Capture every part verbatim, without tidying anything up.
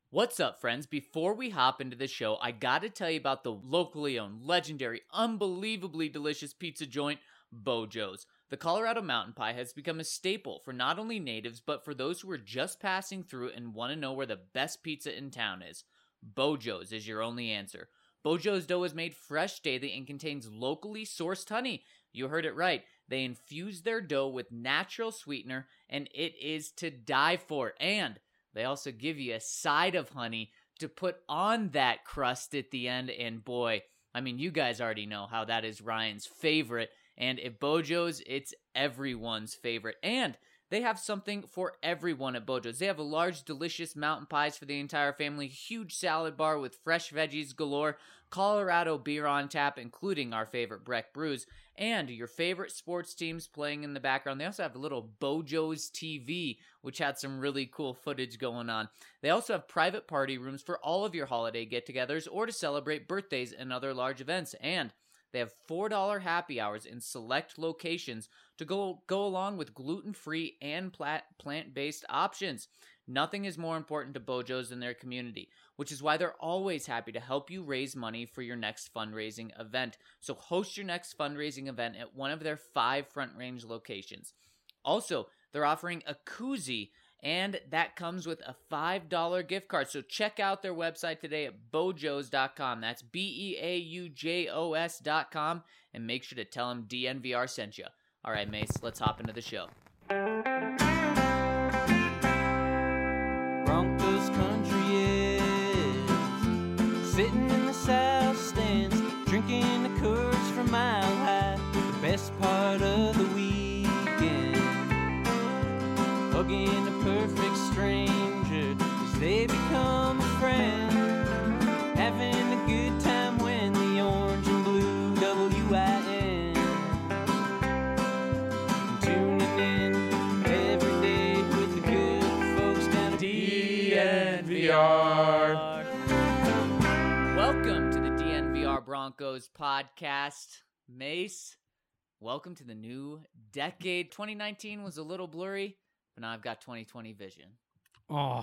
What's up, friends? Before we hop into the show, I gotta tell you about the locally owned, legendary, unbelievably delicious pizza joint, Bojo's. The Colorado Mountain Pie has become a staple for not only natives, but for those who are just passing through and want to know where the best pizza in town is. Bojo's is your only answer. Bojo's dough is made fresh daily and contains locally sourced honey. You heard it right. They infuse their dough with natural sweetener, and it is to die for. And they also give you a side of honey to put on that crust at the end. And boy, I mean, you guys already know how that is Ryan's favorite. And at Bojo's, it's everyone's favorite. And they have something for everyone at Bojo's. They have a large, delicious mountain pies for the entire family, huge salad bar with fresh veggies galore, Colorado beer on tap, including our favorite Breck Brews, and your favorite sports teams playing in the background. They also have a little Bojo's T V, which had some really cool footage going on. They also have private party rooms for all of your holiday get-togethers or to celebrate birthdays and other large events. And they have four dollars happy hours in select locations to go go along with gluten-free and plat- plant-based options. Nothing is more important to Bojo's than their community, which is why they're always happy to help you raise money for your next fundraising event. So host your next fundraising event at one of their five Front Range locations. Also, they're offering a koozie, and that comes with a five dollars gift card. So check out their website today at bojos dot com. That's B E A U J O S dot com. And make sure to tell them D N V R sent you. All right, Mace, let's hop into the show. Broncos country is sitting in the south stands, drinking the Coors from Mile High. The best part of the weekend, hugging a perfect stranger as they become a friend, having a good time when the orange and blue W I N, tuning in every day with the good folks down at D N V R. Welcome to the D N V R Broncos podcast. Mace, welcome to the new decade. twenty nineteen was a little blurry, but now I've got twenty twenty vision. Oh,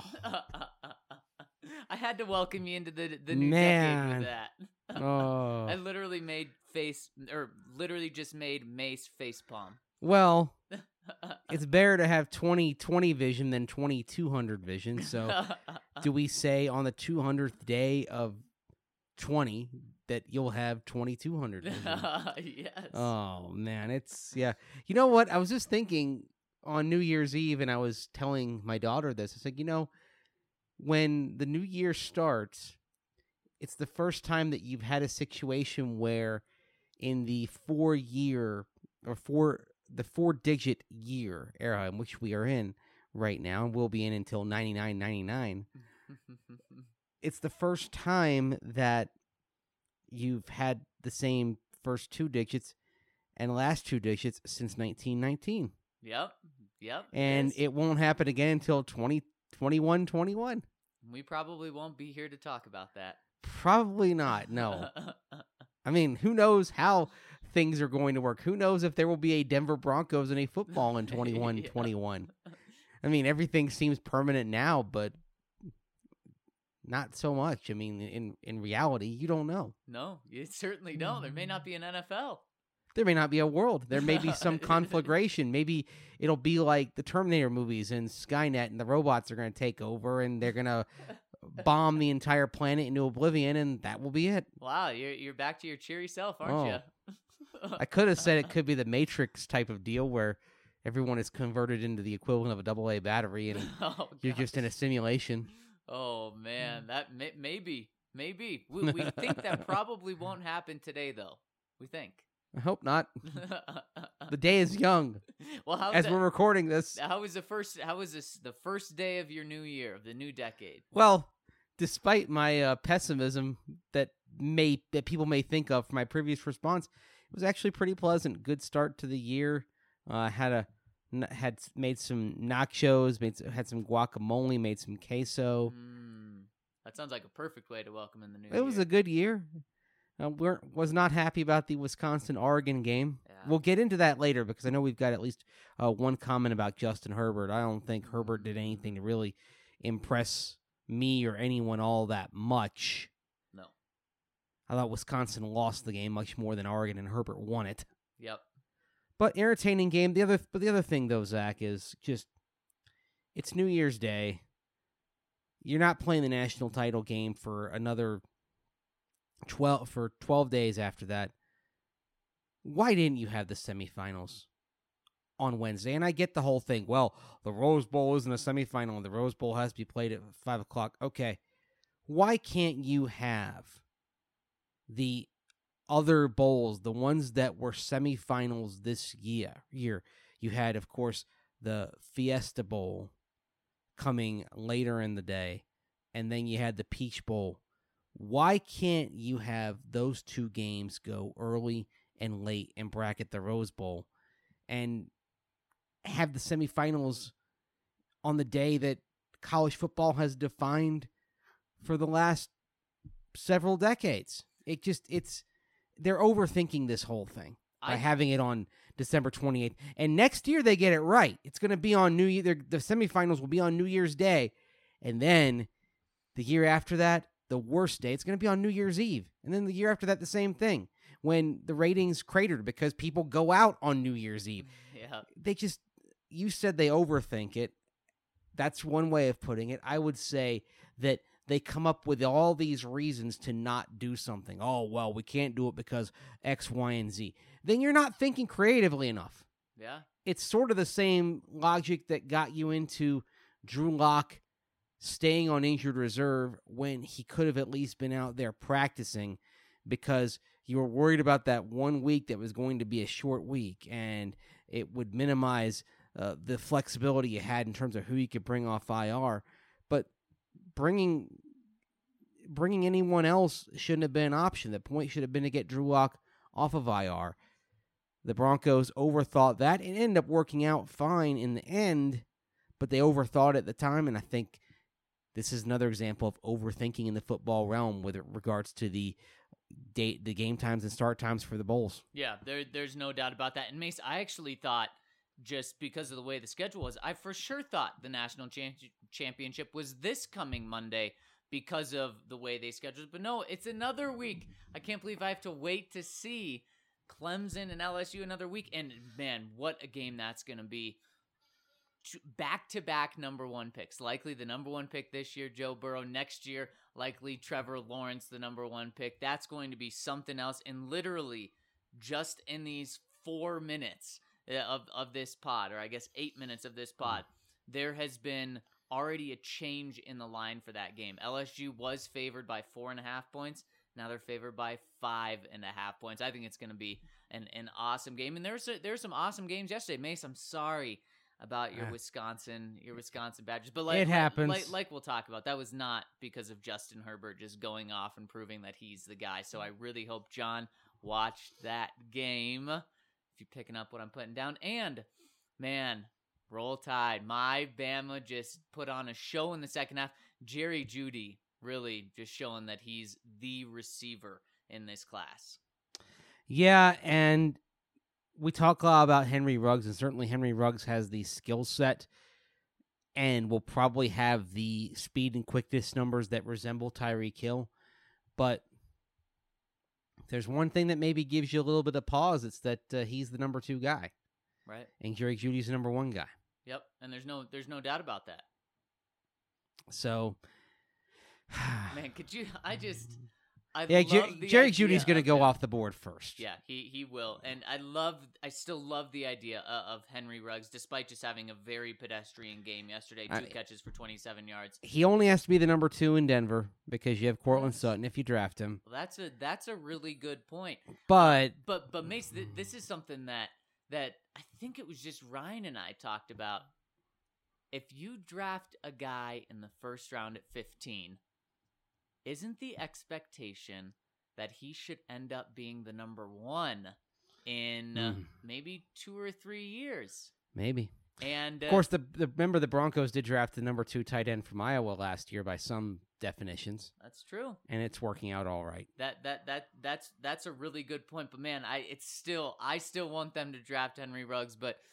I had to welcome you into the the new Man. decade with that. oh. I literally made face, or literally just made Mace face palm. Well, it's better to have twenty twenty vision than twenty-two hundred vision. So, do we say on the two hundredth day of twenty that you'll have twenty-two hundred vision? Yes. Oh, man. It's, yeah. You know what? I was just thinking on New Year's Eve, and I was telling my daughter this. I said, you know, when the new year starts, it's the first time that you've had a situation where in the four year or four the four digit year era in which we are in right now, and we'll be in until ninety-nine ninety-nine, it's the first time that you've had the same first two digits and last two digits since nineteen nineteen. Yep. Yep. And yes. it won't happen again until twenty twenty-one twenty-one. We probably won't be here to talk about that. Probably not, no. I mean, who knows how things are going to work? Who knows if there will be a Denver Broncos and a football in twenty-one twenty-one? I mean, everything seems permanent now, but not so much. I mean, in, in reality, you don't know. No, you certainly don't. There may not be an N F L. There may not be a world. There may be some conflagration. Maybe it'll be like the Terminator movies and Skynet, and the robots are going to take over, and they're going to bomb the entire planet into oblivion, and that will be it. Wow, you're you're back to your cheery self, aren't Oh. you? I could have said it could be the Matrix type of deal where everyone is converted into the equivalent of a double A battery, and Oh, you're gosh. just in a simulation. Oh man, that may, maybe, maybe we, we think that probably won't happen today, though. We think. I hope not. The day is young Well, how as we're recording this. How was the first? How was this the first day of your new year, of the new decade? Well, despite my uh, pessimism that may that people may think of for my previous response, it was actually pretty pleasant. Good start to the year. Uh, had a n- had made some nachos, made some, had some guacamole, made some queso. Mm, that sounds like a perfect way to welcome in the new It year. was a good year. Uh, we're was not happy about the Wisconsin Oregon game. Yeah. We'll get into that later because I know we've got at least uh, one comment about Justin Herbert. I don't think Herbert did anything to really impress me or anyone all that much. No. I thought Wisconsin lost the game much more than Oregon, and Herbert won it. Yep. But entertaining game. The other, but the other thing though, Zach, is just it's New Year's Day. You're not playing the national title game for another twelve for twelve days after that. Why didn't you have the semifinals on Wednesday? And I get the whole thing. Well, the Rose Bowl isn't a semifinal, and the Rose Bowl has to be played at five o'clock. Okay, why can't you have the other bowls, the ones that were semifinals this year? Year you had, of course, the Fiesta Bowl coming later in the day, and then you had the Peach Bowl. Why can't you have those two games go early and late and bracket the Rose Bowl and have the semifinals on the day that college football has defined for the last several decades? It just, it's, they're overthinking this whole thing by I, having it on December twenty-eighth. And next year they get it right. It's going to be on New Year. The semifinals will be on New Year's Day. And then the year after that, the worst day, it's going to be on New Year's Eve. And then the year after that, the same thing. When the ratings cratered because people go out on New Year's Eve. Yeah. They just, you said they overthink it. That's one way of putting it. I would say that they come up with all these reasons to not do something. Oh, well, we can't do it because X, Y, and Z. Then you're not thinking creatively enough. Yeah. It's sort of the same logic that got you into Drew Lock staying on injured reserve when he could have at least been out there practicing, because you were worried about that one week that was going to be a short week, and it would minimize uh, the flexibility you had in terms of who you could bring off I R. But bringing bringing anyone else shouldn't have been an option. The point should have been to get Drew Lock off of I R. The Broncos overthought that. It ended up working out fine in the end, but they overthought it at the time, and I think this is another example of overthinking in the football realm with regards to the date, the game times and start times for the bowls. Yeah, there, there's no doubt about that. And Mace, I actually thought, just because of the way the schedule was, I for sure thought the national champ- championship was this coming Monday because of the way they scheduled. But no, it's another week. I can't believe I have to wait to see Clemson and L S U another week. And man, what a game that's going to be. Back-to-back number one picks. Likely the number one pick this year, Joe Burrow. Next year, likely Trevor Lawrence, the number one pick. That's going to be something else. And literally, just in these four minutes of, of this pod, or I guess eight minutes of this pod, there has been already a change in the line for that game. L S U was favored by four and a half points. Now they're favored by five and a half points. I think it's going to be an, an awesome game. And there's, there's some awesome games yesterday. Mace, I'm sorry about your uh, Wisconsin, your Wisconsin Badgers, but like it happens. Like, like we'll talk about, that was not because of Justin Herbert just going off and proving that he's the guy. So I really hope John watched that game. If you're picking up what I'm putting down, and man, roll tide. My Bama just put on a show in the second half. Jerry Jeudy really just showing that he's the receiver in this class. Yeah, and we talk a lot about Henry Ruggs, and certainly Henry Ruggs has the skill set and will probably have the speed and quickness numbers that resemble Tyreek Hill. But there's one thing that maybe gives you a little bit of pause. It's that uh, he's the number two guy. Right. And Jerry Jeudy's the number one guy. Yep, and there's no there's no doubt about that. So, man, could you, I just... I yeah, Jer- Jerry Jeudy's going to go him. off the board first. Yeah, he, he will. And I love, I still love the idea of, of Henry Ruggs, despite just having a very pedestrian game yesterday. Two I, catches for twenty-seven yards. He only has to be the number two in Denver because you have Cortland Sutton if you draft him. Well, that's a that's a really good point. But uh, but but Mace, th- this is something that that I think it was just Ryan and I talked about. If you draft a guy in the first round at fifteen, isn't the expectation that he should end up being the number one in uh, mm. maybe two or three years? Maybe. And uh, of course, the, the remember the Broncos did draft the number two tight end from Iowa last year by some definitions. That's true, and it's working out all right. That that that that's that's a really good point. But man, I it's still I still want them to draft Henry Ruggs, but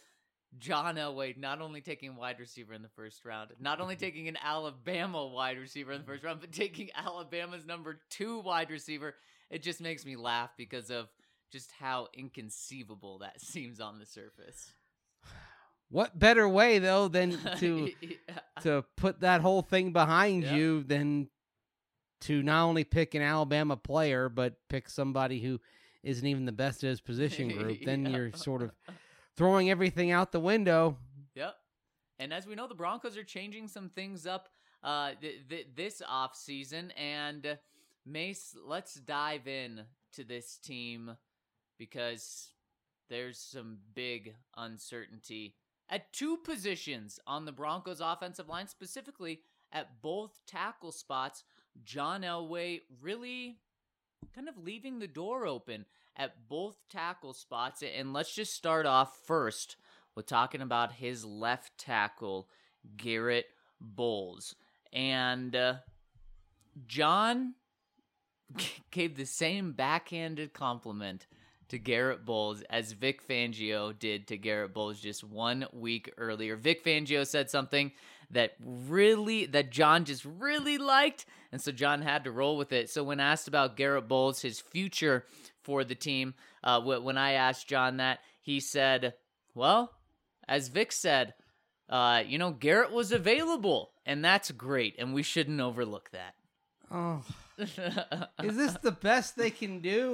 John Elway not only taking wide receiver in the first round, not only taking an Alabama wide receiver in the first round, but taking Alabama's number two wide receiver. It just makes me laugh because of just how inconceivable that seems on the surface. What better way though than to yeah. to put that whole thing behind Yep. you than to not only pick an Alabama player but pick somebody who isn't even the best at his position group? Then Yeah. you're sort of throwing everything out the window. Yep. And as we know, the Broncos are changing some things up uh, th- th- this offseason. And uh, Mace, let's dive in to this team because there's some big uncertainty at two positions on the Broncos offensive line, specifically at both tackle spots. John Elway really kind of leaving the door open at both tackle spots. And let's just start off first with talking about his left tackle, Garrett Bowles. And uh, John gave the same backhanded compliment to Garrett Bowles as Vic Fangio did to Garrett Bowles just one week earlier. Vic Fangio said something that really, that John just really liked, and so John had to roll with it. So when asked about Garrett Bowles, his future for the team, uh, when I asked John that, he said, well, as Vic said, uh, you know, Garrett was available, and that's great, and we shouldn't overlook that. Oh, is this the best they can do?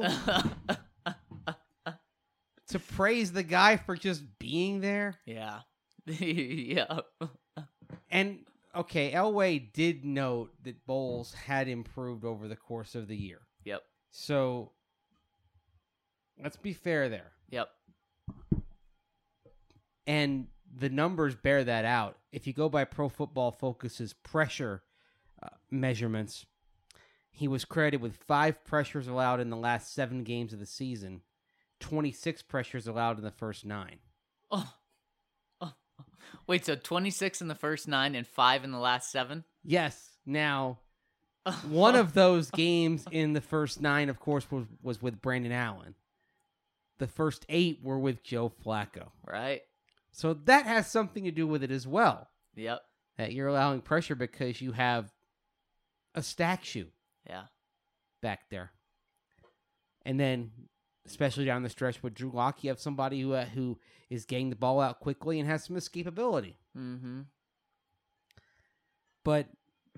To praise the guy for just being there? Yeah. yeah. And, okay, Elway did note that Bowles had improved over the course of the year. Yep. So, let's be fair there. Yep. And the numbers bear that out. If you go by Pro Football Focus's pressure uh, measurements, he was credited with five pressures allowed in the last seven games of the season, twenty-six pressures allowed in the first nine. Oh. oh. Wait, so twenty-six in the first nine and five in the last seven? Yes. Now, one of those games in the first nine, of course, was, was with Brandon Allen. The first eight were with Joe Flacco. Right. So that has something to do with it as well. Yep. That you're allowing pressure because you have a stack shoe Yeah. back there. And then, especially down the stretch with Drew Lock, you have somebody who uh, who is getting the ball out quickly and has some escapability. Mm-hmm. But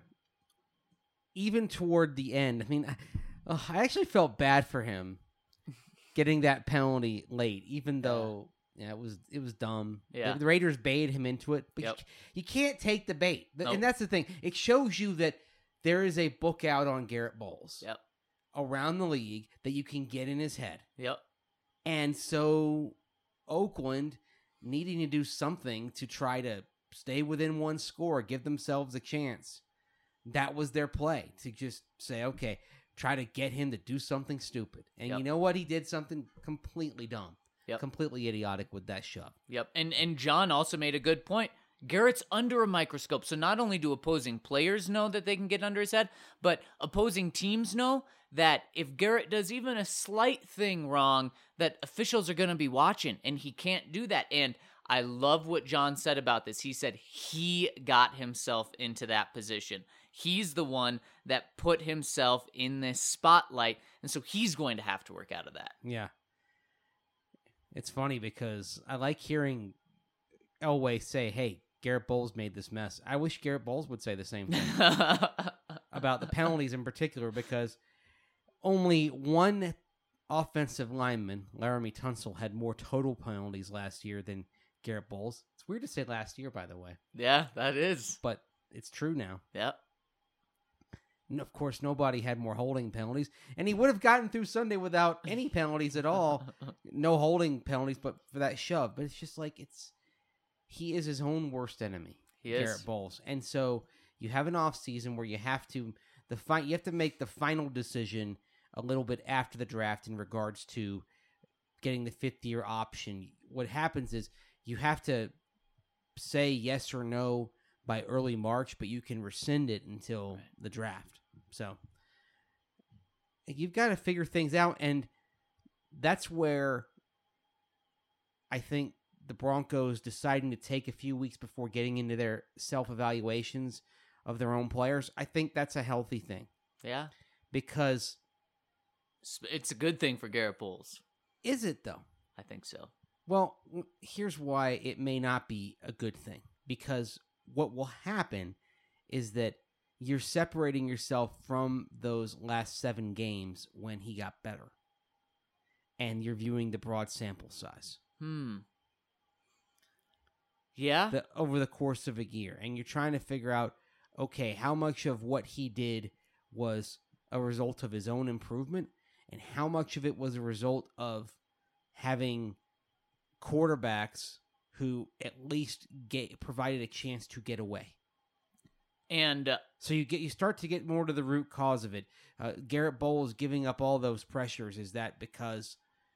even toward the end, I mean, I, uh, I actually felt bad for him getting that penalty late, even though yeah, it was it was dumb. Yeah. The, the Raiders baited him into it, but Yep. you, you can't take the bait. Th- Nope. And that's the thing. It shows you that there is a book out on Garrett Bowles Yep. around the league that you can get in his head. Yep. And so Oakland needing to do something to try to stay within one score, give themselves a chance. That was their play, to just say, okay, try to get him to do something stupid. And Yep. you know what? He did something completely dumb, Yep. completely idiotic with that shove. Yep. And and John also made a good point. Garrett's under a microscope, so not only do opposing players know that they can get under his head, but opposing teams know that if Garrett does even a slight thing wrong, that officials are going to be watching, and he can't do that. And I love what John said about this. He said he got himself into that position. He's the one that put himself in this spotlight, and so he's going to have to work out of that. Yeah. It's funny because I like hearing Elway say, hey, Garrett Bowles made this mess. I wish Garrett Bowles would say the same thing about the penalties in particular, because only one offensive lineman, Laramie Tunsil, had more total penalties last year than Garrett Bowles. It's weird to say last year, by the way, Yeah, that is. but it's true now. Yep. And of course, nobody had more holding penalties, and he would have gotten through Sunday without any penalties at all. No holding penalties, but for that shove. But it's just like it's he is his own worst enemy, He is. Garrett Bowles. And so you have an off season where you have to the fi- you have to make the final decision a little bit after the draft in regards to getting the fifth year option. What happens is you have to say yes or no by early March, but you can rescind it until Right. the draft. So you've got to figure things out, and that's where I think the Broncos deciding to take a few weeks before getting into their self-evaluations of their own players, I think that's a healthy thing. Yeah. Because... It's a good thing for Garrett Bowles. Is it, though? I think so. Well, here's why it may not be a good thing. Because what will happen is that you're separating yourself from those last seven games when he got better. And you're viewing the broad sample size. Hmm. Yeah? The, over the course of a year. And you're trying to figure out, okay, how much of what he did was a result of his own improvement, and how much of it was a result of having quarterbacks who at least get, provided a chance to get away. And uh, so you get you start to get more to the root cause of it. Uh, Garrett Bowles giving up all those pressures, is that because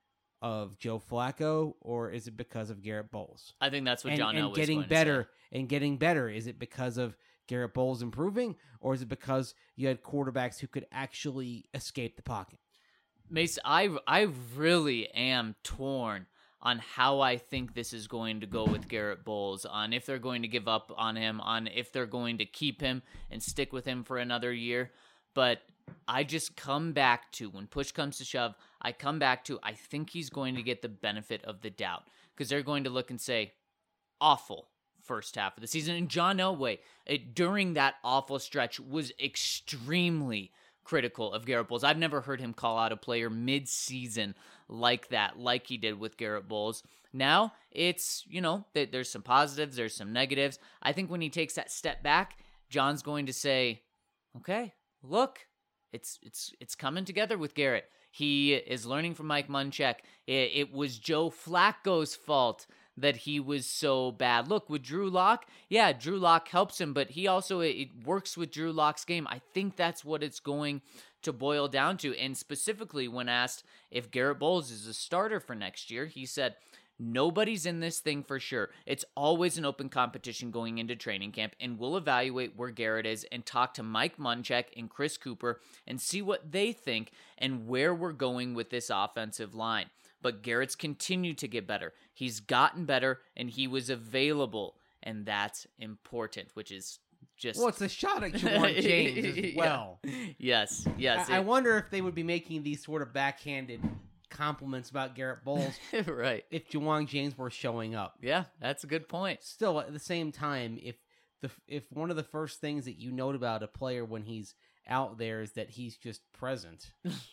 of Joe Flacco, or is it because of Garrett Bowles? I think that's what and, John and Elway getting was going better to say. and getting better. Is it because of Garrett Bowles improving, or is it because you had quarterbacks who could actually escape the pocket? Mace, I I really am torn on how I think this is going to go with Garrett Bowles, on if they're going to give up on him, on if they're going to keep him and stick with him for another year. But I just come back to, when push comes to shove, I come back to, I think he's going to get the benefit of the doubt, because they're going to look and say, awful first half of the season. And John Elway, it, during that awful stretch, was extremely critical of Garrett Bowles. I've never heard him call out a player mid-season like that, like he did with Garrett Bowles. Now, it's, you know, there's some positives, there's some negatives. I think when he takes that step back, John's going to say, okay, look, it's it's it's coming together with Garrett. He is learning from Mike Munchak. It, it was Joe Flacco's fault that he was so bad. Look, with Drew Lock, yeah, Drew Lock helps him, but he also, it, it works with Drew Lock's game. I think that's what it's going to boil down to. And specifically, when asked if Garrett Bowles is a starter for next year, he said, nobody's in this thing for sure. It's always an open competition going into training camp, and we'll evaluate where Garrett is and talk to Mike Munchak and Chris Cooper and see what they think and where we're going with this offensive line. But Garrett's continued to get better. He's gotten better, and he was available, and that's important, which is just... Well, it's a shot at Ja'Wuan James as well. Yes, yes. I, it... I wonder if they would be making these sort of backhanded compliments about Garrett Bowles right. if Ja'Wuan James were showing up. Yeah, that's a good point. Still, at the same time, if the if one of the first things that you note about a player when he's out there is that he's just present,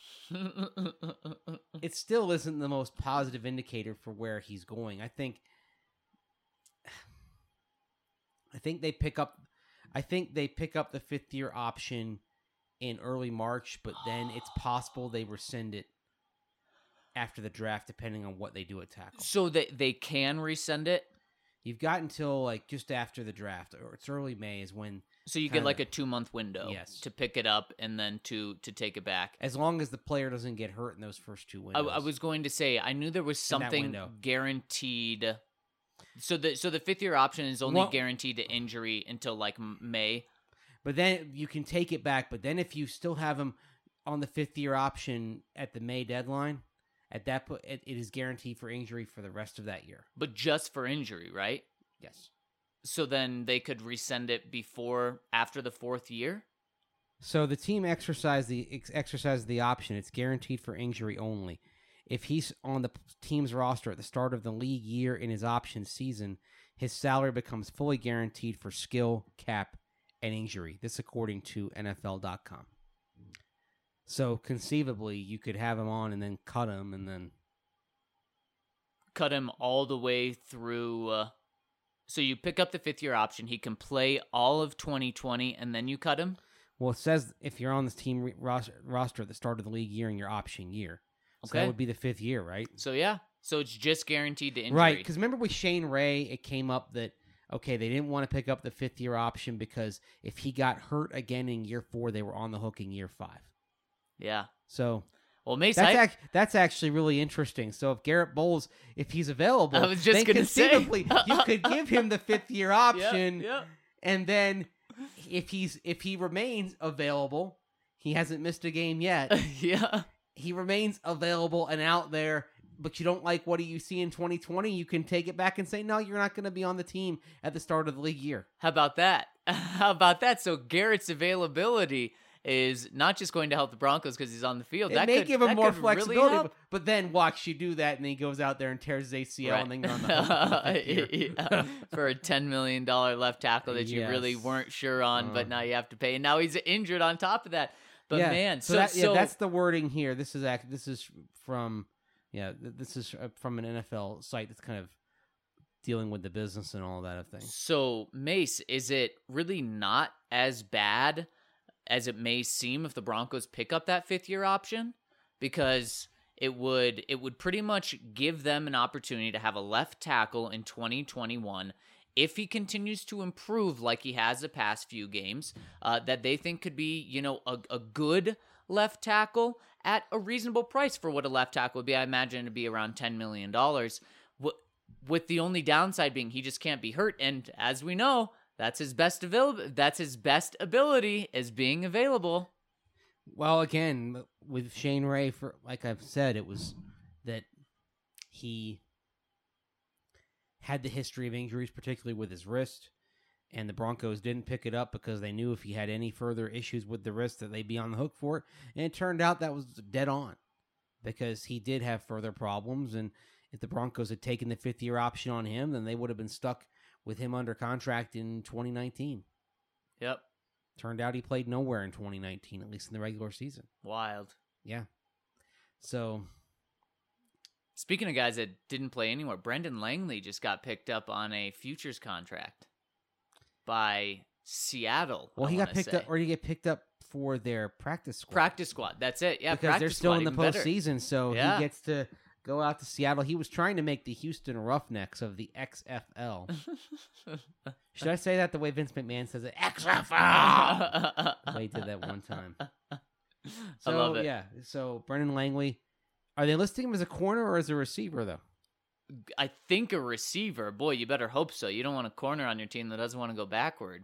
it still isn't the most positive indicator for where he's going. I think I think they pick up I think they pick up the fifth year option in early March, but then it's possible they rescind it after the draft, depending on what they do at tackle. So they they can resend it? You've got until like just after the draft, or it's early May is when. So you get like a two month window, yes, to pick it up and then to to take it back. As long as the player doesn't get hurt in those first two windows. I, I was going to say I knew there was something guaranteed. So the so the fifth year option is only well, guaranteed to injury until like May. But then you can take it back. But then if you still have him on the fifth year option at the May deadline, at that point it, it is guaranteed for injury for the rest of that year. But just for injury, right? Yes. So then they could resend it before, after the fourth year? So the team exercise the ex- exercise the option. It's guaranteed for injury only. If he's on the team's roster at the start of the league year in his option season, his salary becomes fully guaranteed for skill, cap, and injury. This according to N F L dot com. So conceivably, you could have him on and then cut him and then... Cut him all the way through... Uh... So you pick up the fifth year option. He can play all of twenty twenty, and then you cut him? Well, it says if you're on this team re- roster, roster at the start of the league year in your option year. So okay. that would be the fifth year, right? So, yeah. So it's just guaranteed to injury. Right, because remember with Shane Ray, it came up that, okay, they didn't want to pick up the fifth year option because if he got hurt again in year four, they were on the hook in year five. Yeah. So... Well, Mace, that's, I, ac- that's actually really interesting. So if Garrett Bowles, if he's available, I was just then gonna conceivably say. you could give him the fifth year option, yep, yep. and then if he's if he remains available, he hasn't missed a game yet. yeah, he remains available and out there but you don't like what you see in twenty twenty, you can take it back and say, no, you're not going to be on the team at the start of the league year. How about that? How about that? So Garrett's availability is not just going to help the Broncos because he's on the field. It that may could, give him that more could really flexibility, help. but, but then watch you do that, and then he goes out there and tears his A C L, Right. and then you're on the hook for the fifth year. Yeah, for a ten million dollars left tackle that you really Yes. weren't sure on, but Uh. now you have to pay. And now he's injured on top of that. But yeah, man, so, so, that, so yeah, that's the wording here. This is act. This is from yeah. th- This is uh, from an N F L site that's kind of dealing with the business and all that of things. So, Mace, is it really not as bad as it may seem if the Broncos pick up that fifth year option? Because it would it would pretty much give them an opportunity to have a left tackle in twenty twenty-one if he continues to improve like he has the past few games, uh, that they think could be, you know, a, a good left tackle at a reasonable price for what a left tackle would be. I imagine it'd be around ten million dollars. What with the only downside being he just can't be hurt. And as we know, that's his best available. That's his best ability is being available. Well, again, with Shane Ray, for like I've said, it was that he had the history of injuries, particularly with his wrist, and the Broncos didn't pick it up because they knew if he had any further issues with the wrist that they'd be on the hook for it. And it turned out that was dead on because he did have further problems, and if the Broncos had taken the fifth-year option on him, then they would have been stuck with him under contract in twenty nineteen. Yep. Turned out he played nowhere in twenty nineteen, at least in the regular season. Wild. Yeah. So, Speaking of guys that didn't play anywhere, Brendan Langley just got picked up on a futures contract by Seattle. well, I he got wanna picked say. up, or he get picked up for their practice squad. Practice squad. That's it. Yeah, because practice they're still squad, in the even better. postseason, so Yeah. he gets to go out to Seattle. He was trying to make the Houston Roughnecks of the X F L. Should I say that the way Vince McMahon says it? X F L! The way he did that one time. So, I love it. yeah. So, Brendan Langley. Are they listing him as a corner or as a receiver, though? I think a receiver. Boy, you better hope so. You don't want a corner on your team that doesn't want to go backward.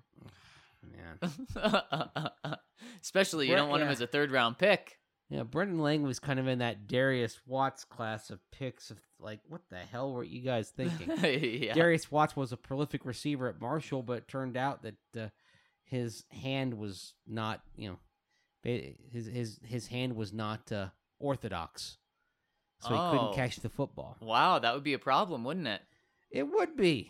Man. Especially you Bre- don't want him yeah. as a third round pick. Yeah, Brendan Langley was kind of in that Darius Watts class of picks of, like, what the hell were you guys thinking? yeah. Darius Watts was a prolific receiver at Marshall, but it turned out that uh, his hand was not, you know, ba- his his his hand was not uh, orthodox, so he Oh. couldn't catch the football. Wow, that would be a problem, wouldn't it? It would be.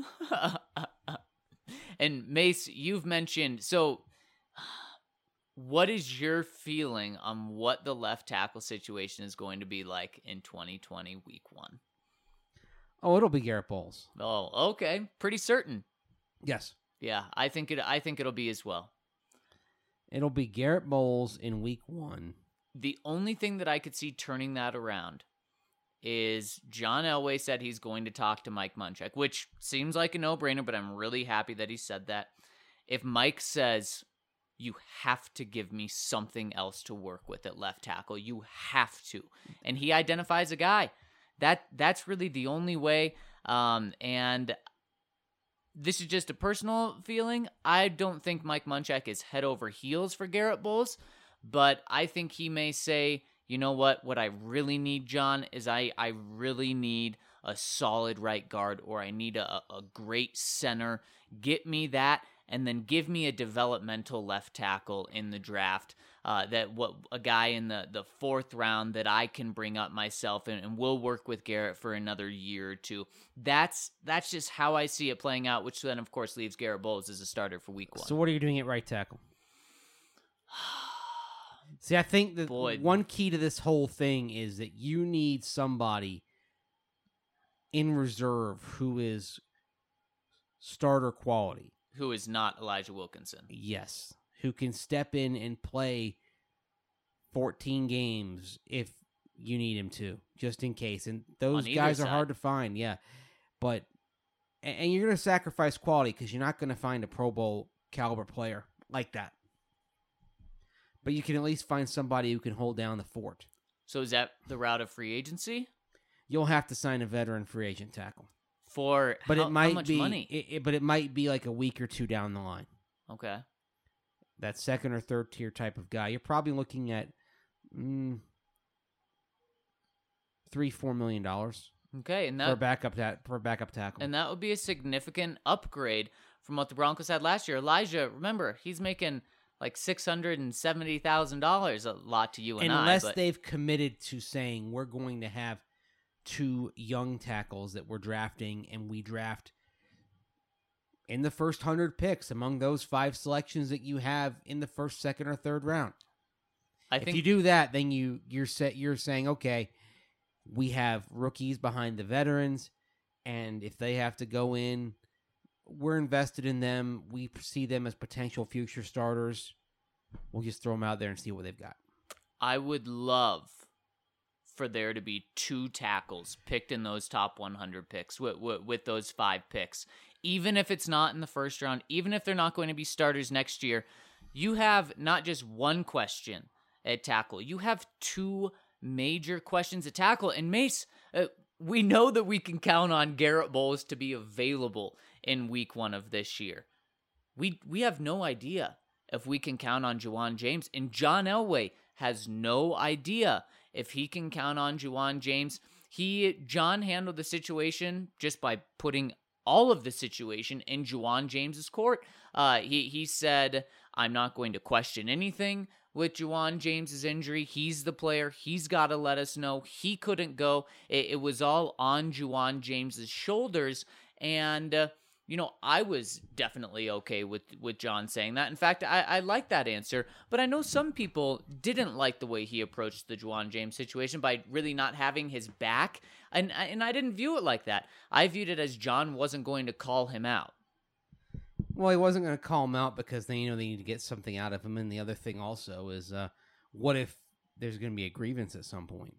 And Mace, you've mentioned, so what is your feeling on what the left tackle situation is going to be like in twenty twenty week one? Oh, it'll be Garrett Bowles. Oh, okay. Pretty certain. Yes, Yeah, I think it I think it'll be as well. it'll be Garrett Bowles in week one. The only thing that I could see turning that around is John Elway said he's going to talk to Mike Munchak, which seems like a no-brainer, but I'm really happy that he said that. If Mike says, you have to give me something else to work with at left tackle, you have to, and he identifies a guy, that that's really the only way. Um, and this is just a personal feeling. I don't think Mike Munchak is head over heels for Garrett Bowles, but I think he may say, you know what, what I really need, John, is I, I really need a solid right guard, or I need a, a great center. Get me that, and then give me a developmental left tackle in the draft. Uh, that what a guy in the, the fourth round that I can bring up myself, and, and we'll work with Garrett for another year or two. That's that's just how I see it playing out, which then, of course, leaves Garrett Bowles as a starter for week one. So what are you doing at right tackle? See, I think that Boy. one key to this whole thing is that you need somebody in reserve who is starter quality. Who is not Elijah Wilkinson. Yes. Who can step in and play fourteen games if you need him to, just in case. And those On either guys are side. hard to find, yeah. But, and and you're going to sacrifice quality because you're not going to find a Pro Bowl caliber player like that. But you can at least find somebody who can hold down the fort. So is that the route of free agency? You'll have to sign a veteran free agent tackle. For But how, it might how much be money? It, it- but it might be like a week or two down the line. Okay. That second or third tier type of guy. You're probably looking at mm, three, four million dollars Okay, and for a that backup ta- for a backup tackle. and that would be a significant upgrade from what the Broncos had last year. Elijah, remember, he's making like six hundred and seventy thousand dollars, a lot to you and Unless I. But they've committed to saying we're going to have two young tackles that we're drafting, and we draft in the first hundred picks among those five selections that you have in the first, second, or third round. I if think you do that, then you you're set. You're saying, okay, we have rookies behind the veterans, and if they have to go in, we're invested in them. We see them as potential future starters. We'll just throw them out there and see what they've got. I would love for there to be two tackles picked in those top one hundred picks with, with, with those five picks. Even if it's not in the first round, even if they're not going to be starters next year, you have not just one question at tackle. You have two major questions at tackle. And Mace, uh, we know that we can count on Garrett Bowles to be available in week one of this year. We we have no idea if we can count on Juwan James. And John Elway has no idea if he can count on Juwan James. He John handled the situation just by putting all of the situation in Juwan James's court. Uh, he he said, "I'm not going to question anything with Juwan James's injury. He's the player. He's got to let us know he couldn't go. It, it was all on Juwan James's shoulders." And uh, you know, I was definitely okay with, with John saying that. In fact, I, I like that answer, but I know some people didn't like the way he approached the Juwan James situation by really not having his back, and, and I didn't view it like that. I viewed it as John wasn't going to call him out. Well, he wasn't going to call him out because they you know they need to get something out of him, and the other thing also is, uh, what if there's going to be a grievance at some point?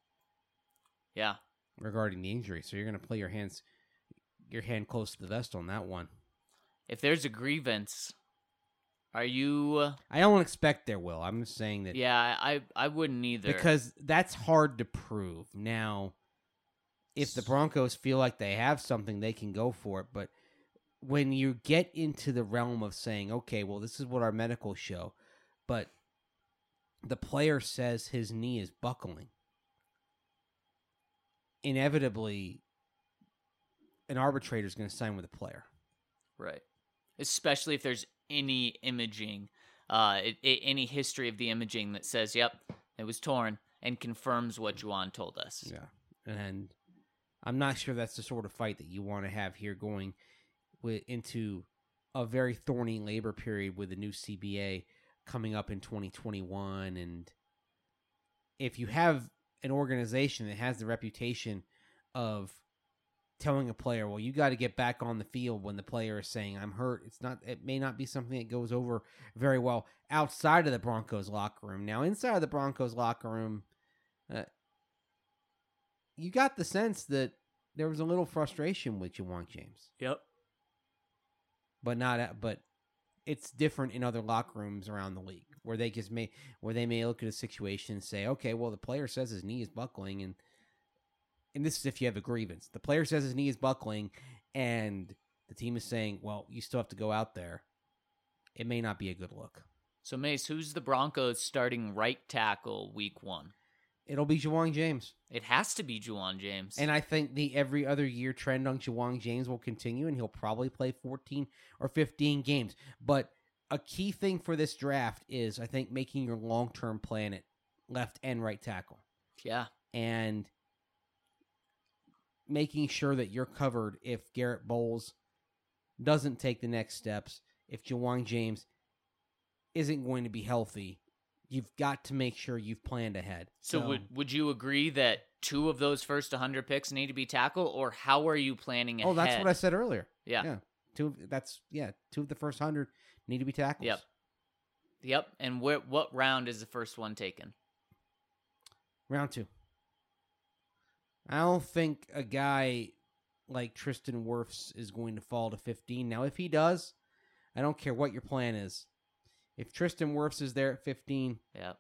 Yeah. Regarding the injury, so you're going to play your hands... your hand close to the vest on that one. If there's a grievance, are you... I don't expect there will. I'm just saying that... Yeah, I, I wouldn't either. Because that's hard to prove. Now, if the Broncos feel like they have something, they can go for it. But when you get into the realm of saying, okay, well, this is what our medicals show, but the player says his knee is buckling, inevitably... an arbitrator is going to sign with a player. Right. Especially if there's any imaging, uh, it, it, any history of the imaging that says, yep, it was torn, and confirms what Juwan told us. Yeah. And I'm not sure that's the sort of fight that you want to have here going with, into a very thorny labor period with the new C B A coming up in twenty twenty-one. And if you have an organization that has the reputation of telling a player, well, you got to get back on the field when the player is saying, I'm hurt. It's not, it may not be something that goes over very well outside of the Broncos locker room. Now, inside of the Broncos locker room, uh, you got the sense that there was a little frustration with Juwan James. Yep. But not, but it's different in other locker rooms around the league where they just may, where they may look at a situation and say, okay, well, the player says his knee is buckling, and And this is if you have a grievance. The player says his knee is buckling, and the team is saying, well, you still have to go out there. It may not be a good look. So, Mace, who's the Broncos starting right tackle week one? It'll be Juwan James. It has to be Juwan James. And I think the every other year trend on Juwan James will continue, and he'll probably play fourteen or fifteen games. But a key thing for this draft is, I think, making your long-term plan at left and right tackle. Yeah. And making sure that you're covered if Garrett Bowles doesn't take the next steps, if Juwan James isn't going to be healthy, you've got to make sure you've planned ahead. So, so would would you agree that two of those first one hundred picks need to be tackle, or how are you planning ahead? Oh, that's what I said earlier. Yeah. Yeah. Two of, that's yeah, two of the first one hundred need to be tackles. Yep. Yep. And where, what round is the first one taken? Round two. I don't think a guy like Tristan Wirfs is going to fall to fifteen. Now, if he does, I don't care what your plan is. If Tristan Wirfs is there at fifteen, yep.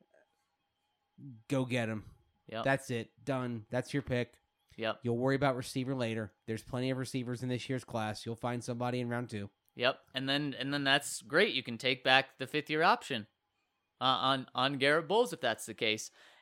go get him. Yep. That's it. Done. That's your pick. Yep. You'll worry about receiver later. There's plenty of receivers in this year's class. You'll find somebody in round two. Yep. And then and then that's great. You can take back the fifth year option uh, on on Garrett Bowles if that's the case.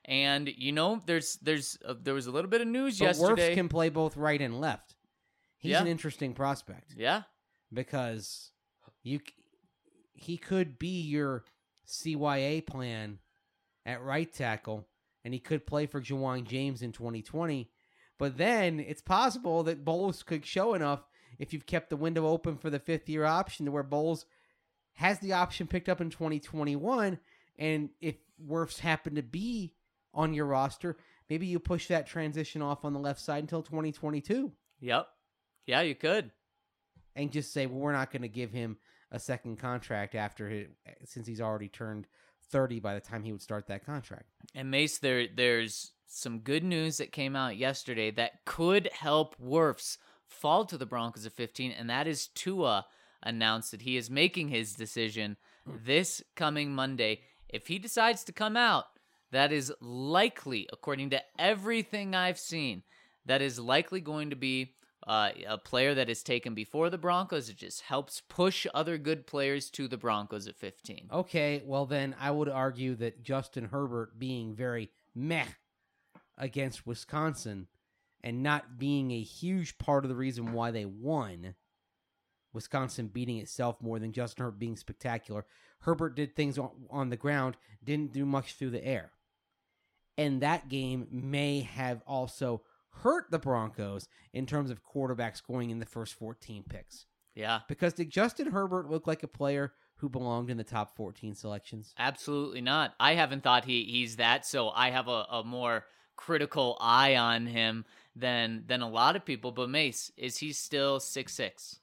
And you know, there's there's uh, there was a little bit of news But yesterday. Wirfs can play both right and left. He's Yeah. an interesting prospect Yeah, because you c- he could be your C Y A plan at right tackle, and he could play for Juwan James in twenty twenty. But then it's possible that Bowles could show enough if you've kept the window open for the fifth year option to where Bowles has the option picked up in twenty twenty-one. And if Wirfs happen to be on your roster, maybe you push that transition off on the left side until twenty twenty-two yep, yeah, you could. and just say, well, we're not going to give him a second contract after his, since he's already turned thirty by the time he would start that contract. And Mace, there there's some good news that came out yesterday that could help Wirfs fall to the Broncos at fifteen, and that is Tua announced that he is making his decision this coming Monday. If he decides to come out, that is likely, according to everything I've seen, that is likely going to be uh, a player that is taken before the Broncos. It just helps push other good players to the Broncos at fifteen. Okay, well then I would argue that Justin Herbert being very meh against Wisconsin and not being a huge part of the reason why they won, Wisconsin beating itself more than Justin Herbert being spectacular. Herbert did things on, on the ground, didn't do much through the air. And that game may have also hurt the Broncos in terms of quarterback scoring in the first fourteen picks. Yeah, Because did Justin Herbert look like a player who belonged in the top fourteen selections? absolutely not. I haven't thought he he's that, so I have a, a more critical eye on him than than a lot of people. But Mace, is he still six six?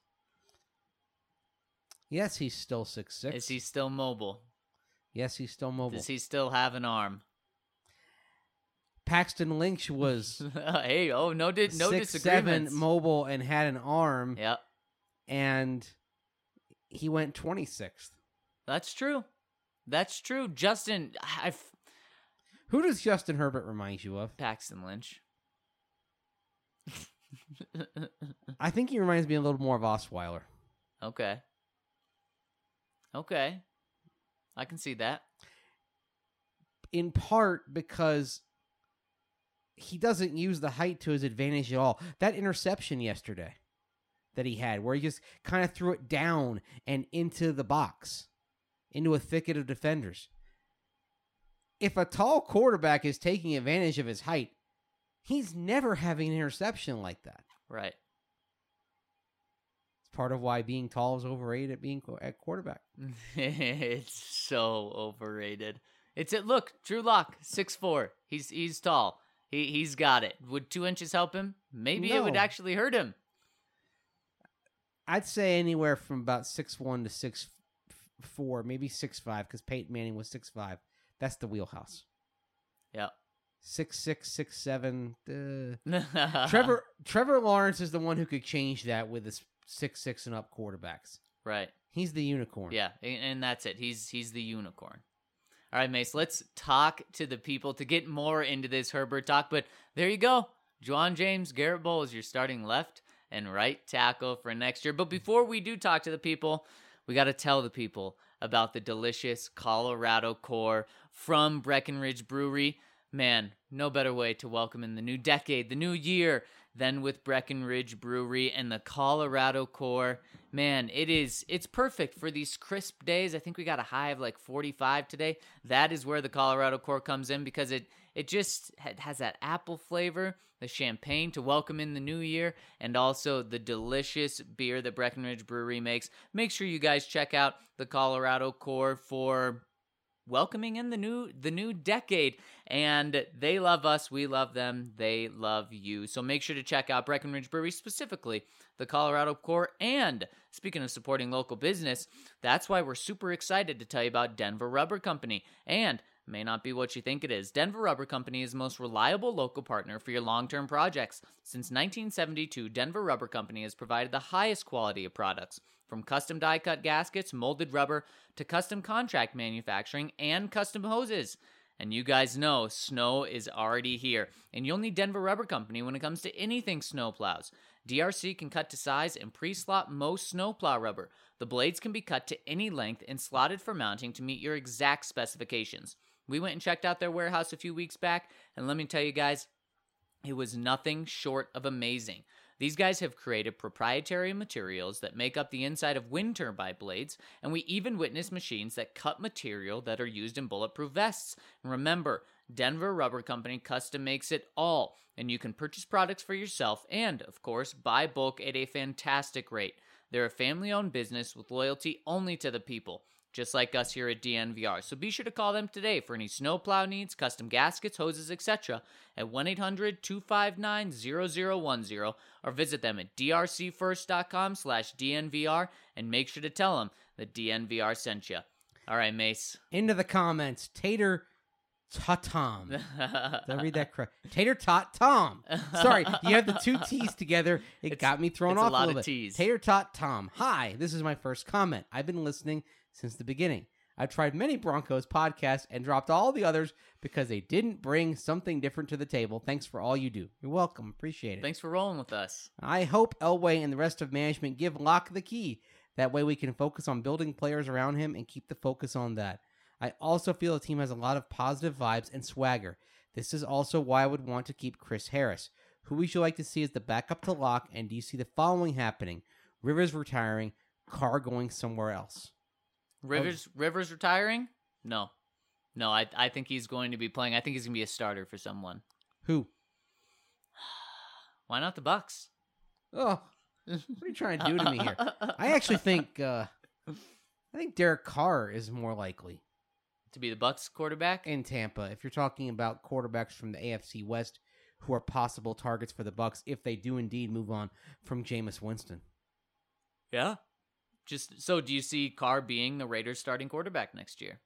Yes, he's still six six. Is he still mobile? Yes, he's still mobile. Does he still have an arm? Paxton Lynch was Hey, oh no, did no six disagreements. seven, mobile, and had an arm, Yep, and he went twenty-sixth. that's true. That's true. Justin, I Who does Justin Herbert remind you of? Paxton Lynch. I think he reminds me a little more of Osweiler. Okay. Okay. I can see that. In part because he doesn't use the height to his advantage at all. That interception yesterday that he had, where he just kind of threw it down and into the box, into a thicket of defenders. If a tall quarterback is taking advantage of his height, he's never having an interception like that. Right. It's part of why being tall is overrated at being qu- at quarterback. It's so overrated. It's it. Look, Drew Lock, six four. He's he's tall. He he's got it. Would two inches help him? Maybe it would No. actually hurt him. I'd say anywhere from about six one to six four, maybe six five, because Peyton Manning was six five. That's the wheelhouse. Yeah. Six six, six seven. Uh. Trevor Trevor Lawrence is the one who could change that with his six six and up quarterbacks. Right. He's the unicorn. Yeah, and, and that's it. He's he's the unicorn. All right, Mace, let's talk to the people to get more into this Herbert talk. But there you go. Juwan James, Garrett Bowles, you're starting left and right tackle for next year. But before we do talk to the people, we got to tell the people about the delicious Colorado Core from Breckenridge Brewery. Man, no better way to welcome in the new decade, the new year, than with Breckenridge Brewery and the Colorado Core. Man, it is, it's perfect for these crisp days. I think we got a high of like forty-five today. That is where the Colorado Core comes in because it, it just has that apple flavor, the champagne to welcome in the new year, and also the delicious beer that Breckenridge Brewery makes. Make sure you guys check out the Colorado Core for welcoming in the new the new decade, and they love us, we love them, they love you. So make sure to check out Breckenridge Brewery, specifically the Colorado Core. And speaking of supporting local business, that's why we're super excited to tell you about Denver Rubber Company. And it may not be what you think it is. Denver Rubber Company is the most reliable local partner for your long-term projects. Since nineteen seventy-two, Denver Rubber Company has provided the highest quality of products, from custom die-cut gaskets, molded rubber, to custom contract manufacturing and custom hoses. And you guys know snow is already here, and you'll need Denver Rubber Company when it comes to anything snowplows. D R C can cut to size and pre-slot most snowplow rubber. The blades can be cut to any length and slotted for mounting to meet your exact specifications. We went and checked out their warehouse a few weeks back, and let me tell you guys, it was nothing short of amazing. These guys have created proprietary materials that make up the inside of wind turbine blades, and we even witnessed machines that cut material that are used in bulletproof vests. And remember, Denver Rubber Company custom makes it all, and you can purchase products for yourself and, of course, buy bulk at a fantastic rate. They're a family-owned business with loyalty only to the people, just like us here at D N V R. So be sure to call them today for any snowplow needs, custom gaskets, hoses, et cetera at one eight hundred two five nine zero zero one zero or visit them at d r c first dot com slash D N V R and make sure to tell them that D N V R sent you. All right, Mace. Into the comments. Tater Tatom. Did I read that correct? Tater Tot Tom. Sorry, you have the two T's together. It It's- got me thrown it's a off a, lot little of bit. T's. Tater Tot Tom. Hi, this is my first comment. I've been listening since the beginning. I've tried many Broncos podcasts and dropped all the others because they didn't bring something different to the table. Thanks for all you do. You're welcome. Appreciate it. Thanks for rolling with us. I hope Elway and the rest of management give Locke the key. That way we can focus on building players around him and keep the focus on that. I also feel the team has a lot of positive vibes and swagger. This is also why I would want to keep Chris Harris. Who would you like to see as the backup to Locke, and do you see the following happening? Rivers retiring, Carr going somewhere else. Rivers Rivers retiring? No. No, I I think he's going to be playing. I think he's going to be a starter for someone. Who? Why not the Bucks? Oh, what are you trying to do to me here? I actually think uh, I think Derek Carr is more likely To be the Bucks quarterback? in Tampa. If you're talking about quarterbacks from the A F C West who are possible targets for the Bucks, if they do indeed move on from Jameis Winston. Yeah. Just so do you see Carr being the Raiders starting quarterback next year?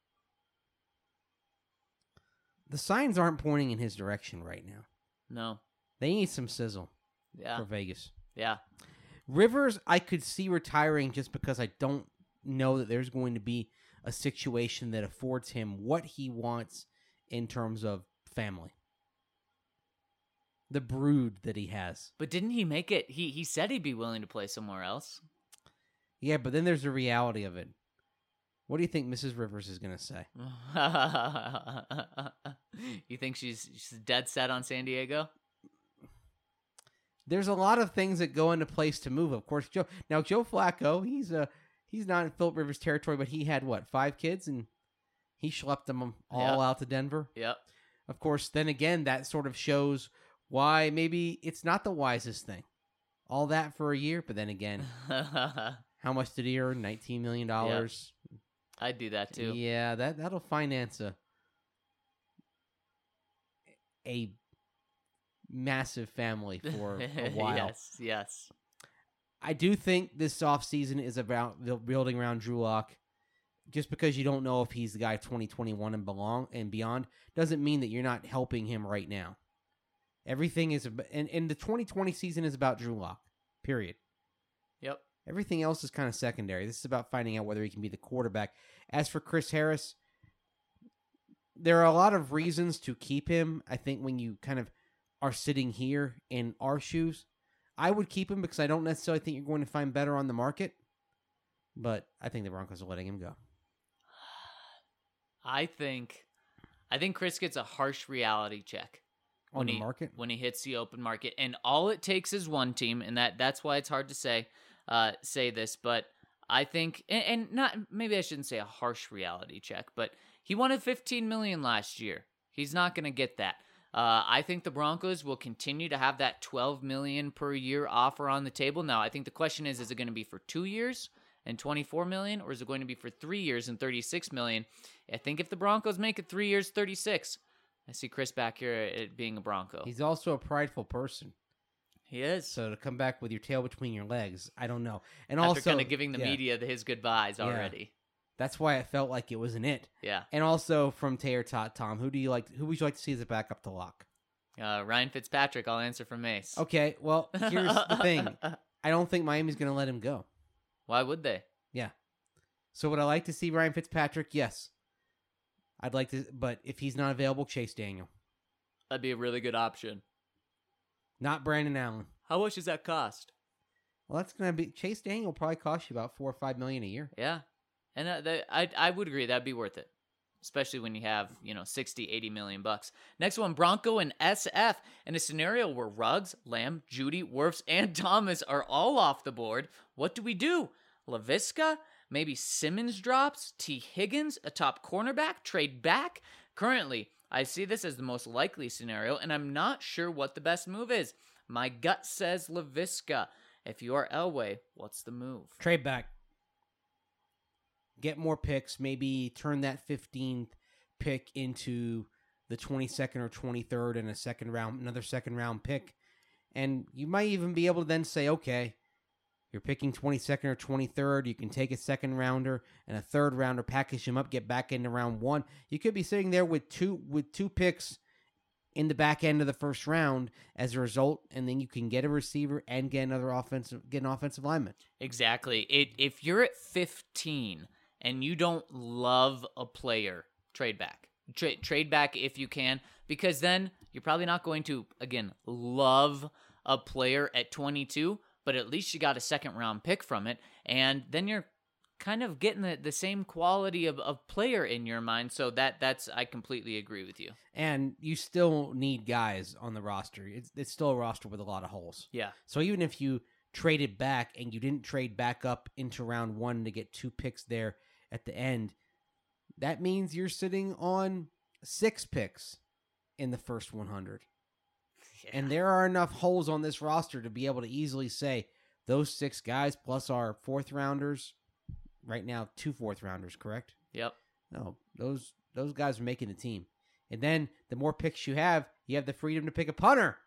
The signs aren't pointing in his direction right now. No. They need some sizzle Yeah. for Vegas. Yeah. Rivers, I could see retiring just because I don't know that there's going to be a situation that affords him what he wants in terms of family. The brood that he has. But didn't he make it? He he said he'd be willing to play somewhere else. Yeah, but then there's the reality of it. What do you think Missus Rivers is going to say? You think she's she's dead set on San Diego? There's a lot of things that go into place to move. Of course, Joe. Now Joe Flacco, he's uh he's not in Philip Rivers territory, but he had what, five kids, and he schlepped them all Yep. out to Denver. Yep. Of course, then again, that sort of shows why maybe it's not the wisest thing. All that for a year, but then again, how much did he earn? Nineteen million dollars. I'd do that too. Yeah, that that'll finance a a massive family for a while. Yes, yes. I do think this offseason is about the- building around Drew Lock. Just because you don't know if he's the guy twenty twenty-one and belong and beyond doesn't mean that you're not helping him right now. Everything is ab- and, and the twenty twenty season is about Drew Lock. Period. Yep. Everything else is kind of secondary. This is about finding out whether he can be the quarterback. As for Chris Harris, there are a lot of reasons to keep him. I think when you kind of are sitting here in our shoes, I would keep him because I don't necessarily think you're going to find better on the market. But I think the Broncos are letting him go. I think I think Chris gets a harsh reality check On when the he, market? when he hits the open market, and all it takes is one team, and that that's why it's hard to say uh, say this, but I think and, and not maybe I shouldn't say a harsh reality check, but he wanted fifteen million last year. He's not going to get that. Uh, I think the Broncos will continue to have that twelve million per year offer on the table. Now, I think the question is: is it going to be for two years and twenty-four million, or is it going to be for three years and thirty-six million? I think if the Broncos make it three years, thirty-six, I see Chris back here at being a Bronco. He's also a prideful person. He is. So to come back with your tail between your legs, I don't know. And After also kind of giving the yeah, media the, his goodbyes Yeah. already. That's why I felt like it was an it. Yeah. And also from Tater Tot Tom, who do you like? Who would you like to see as a backup to Lock? Uh, Ryan Fitzpatrick, I'll answer for Mace. Okay, well here's the thing. I don't think Miami's going to let him go. Why would they? Yeah. So would I like to see Ryan Fitzpatrick? Yes. I'd like to, but if he's not available, Chase Daniel, That'd be a really good option. not Brandon Allen. How much does that cost? Well, that's going to be Chase Daniel. Will probably cost you about four or five million a year. Yeah. And uh, they, I I would agree that'd be worth it. especially when you have, you know, sixty, eighty million bucks. Next one, Bronco and S F. In a scenario where Ruggs, Lamb, Judy, Wirfs, and Thomas are all off the board, what do we do? LaVisca? Maybe Simmons drops? T. Higgins, a top cornerback, trade back? Currently, I see this as the most likely scenario, and I'm not sure what the best move is. My gut says LaVisca. If you are Elway, what's the move? Trade back. Get more picks. Maybe turn that fifteenth pick into the twenty-second or twenty-third and a second round, another second round pick. And you might even be able to then say, okay, you're picking twenty-second or twenty-third. You can take a second rounder and a third rounder, package them up, get back into round one. You could be sitting there with two with two picks in the back end of the first round as a result, and then you can get a receiver and get another offensive, get an offensive lineman. Exactly. It if you're at fifteen and you don't love a player, trade back. Tra- trade back if you can, because then you're probably not going to, again, love a player at twenty-two, but at least you got a second round pick from it, and then you're kind of getting the, the same quality of, of player in your mind. So that that's I completely agree with you. And you still need guys on the roster. It's, it's still a roster with a lot of holes. Yeah. So even if you traded back and you didn't trade back up into round one to get two picks there at the end, that means you're sitting on six picks in the first one hundred. Yeah. And there are enough holes on this roster to be able to easily say those six guys plus our fourth rounders, right now two fourth rounders, correct? Yep. No, those those guys are making the team. And then the more picks you have, you have the freedom to pick a punter.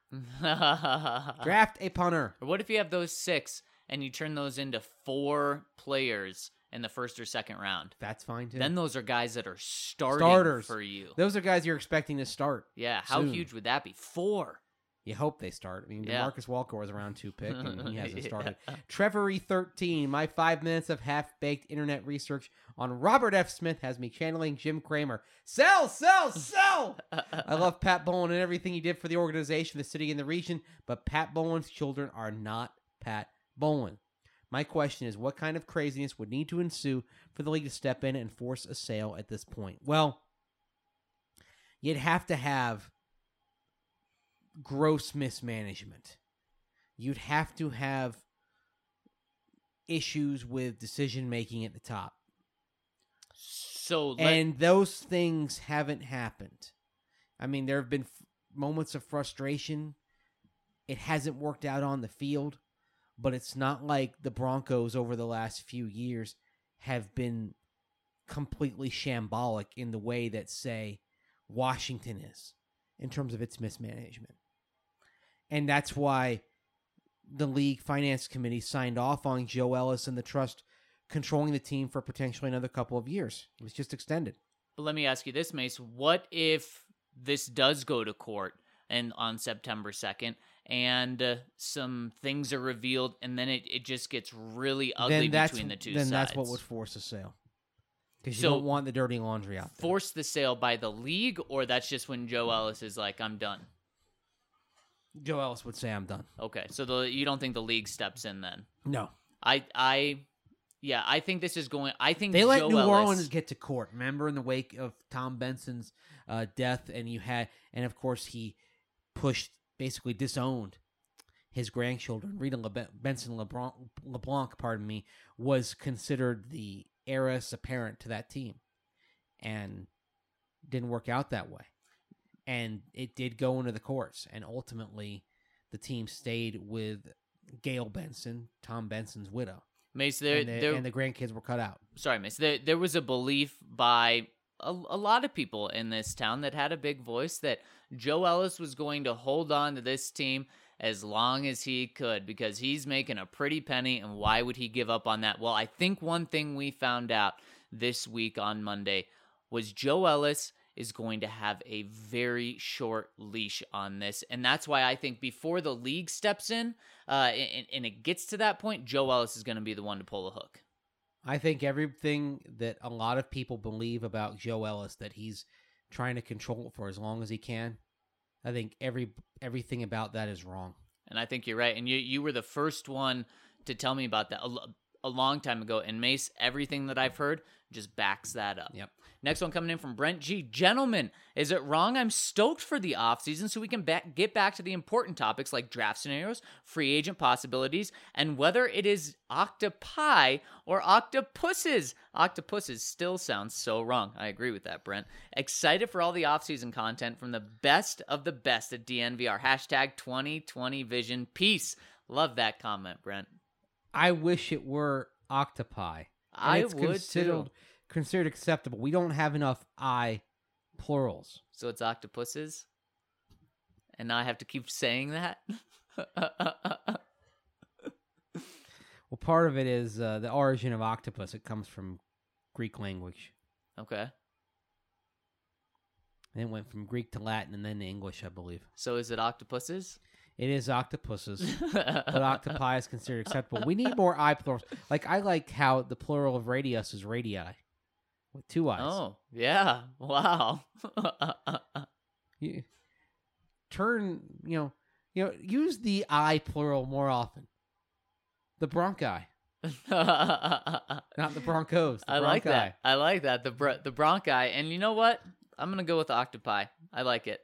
Draft a punter. Or what if you have those six and you turn those into four players in the first or second round? That's fine too. Then those are guys that are starting Starters for you. Those are guys you're expecting to start. Yeah, how soon. huge would that be? Four. You hope they start. I mean, Yeah. DeMarcus Walker was a round two pick, and he hasn't Yeah. started. Trevor E thirteen, my five minutes of half-baked internet research on Robert F. Smith has me channeling Jim Cramer. Sell, sell, sell! I love Pat Bowlen and everything he did for the organization, the city, and the region, but Pat Bowlen's children are not Pat Bowlen. My question is, what kind of craziness would need to ensue for the league to step in and force a sale at this point? Well, you'd have to have gross mismanagement. You'd have to have issues with decision making at the top. So let, And those things haven't happened. I mean, there have been f- moments of frustration. It hasn't worked out on the field, but it's not like the Broncos over the last few years have been completely shambolic in the way that, say, Washington is in terms of its mismanagement. And that's why the league finance committee signed off on Joe Ellis and the trust controlling the team for potentially another couple of years. It was just extended. but let me ask you this, Mace. What if this does go to court and on September second and uh, some things are revealed and then it, it just gets really ugly then that's, between the two then sides? that's what would force a sale. Because you So, don't want the dirty laundry out there. Force the sale by the league, or that's just when Joe Ellis is like, I'm done? Joe Ellis would say, I'm done. Okay, so the you don't think the league steps in then? No. I, I, yeah, I think this is going. I think They let Joe New Ellis, Orleans get to court. Remember in the wake of Tom Benson's uh, death, and you had, and of course he pushed, basically disowned his grandchildren. Rita Le- Benson LeBlanc, LeBlanc, pardon me, was considered the heiress apparent to that team, and didn't work out that way. And it did go into the courts, and ultimately the team stayed with Gail Benson, Tom Benson's widow. Mace, there, and, the, there, and the grandkids were cut out. sorry, Mace. There, there was a belief by a, a lot of people in this town that had a big voice that Joe Ellis was going to hold on to this team as long as he could because he's making a pretty penny, and why would he give up on that? Well, I think one thing we found out this week on Monday was Joe Ellis is going to have a very short leash on this. And that's why I think before the league steps in uh, and, and it gets to that point, Joe Ellis is going to be the one to pull the hook. I think everything that a lot of people believe about Joe Ellis, that he's trying to control it for as long as he can, I think every everything about that is wrong. And I think you're right. And you, you were the first one to tell me about that. A, a long time ago. And Mace, everything that I've heard just backs that up. Yep. Next one coming in from Brent G. Gentlemen, is it wrong? I'm stoked for the offseason so we can back, get back to the important topics like draft scenarios, free agent possibilities, and whether it is octopi or octopuses. Octopuses still sounds so wrong. I agree with that, Brent. Excited for all the offseason content from the best of the best at D N V R. Hashtag twenty twenty Vision. Peace. Love that comment, Brent. I wish it were octopi. And I it's would considered, too. considered acceptable. We don't have enough I plurals. So it's octopuses? And now I have to keep saying that? Well, part of it is uh, the origin of octopus. It comes from Greek language. Okay. And it went from Greek to Latin and then to English, I believe. So is it octopuses? It is octopuses, but octopi is considered acceptable. We need more I plurals. Like, I like how the plural of radius is radii, with two eyes. Oh, yeah. Wow. You, turn, you know, you know, use the I plural more often. The bronchi, not the Broncos. The I like bronchi. that. I like that. The br- the bronchi. And you know what? I'm going to go with the octopi. I like it.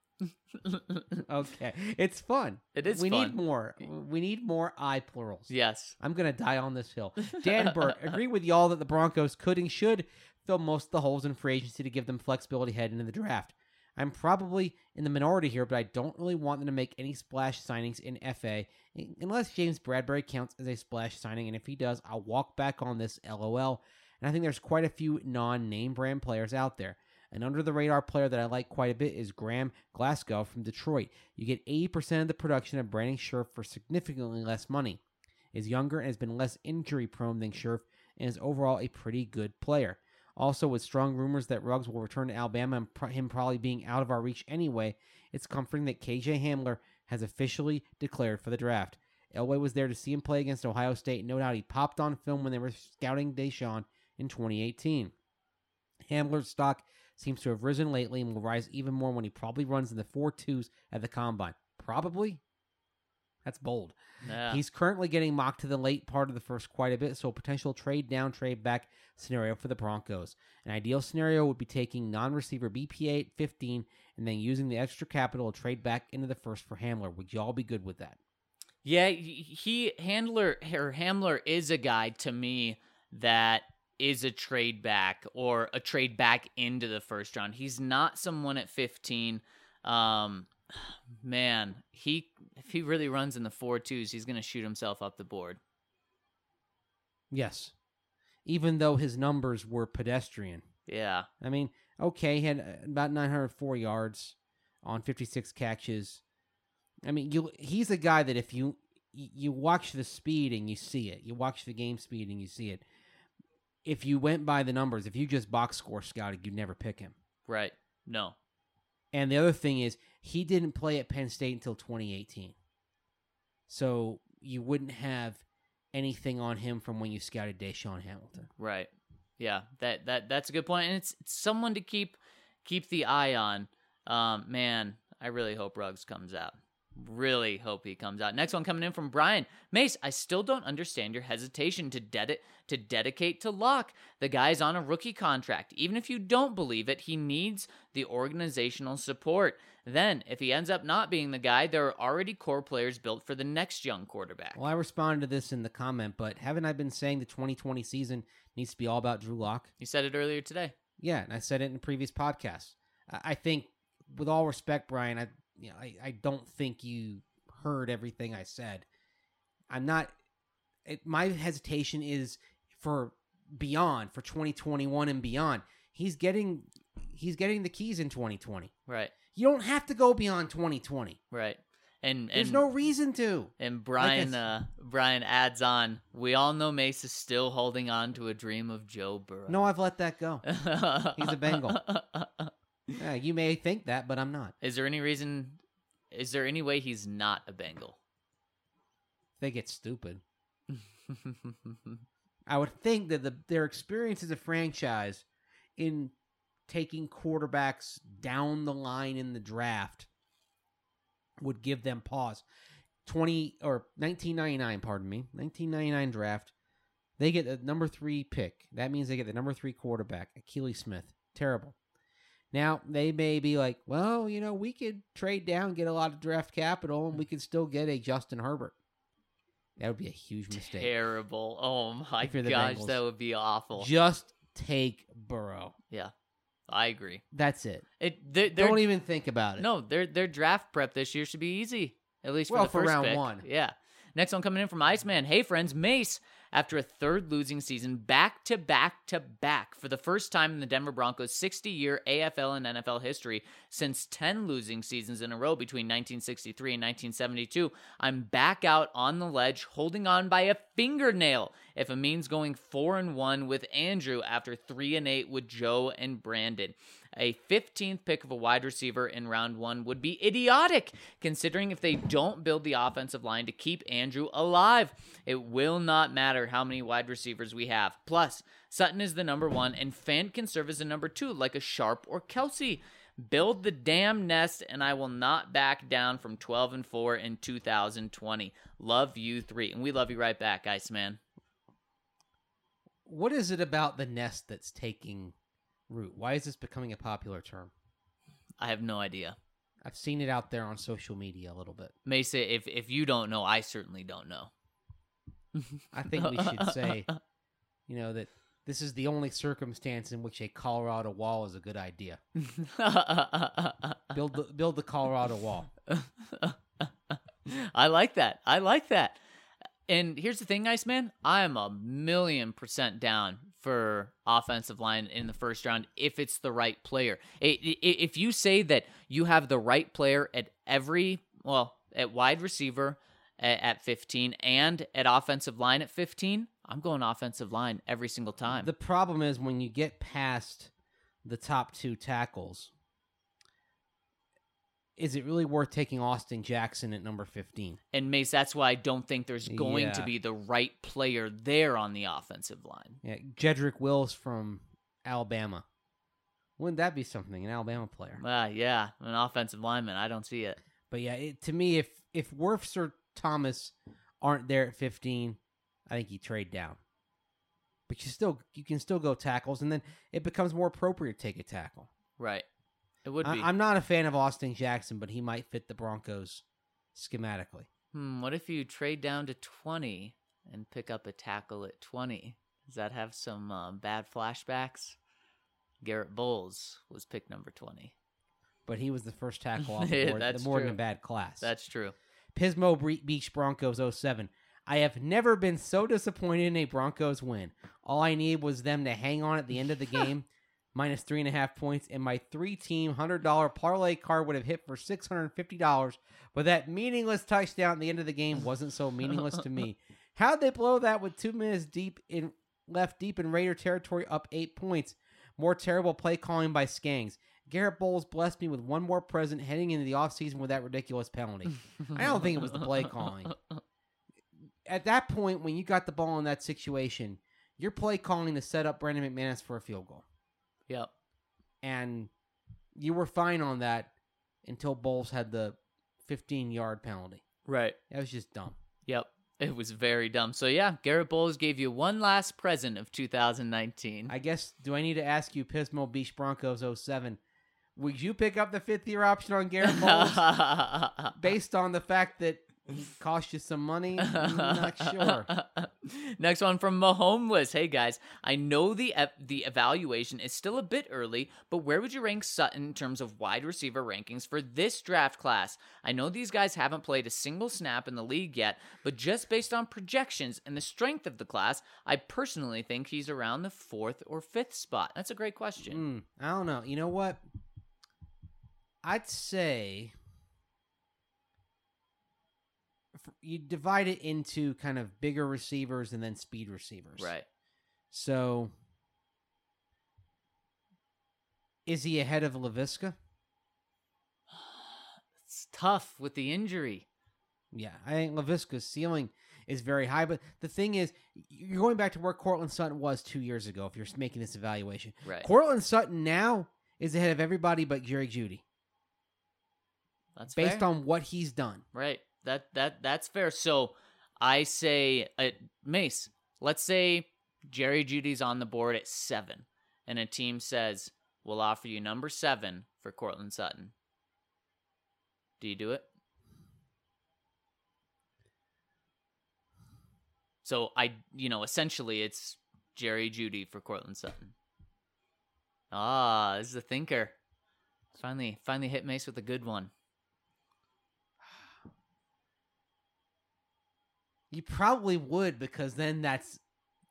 Okay, it's fun. It is We fun. need more. We need more I plurals. Yes. I'm gonna die on this hill. Dan Burke, agree with y'all that the Broncos could and should fill most of the holes in free agency to give them flexibility heading into the draft. I'm probably in the minority here, but I don't really want them to make any splash signings in F A unless James Bradbury counts as a splash signing, and if he does, I'll walk back on this LOL. And I think there's quite a few non-name brand players out there. An under-the-radar player that I like quite a bit is Graham Glasgow from Detroit. You get eighty percent of the production of Brandon Scherf for significantly less money. Is younger and has been less injury-prone than Scherf, and is overall a pretty good player. Also, with strong rumors that Ruggs will return to Alabama and pro- him probably being out of our reach anyway, it's comforting that K J Hamler has officially declared for the draft. Elway was there to see him play against Ohio State, and no doubt he popped on film when they were scouting Deshaun in twenty eighteen. Hamler's stock seems to have risen lately and will rise even more when he probably runs in the four twos at the Combine. Probably? That's bold. Yeah. He's currently getting mocked to the late part of the first quite a bit, so a potential trade down, trade back scenario for the Broncos. An ideal scenario would be taking non-receiver B P A at fifteen and then using the extra capital to trade back into the first for Hamler. Would y'all be good with that? Yeah, he, he Handler or Hamler is a guy to me that is a trade back or a trade back into the first round. He's not someone at fifteen. Um, man, he if he really runs in the four twos, he's going to shoot himself up the board. Yes. Even though his numbers were pedestrian. Yeah. I mean, okay, he had about nine hundred four yards on fifty-six catches. I mean, you he's a guy that if you you watch the speed and you see it, you watch the game speed and you see it. If you went by the numbers, if you just box score scouted, you'd never pick him. Right. No. And the other thing is, he didn't play at Penn State until twenty eighteen. So you wouldn't have anything on him from when you scouted Deshaun Hamilton. Right. Yeah. That that that's a good point, and it's, it's someone to keep keep the eye on. Um, man, I really hope Ruggs comes out. Really hope he comes out. Next one coming in from Brian. Mace, I still don't understand your hesitation to ded- to dedicate to Locke. The guy's on a rookie contract. Even if you don't believe it, he needs the organizational support. Then, if he ends up not being the guy, there are already core players built for the next young quarterback. Well, I responded to this in the comment, but haven't I been saying the twenty twenty season needs to be all about Drew Lock? You said it earlier today. Yeah, and I said it in previous podcasts. I, I think, with all respect, Brian, I you know, I, I don't think you heard everything I said. I'm not. It, my hesitation is for beyond, for twenty twenty-one and beyond. He's getting, he's getting the keys in twenty twenty. Right. You don't have to go beyond twenty twenty. Right. And There's and, no reason to. And Brian, Like I s- uh, Brian adds on. We all know Mace is still holding on to a dream of Joe Burrow. No, I've let that go. He's a Bengal. Yeah, you may think that, but I'm not. Is there any reason? Is there any way he's not a Bengal? They get stupid. I would think that the, their experience as a franchise in taking quarterbacks down the line in the draft would give them pause. Twenty or nineteen ninety nine, pardon me, nineteen ninety nine draft. They get the number three pick. That means they get the number three quarterback, Akili Smith. Terrible. Now, they may be like, well, you know, we could trade down, get a lot of draft capital, and we could still get a Justin Herbert. That would be a huge mistake. Terrible. Oh, my If you're the gosh, Bengals. that would be awful. Just take Burrow. Yeah, I agree. That's it. It they're, they're, Don't even think about it. No, their their draft prep this year should be easy, at least for Well, the for first round pick. one. Yeah. Next one coming in from Iceman. Hey, friends, Mace. After a third losing season, back to back to back, for the first time in the Denver Broncos' sixty-year A F L and N F L history, since ten losing seasons in a row between nineteen sixty-three and nineteen seventy-two, I'm back out on the ledge, holding on by a fingernail. If it means going four and one with Andrew after three and eight with Joe and Brandon. A fifteenth pick of a wide receiver in round one would be idiotic, considering if they don't build the offensive line to keep Andrew alive. It will not matter how many wide receivers we have. Plus, Sutton is the number one, and Fant can serve as the number two, like a Sharp or Kelsey. Build the damn nest, and I will not back down from twelve and four in two thousand twenty. Love you three. And we love you right back, Iceman. What is it about the nest that's taking root? Why is this becoming a popular term? I have no idea. I've seen it out there on social media a little bit. Mesa, if, if you don't know, I certainly don't know. I think we should say, you know, that this is the only circumstance in which a Colorado wall is a good idea. Build the, build the Colorado wall. I like that. I like that. And here's the thing, Iceman. I am a million percent down for offensive line in the first round if it's the right player. If you say that you have the right player at every, well, at wide receiver at fifteen and at offensive line at fifteen, I'm going offensive line every single time. The problem is when you get past the top two tackles, is it really worth taking Austin Jackson at number fifteen? And Mace, that's why I don't think there's going Yeah. to be the right player there on the offensive line. Yeah, Jedrick Wills from Alabama. Wouldn't that be something? An Alabama player. Ah, yeah, an offensive lineman. I don't see it. But yeah, it, to me, if if Wirfs or Thomas aren't there at fifteen, I think you trade down. But you still you can still go tackles, and then it becomes more appropriate to take a tackle. Right. It would be. I, I'm not a fan of Austin Jackson, but he might fit the Broncos schematically. Hmm, what if you trade down to twenty and pick up a tackle at twenty? Does that have some uh, bad flashbacks? Garrett Bowles was pick number twenty. But he was the first tackle off the board, That's the board in true. a bad class. That's true. Pismo Bre- Beach Broncos oh seven. I have never been so disappointed in a Broncos win. All I needed was them to hang on at the end of the game, minus three and a half points, and my three-team one hundred dollars parlay card would have hit for six hundred fifty dollars, but that meaningless touchdown at the end of the game wasn't so meaningless to me. How'd they blow that with two minutes deep in left deep in Raider territory, up eight points? More terrible play calling by Skangs. Garrett Bowles blessed me with one more present heading into the offseason with that ridiculous penalty. I don't think it was the play calling. At that point, when you got the ball in that situation, you're play calling to set up Brandon McManus for a field goal. Yep. And you were fine on that until Bowles had the fifteen-yard penalty. Right. That was just dumb. Yep. It was very dumb. So, yeah, Garrett Bowles gave you one last present of two thousand nineteen. I guess, do I need to ask you, Pismo Beach Broncos oh seven, would you pick up the fifth-year option on Garrett Bowles based on the fact that he cost you some money? I'm not sure. Next one from Mahomeless. Hey guys, I know the ev- the evaluation is still a bit early, but where would you rank Sutton in terms of wide receiver rankings for this draft class? I know these guys haven't played a single snap in the league yet, but just based on projections and the strength of the class, I personally think he's around the fourth or fifth spot. That's a great question. Mm, I don't know. You know what? I'd say you divide it into kind of bigger receivers and then speed receivers. Right. So, is he ahead of LaVisca? It's tough with the injury. Yeah, I think LaVisca's ceiling is very high. But the thing is, you're going back to where Cortland Sutton was two years ago if you're making this evaluation. Right. Cortland Sutton now is ahead of everybody but Jerry Jeudy. That's based fair. on what he's done. Right. That that that's fair. So I say, uh, Mace, let's say Jerry Jeudy's on the board at seven, and a team says, we'll offer you number seven for Courtland Sutton. Do you do it? So, I, you know, essentially it's Jerry Jeudy for Courtland Sutton. Ah, this is a thinker. Finally, finally hit Mace with a good one. You probably would, because then that's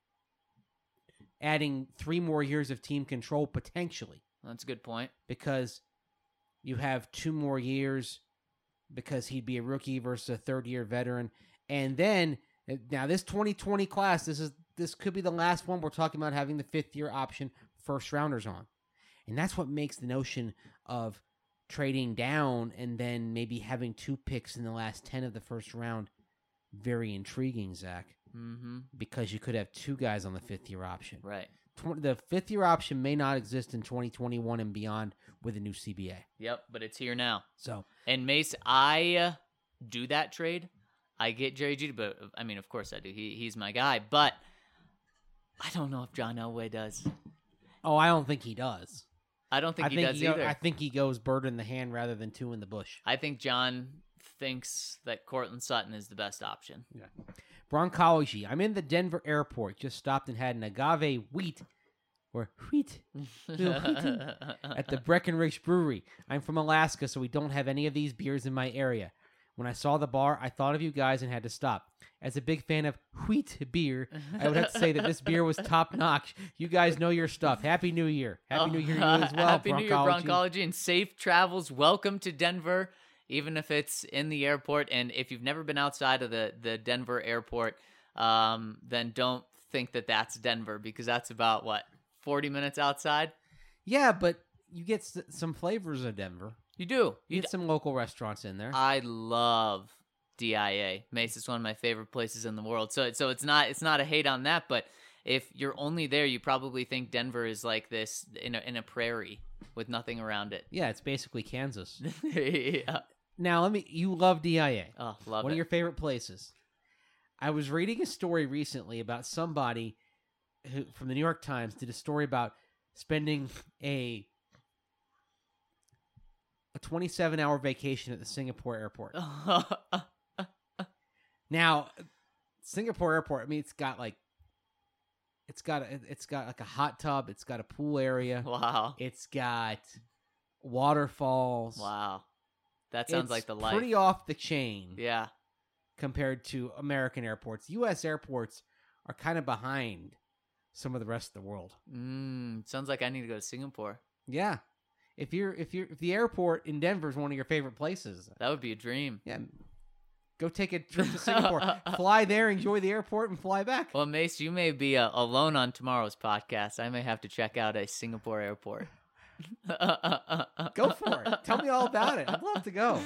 adding three more years of team control potentially. That's a good point. Because you have two more years because he'd be a rookie versus a third-year veteran. And then, now this twenty twenty class, this is this could be the last one we're talking about having the fifth-year option first-rounders on. And that's what makes the notion of trading down and then maybe having two picks in the last ten of the first round very intriguing, Zach. Mm-hmm. Because you could have two guys on the fifth-year option. Right. Tw- the fifth-year option may not exist in twenty twenty-one and beyond with a new C B A. Yep, but it's here now. So, and Mace, I uh, do that trade. I get Jerry Jeudy, but I mean, of course I do. He he's my guy, but I don't know if John Elway does. Oh, I don't think he does. I don't think I he think does he either. Go, I think he goes bird in the hand rather than two in the bush. I think John thinks that Courtland Sutton is the best option. Yeah. Bronchology. I'm in the Denver airport. Just stopped and had an agave wheat or wheat at the Breckenridge Brewery. I'm from Alaska, so we don't have any of these beers in my area. When I saw the bar, I thought of you guys and had to stop. As a big fan of wheat beer, I would have to say that this beer was top notch. You guys know your stuff. Happy New Year. Happy oh, New Year to you as well, Happy New Year, Bronchology. Bronchology, and safe travels. Welcome to Denver, even if it's in the airport. And if you've never been outside of the, the Denver airport, um, then don't think that that's Denver, because that's about, what, forty minutes outside? Yeah, but you get s- some flavors of Denver. You do. You You get some local restaurants in there. I love D I A. Mace is one of my favorite places in the world. So so it's not it's not a hate on that, but if you're only there, you probably think Denver is like this in a, in a prairie with nothing around it. Yeah, it's basically Kansas. Yeah. Now, let me. You love D I A. Oh, love One it. of your favorite places. I was reading a story recently about somebody who, from the New York Times, did a story about spending a a twenty-seven hour vacation at the Singapore airport. Now, Singapore airport, I mean, it's got like, it's got a, it's got like a hot tub. It's got a pool area. Wow. It's got waterfalls. Wow. That sounds It's like the life. pretty off the chain. Yeah. Compared to American airports. U S airports are kind of behind some of the rest of the world. Mm, sounds like I need to go to Singapore. Yeah. If you're if you're if the airport in Denver is one of your favorite places, That would be a dream. yeah, go take a trip to Singapore. Fly there, enjoy the airport, and fly back. Well, Mace, you may be uh, alone on tomorrow's podcast. I may have to check out a Singapore airport. Go for it. Tell me all about it. I'd love to go.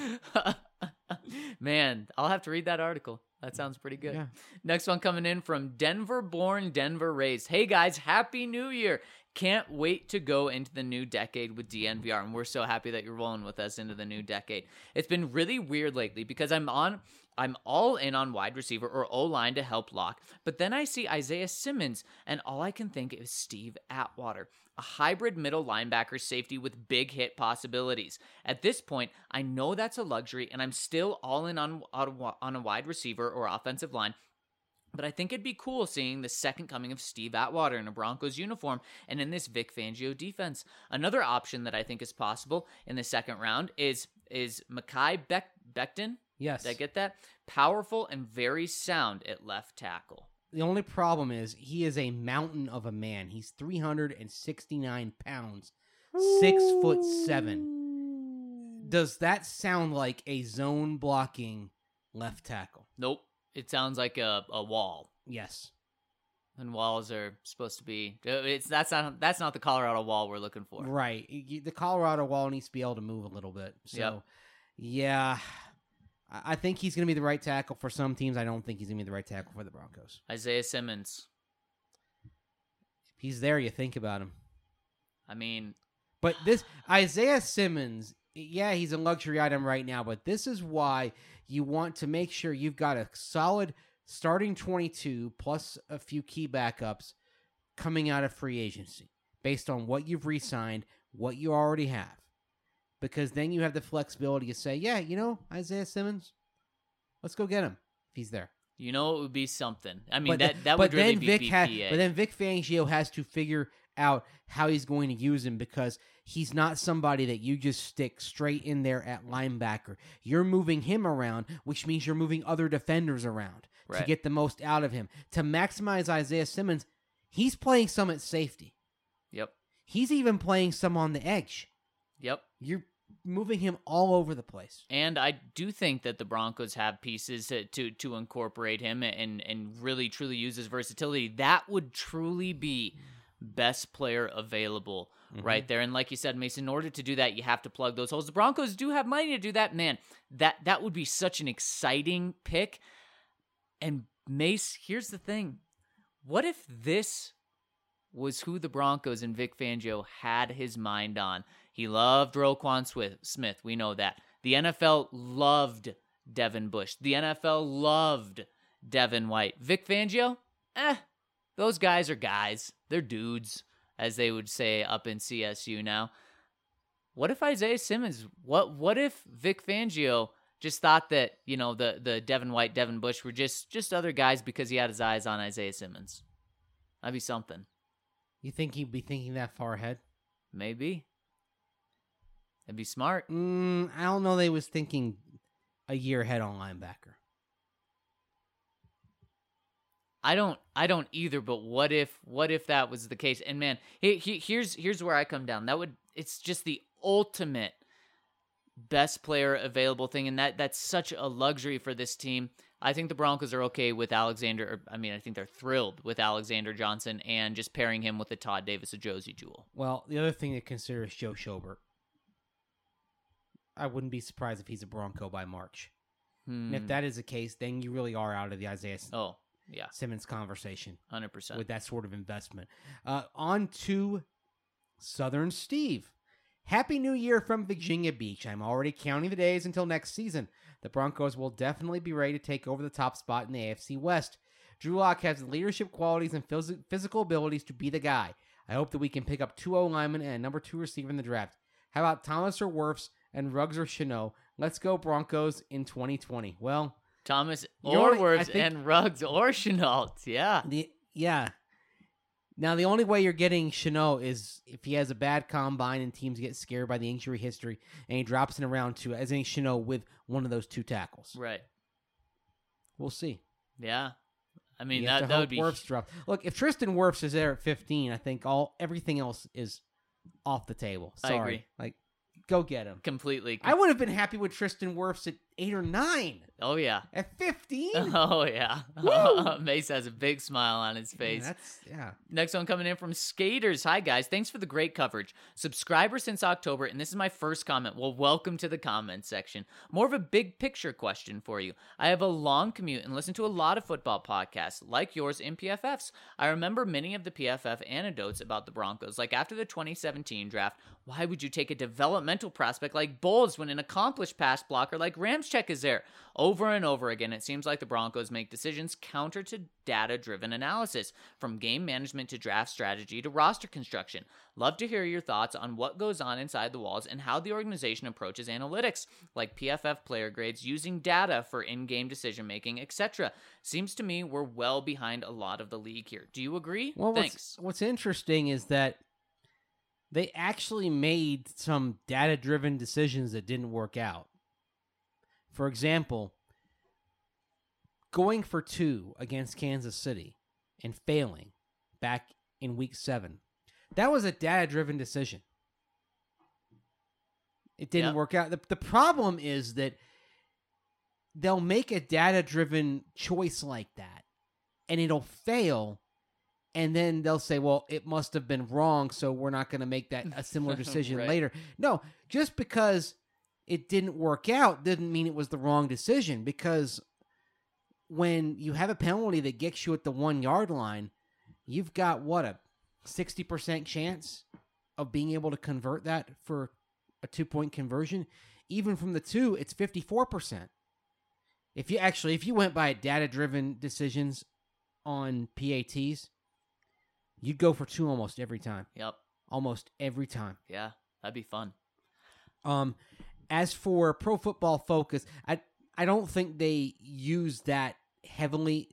Man, I'll have to read that article. That sounds pretty good. Yeah. Next one coming in from Denver born, Denver raised. Hey guys, Happy New Year. Can't wait to go into the new decade with D N V R, and we're so happy that you're rolling with us into the new decade. It's been really weird lately because I'm on, I'm all in on wide receiver or O-line to help lock, but then I see Isaiah Simmons, and all I can think is Steve Atwater, a hybrid middle linebacker safety with big hit possibilities. At this point, I know that's a luxury, and I'm still all in on, on, on a wide receiver or offensive line. But I think it'd be cool seeing the second coming of Steve Atwater in a Broncos uniform and in this Vic Fangio defense. Another option that I think is possible in the second round is is Mekhi Beck- Becton. Yes. Did I get that? Powerful and very sound at left tackle. The only problem is he is a mountain of a man. He's three hundred sixty-nine pounds, six foot seven. Does that sound like a zone blocking left tackle? Nope. It sounds like a, a wall. Yes. And walls are supposed to be. It's that's not that's not the Colorado wall we're looking for. Right. Y- The Colorado wall needs to be able to move a little bit. So, Yep. yeah, I I think he's going to be the right tackle for some teams. I don't think he's going to be the right tackle for the Broncos. Isaiah Simmons. If he's there, you think about him. I mean, But this Isaiah Simmons, yeah, he's a luxury item right now, but this is why you want to make sure you've got a solid starting twenty-two plus a few key backups coming out of free agency based on what you've re-signed, what you already have. Because then you have the flexibility to say, yeah, you know, Isaiah Simmons, let's go get him if he's there. You know, it would be something. I mean, But that, th- that but would really then be Vic B ha- P A. But then Vic Fangio has to figure out how he's going to use him because he's not somebody that you just stick straight in there at linebacker. You're moving him around, which means you're moving other defenders around Right. to get the most out of him. To maximize Isaiah Simmons, he's playing some at safety. Yep. He's even playing some on the edge. Yep. You're moving him all over the place. And I do think that the Broncos have pieces to, to, to incorporate him and, and really truly use his versatility. That would truly be best player available Mm-hmm. right there. And like you said, Mason, in order to do that, you have to plug those holes. The Broncos do have money to do that. Man, that, that would be such an exciting pick. And Mace, here's the thing. What if this was who the Broncos and Vic Fangio had his mind on? He loved Roquan Smith. We know that. The N F L loved Devin Bush. The N F L loved Devin White. Vic Fangio? Eh, those guys are guys. They're dudes, as they would say up in C S U now. What if Isaiah Simmons, what what if Vic Fangio just thought that, you know, the, the Devin White, Devin Bush were just, just other guys because he had his eyes on Isaiah Simmons? That'd be something. You think he'd be thinking that far ahead? Maybe. It'd be smart. Mm, I don't know. They was thinking a year ahead on linebacker. I don't I don't either, but what if what if that was the case? And man, he, he, here's here's where I come down. That would it's just the ultimate best player available thing, and that that's such a luxury for this team. I think the Broncos are okay with Alexander. Or, I mean, I think they're thrilled with Alexander Johnson and just pairing him with the Todd Davis Josie jewel. Well, the other thing to consider is Joe Schobert. I wouldn't be surprised if he's a Bronco by March. Hmm. And if that is the case, then you really are out of the Isaiah Oh, yeah, Simmons conversation one hundred percent. with that sort of investment. Uh, on to Southern Steve. Happy New Year from Virginia Beach. I'm already counting the days until next season. The Broncos will definitely be ready to take over the top spot in the A F C West. Drew Lock has the leadership qualities and phys- physical abilities to be the guy. I hope that we can pick up two O-linemen and a number two receiver in the draft. How about Thomas or Wirfs and Ruggs or Chanel? Let's go Broncos in twenty twenty. Well, Thomas You or only- I Wirfs think- and Ruggs or Chenault. Yeah. the yeah. Now, the only way you're getting Chanel is if he has a bad combine and teams get scared by the injury history and he drops in a round two as any Chanel with one of those two tackles. Right. We'll see. Yeah. I mean, You have that, to that hope would be... Wirfs drop. Look, if Tristan Wirfs is there at fifteen, I think all everything else is off the table. I Sorry. agree. Like, go get him. Completely. I would have been happy with Tristan Wirfs at eight or nine. Oh, yeah. At fifteen? Oh, yeah. Woo! Mace has a big smile on his face. Yeah, that's, yeah. Next one coming in from Skaters. Hi, guys. Thanks for the great coverage. Subscriber since October, and this is my first comment. Well, welcome to the comment section. More of a big picture question for you. I have a long commute and listen to a lot of football podcasts, like yours and P F F's. I remember many of the P F F anecdotes about the Broncos, like after the twenty seventeen draft, why would you take a developmental prospect like Bowles when an accomplished pass blocker like Ramczyk is there? Over and over again, it seems like the Broncos make decisions counter to data-driven analysis, from game management to draft strategy to roster construction. Love to hear your thoughts on what goes on inside the walls and how the organization approaches analytics, like P F F player grades, using data for in-game decision-making, et cetera. Seems to me we're well behind a lot of the league here. Do you agree? Well, Thanks. What's, what's interesting is that they actually made some data-driven decisions that didn't work out. For example, going for two against Kansas City and failing back in week seven. That was a data-driven decision. It didn't Yep. work out. The, the problem is that they'll make a data-driven choice like that, and it'll fail, and then they'll say, well, it must have been wrong, so we're not going to make that a similar decision Right. later. No, just because it didn't work out didn't mean it was the wrong decision, because when you have a penalty that gets you at the one-yard line, you've got, what, a sixty percent chance of being able to convert that for a two-point conversion? Even from the two, it's fifty-four percent. If you actually, if you went by data-driven decisions on P A Ts, you'd go for two almost every time. Yep. Almost every time. Yeah, that'd be fun. Um, as for Pro Football Focus, I I don't think they use that heavily.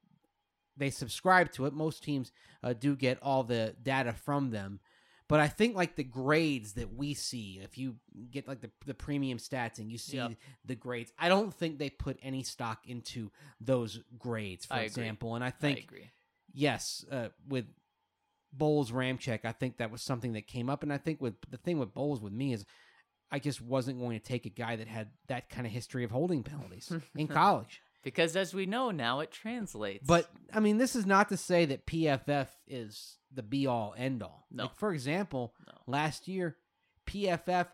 They subscribe to it. Most teams uh, do get all the data from them. But I think like the grades that we see, if you get like the, the premium stats and you see Yep. the grades, I don't think they put any stock into those grades, for I agree. example. And I I think, agree. yes, uh, with Bowles Ramczyk, I think that was something that came up. And I think with the thing with Bowles with me is I just wasn't going to take a guy that had that kind of history of holding penalties in college. Because as we know now, it translates. But, I mean, this is not to say that P F F is the be-all, end-all. No. Like, for example, No. last year, P F F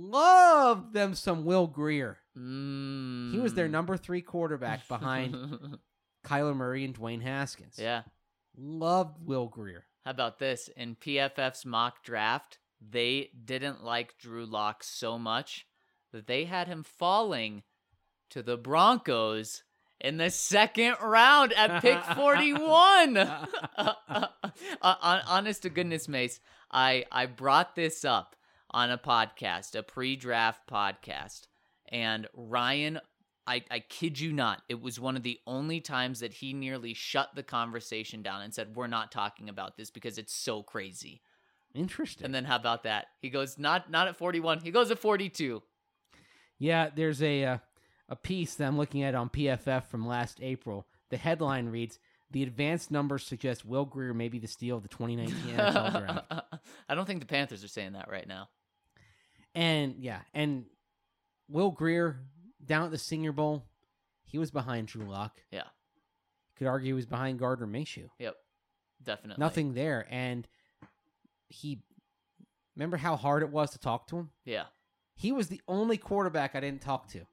loved them some Will Greer. Mm. He was their number three quarterback behind Kyler Murray and Dwayne Haskins. Yeah. Loved Will Greer. How about this? In P F F's mock draft, they didn't like Drew Lock so much that they had him falling to the Broncos in the second round at pick forty-one. uh, honest to goodness, Mace, I, I brought this up on a podcast, a pre-draft podcast, and Ryan, I, I kid you not, it was one of the only times that he nearly shut the conversation down and said, we're not talking about this because it's so crazy. Interesting. And then how about that? He goes, not not at forty-one, he goes at forty-two. Yeah, there's a uh, a piece that I'm looking at on P F F from last April. The headline reads, "The advanced numbers suggest Will Greer may be the steal of the twenty nineteen N F L draft." I don't think the Panthers are saying that right now. And, yeah, and Will Greer, down at the Senior Bowl, he was behind Drew Lock. Yeah. Could argue he was behind Gardner Minshew. Yep. Definitely. Nothing there. And he, remember how hard it was to talk to him? Yeah. He was the only quarterback I didn't talk to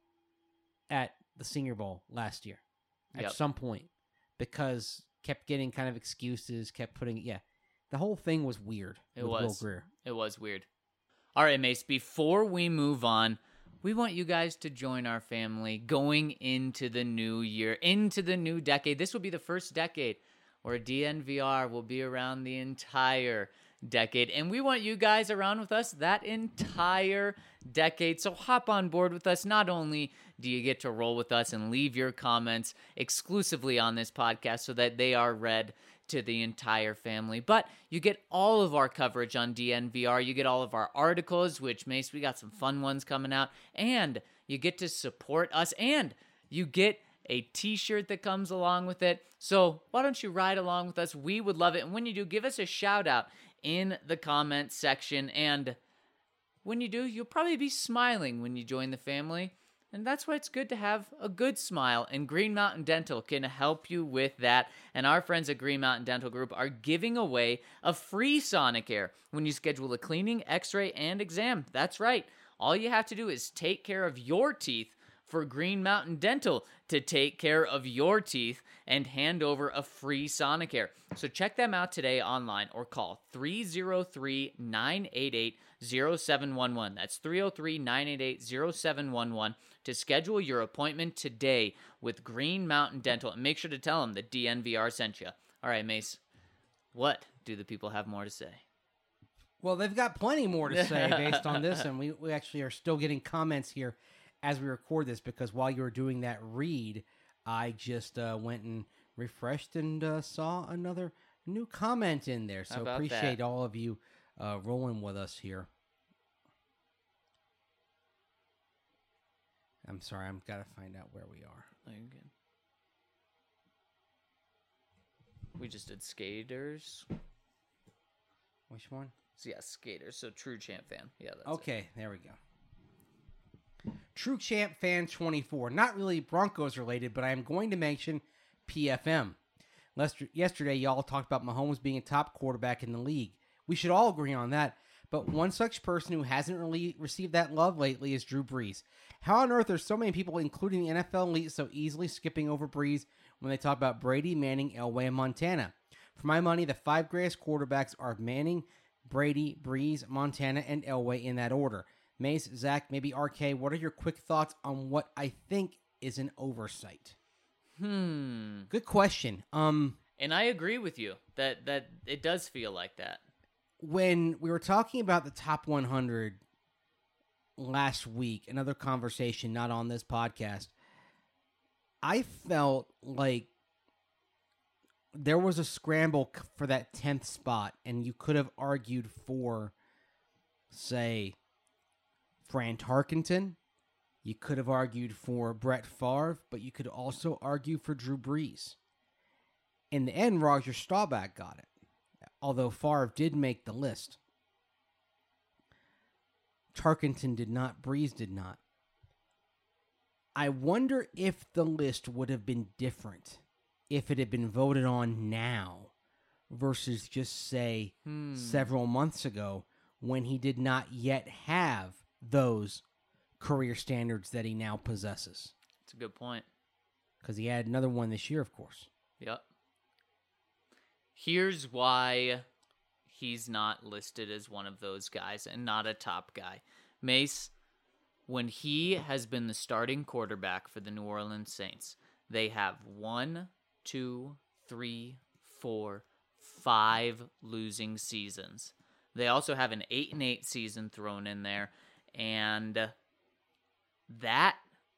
at the Senior Bowl last year at Yep. some point because kept getting kind of excuses, kept putting, yeah. The whole thing was weird It with was. Will Greer. It was weird. All right, Mace, before we move on, we want you guys to join our family going into the new year, into the new decade. This will be the first decade where D N V R will be around the entire decade. And we want you guys around with us that entire decade. So hop on board with us. Not only do you get to roll with us and leave your comments exclusively on this podcast so that they are read to the entire family, but you get all of our coverage on D N V R. You get all of our articles, which, Mace, we got some fun ones coming out, and you get to support us, and you get a t-shirt that comes along with it. So why don't you ride along with us? We would love it. And when you do, give us a shout out in the comment section. And when you do, you'll probably be smiling when you join the family. And that's why it's good to have a good smile, and Green Mountain Dental can help you with that. And our friends at Green Mountain Dental Group are giving away a free Sonicare when you schedule a cleaning, x-ray, and exam. That's right. All you have to do is take care of your teeth for Green Mountain Dental to take care of your teeth and hand over a free Sonicare. So check them out today online or call three oh three, nine eight eight, oh seven one one. That's three oh three, nine eight eight, oh seven one one to schedule your appointment today with Green Mountain Dental. And make sure to tell them that D N V R sent you. All right, Mace, what do the people have more to say? Well, they've got plenty more to say based on this, and we, we actually are still getting comments here as we record this, because while you were doing that read, I just uh, went and refreshed and uh, saw another new comment in there. So appreciate that? all of you uh, rolling with us here. I'm sorry, I've got to find out where we are. Oh, you're good. We just did Skaters. Which one? So yeah, Skaters. So True Champ fan. Yeah, that's Okay, it. There we go. True Champ Fan twenty-four. Not really Broncos related, but I am going to mention P F M. Lester, yesterday, y'all talked about Mahomes being a top quarterback in the league. We should all agree on that. But one such person who hasn't really received that love lately is Drew Brees. How on earth are so many people, including the N F L elite, so easily skipping over Brees when they talk about Brady, Manning, Elway, and Montana? For my money, the five greatest quarterbacks are Manning, Brady, Brees, Montana, and Elway in that order. Mace, Zach, maybe R K, what are your quick thoughts on what I think is an oversight? Hmm. Good question. Um, And I agree with you that that it does feel like that. when we were talking about the top one hundred last week, another conversation not on this podcast, I felt like there was a scramble c- for that tenth spot, and you could have argued for, say, Fran Tarkenton. You could have argued for Brett Favre, but you could also argue for Drew Brees. In the end, Roger Staubach got it, although Favre did make the list. Tarkenton did not, Brees did not. I wonder if the list would have been different if it had been voted on now versus just, say, Hmm. several months ago when he did not yet have those career standards that he now possesses. That's a good point. Because he had another one this year, of course. Yep. Here's why he's not listed as one of those guys and not a top guy. Mace, when he has been the starting quarterback for the New Orleans Saints, they have one, two, three, four, five losing seasons. They also have an eight and eight season thrown in there, and that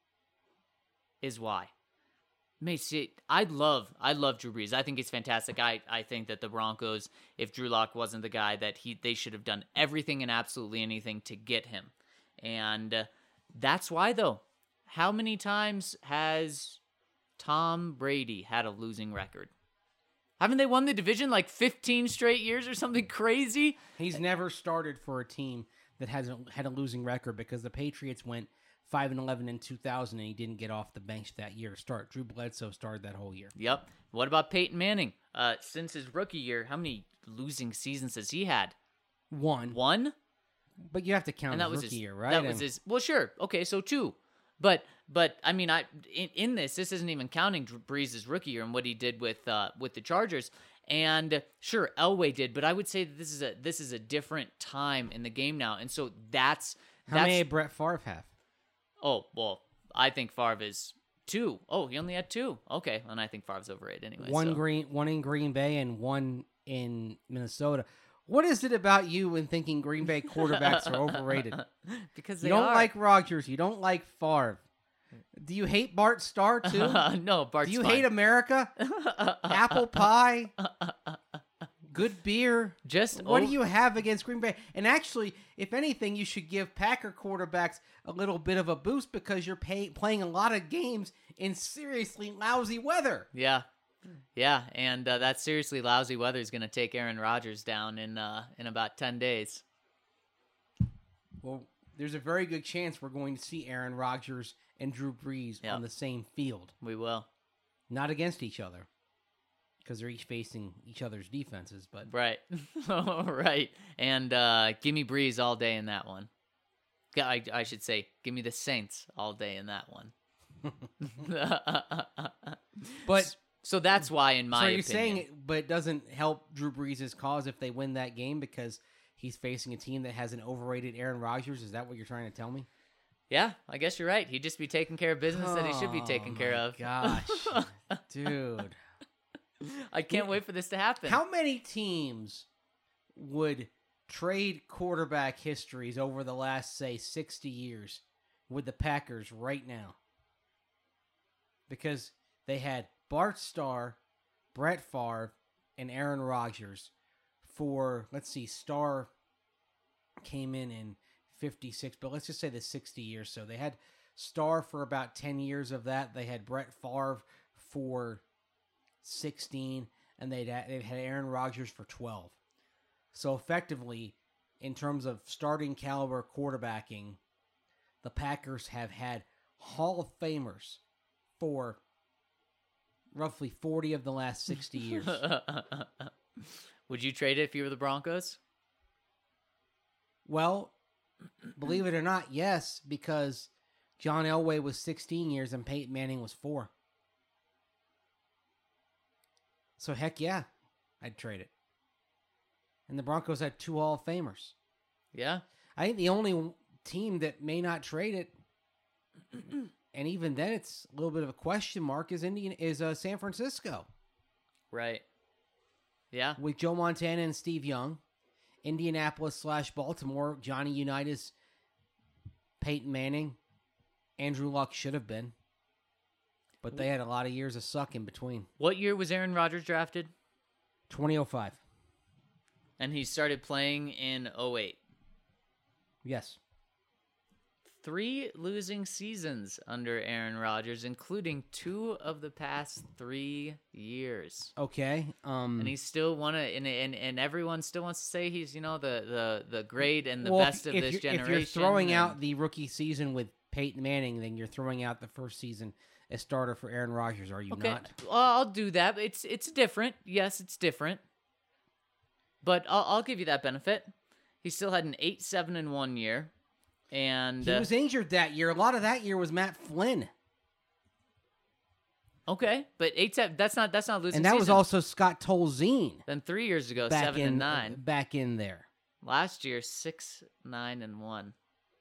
is why. Mace, I love, I love Drew Brees. I think he's fantastic. I, I think that the Broncos, if Drew Lock wasn't the guy, that he they should have done everything and absolutely anything to get him. And uh, that's why, though. How many times has Tom Brady had a losing record? Haven't they won the division like fifteen straight years or something crazy? He's never started for a team that hasn't had a losing record because the Patriots went five and eleven in two thousand, and he didn't get off the bench that year to start. Drew Bledsoe started that whole year. Yep. What about Peyton Manning? Uh, since his rookie year, how many losing seasons has he had? One. One? But you have to count And that his was rookie his, year, right? That was And- his. Well, sure. Okay, so two. But but I mean, I in, in this, this isn't even counting Drew Brees' rookie year and what he did with uh, with the Chargers. And sure, Elway did, but I would say that this is a this is a different time in the game now, and so that's How that's. many did Brett Favre have? Oh well, I think Favre is two. Oh, he only had two. Okay, and I think Favre's overrated anyway. one so. green, one in Green Bay and one in Minnesota. What is it about you in thinking Green Bay quarterbacks are overrated? Because they You don't are. like Rodgers. You don't like Favre. Do you hate Bart Starr too? no, Bart's Do you fine. hate America? Apple pie? Good beer? Just What o- do you have against Green Bay? And actually, if anything, you should give Packer quarterbacks a little bit of a boost because you're pay- playing a lot of games in seriously lousy weather. Yeah, yeah, and uh, that seriously lousy weather is going to take Aaron Rodgers down in uh, in about ten days. Well, there's a very good chance we're going to see Aaron Rodgers and Drew Brees Yep. on the same field, We will. not against each other, because they're each facing each other's defenses. But Right, right, and uh, give me Breeze all day in that one. Yeah, I, I should say, give me the Saints all day in that one. but so that's why, in my so are you opinion, saying it, but it doesn't help Drew Brees' cause if they win that game because he's facing a team that has an overrated Aaron Rodgers? Is that what you're trying to tell me? yeah, I guess you're right. He'd just be taking care of business that he should be Oh taking care my of. Gosh, dude. I can't wait for this to happen. How many teams would trade quarterback histories over the last, say, sixty years with the Packers right now? Because they had Bart Starr, Brett Favre, and Aaron Rodgers for, let's see, Starr came in in fifty-six, but let's just say the sixty years. So they had Starr for about ten years of that. They had Brett Favre for sixteen, and they'd had, they'd had Aaron Rodgers for twelve. So effectively, in terms of starting caliber quarterbacking, the Packers have had Hall of Famers for roughly forty of the last sixty years. Would you trade it if you were the Broncos? Well, believe it or not, yes, because John Elway was sixteen years and Peyton Manning was four. So heck yeah, I'd trade it. And the Broncos had two Hall of Famers. Yeah. I think the only team that may not trade it and even then, it's a little bit of a question mark. Is Indian is uh, San Francisco Right. Yeah. with Joe Montana and Steve Young, Indianapolis slash Baltimore, Johnny Unitas, Peyton Manning, Andrew Luck should have been, but they had a lot of years of suck in between. What year was Aaron Rodgers drafted? twenty oh five. And he started playing in oh eight. Yes. Three losing seasons under Aaron Rodgers, including two of the past three years. Okay. Um, And he's still one of, and, and and everyone still wants to say he's, you know, the the, the great and the well, best if, of if this you're, generation. If you're throwing and- out the rookie season with Peyton Manning, then you're throwing out the first season as starter for Aaron Rodgers, are you Okay, not? well, I'll do that. It's it's different. Yes, it's different. But I'll, I'll give you that benefit. He still had an eight seven and one year, and He uh, was injured that year. A lot of that year was Matt Flynn. okay, but eight seven. That's not that's not losing. And that was season. also Scott Tolzien Then three years ago, back seven in and nine. back in there. Last year, six nine and one.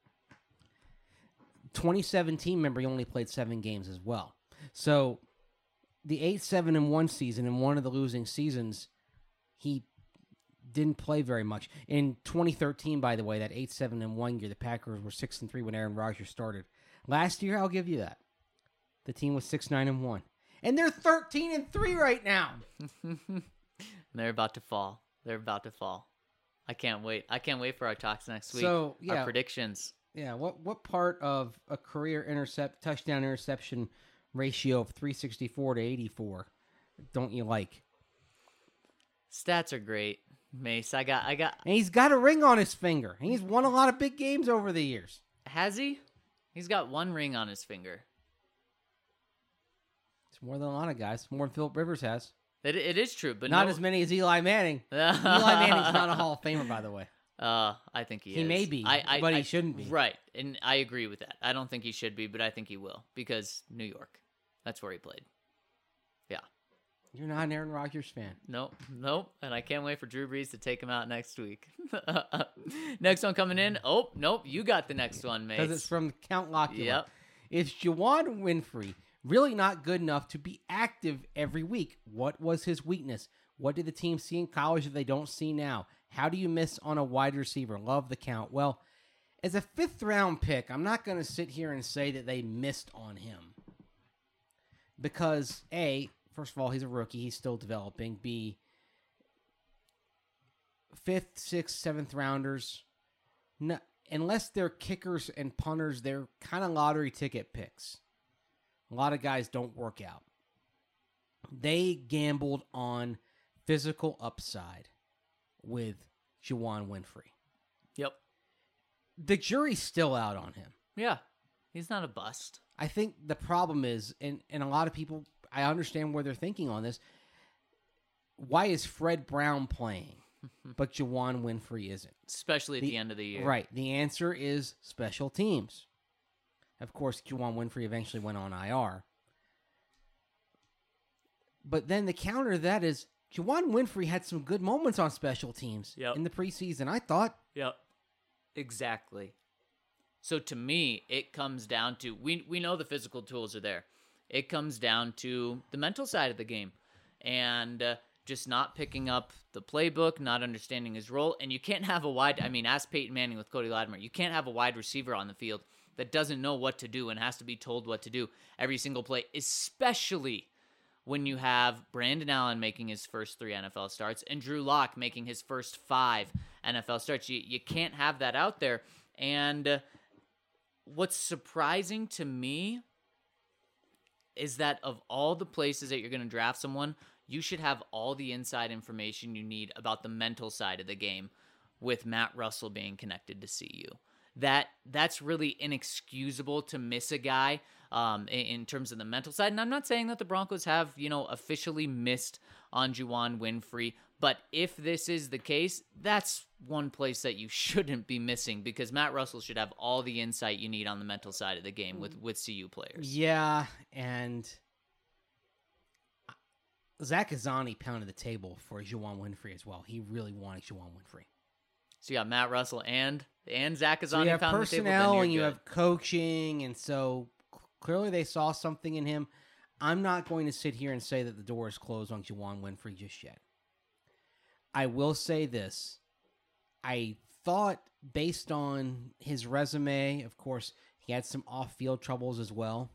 twenty seventeen, remember, he only played seven games as well. So the eight seven and one season, in one of the losing seasons, he didn't play very much. In twenty thirteen, by the way, that eight seven and one year, the Packers were six and three when Aaron Rodgers started. Last year, I'll give you that. The team was six nine and one. And they're thirteen and three right now. They're about to fall. They're about to fall. I can't wait. I can't wait for our talks next week. So, yeah. Our predictions. Yeah, what what part of a career intercept touchdown interception ratio of three sixty-four to eighty-four don't you like? Stats are great, Mace. I got. I got. And he's got a ring on his finger. And he's won a lot of big games over the years. Has he? He's got one ring on his finger. It's more than a lot of guys. More than Phillip Rivers has. It, it is true, but not no, as many as Eli Manning. Eli Manning's not a Hall of Famer, by the way. Uh, I think he, He is. may be, I, I, but he I- shouldn't be. Right, and I agree with that. I don't think he should be, but I think he will because New York. That's where he played. Yeah. You're not an Aaron Rodgers fan. Nope, nope. And I can't wait for Drew Brees to take him out next week. Next one coming in. Oh, nope. You got the next one, mate. Because it's from Count Locula. Yep. Is Juwan Winfrey really not good enough to be active every week? What was his weakness? What did the team see in college that they don't see now? How do you miss on a wide receiver? Love the count. Well, as a fifth round pick, I'm not going to sit here and say that they missed on him. Because, A, first of all, he's a rookie. He's still developing. B, fifth, sixth, seventh rounders, no, unless they're kickers and punters, they're kind of lottery ticket picks. A lot of guys don't work out. They gambled on physical upside with Juwan Winfrey. Yep. The jury's still out on him. Yeah. He's not a bust. I think the problem is, and, and a lot of people, I understand where they're thinking on this. Why is Fred Brown playing, but Juwan Winfrey isn't? Especially at the, The- end of the year. Right. The answer is special teams. Of course, Juwan Winfrey eventually went on I R. But then the counter to that is Juwan Winfrey had some good moments on special teams Yep. in the preseason. I thought. Yep. Exactly. So to me, it comes down to we we know the physical tools are there. It comes down to the mental side of the game, and uh, just not picking up the playbook, not understanding his role, and you can't have a wide. I mean, ask Peyton Manning with Cody Latimer. You can't have a wide receiver on the field that doesn't know what to do and has to be told what to do every single play, especially when you have Brandon Allen making his first three N F L starts and Drew Lock making his first five N F L starts. You, you can't have that out there. And uh, what's surprising to me is that of all the places that you're going to draft someone, you should have all the inside information you need about the mental side of the game with Matt Russell being connected to C U. That that's really inexcusable to miss a guy um, in, in terms of the mental side. And I'm not saying that the Broncos have, you know, officially missed on Juwan Winfrey, but if this is the case, that's one place that you shouldn't be missing because Matt Russell should have all the insight you need on the mental side of the game with, with C U players. Yeah, and Zach Azani pounded the table for Juwan Winfrey as well. He really wanted Juwan Winfrey. So you got Matt Russell and and Zach Azani So you have pounding the table. personnel then and you you're have coaching, and so Clearly, they saw something in him. I'm not going to sit here and say that the door is closed on Juwan Winfrey just yet. I will say this. I thought, based on his resume, of course, he had some off-field troubles as well.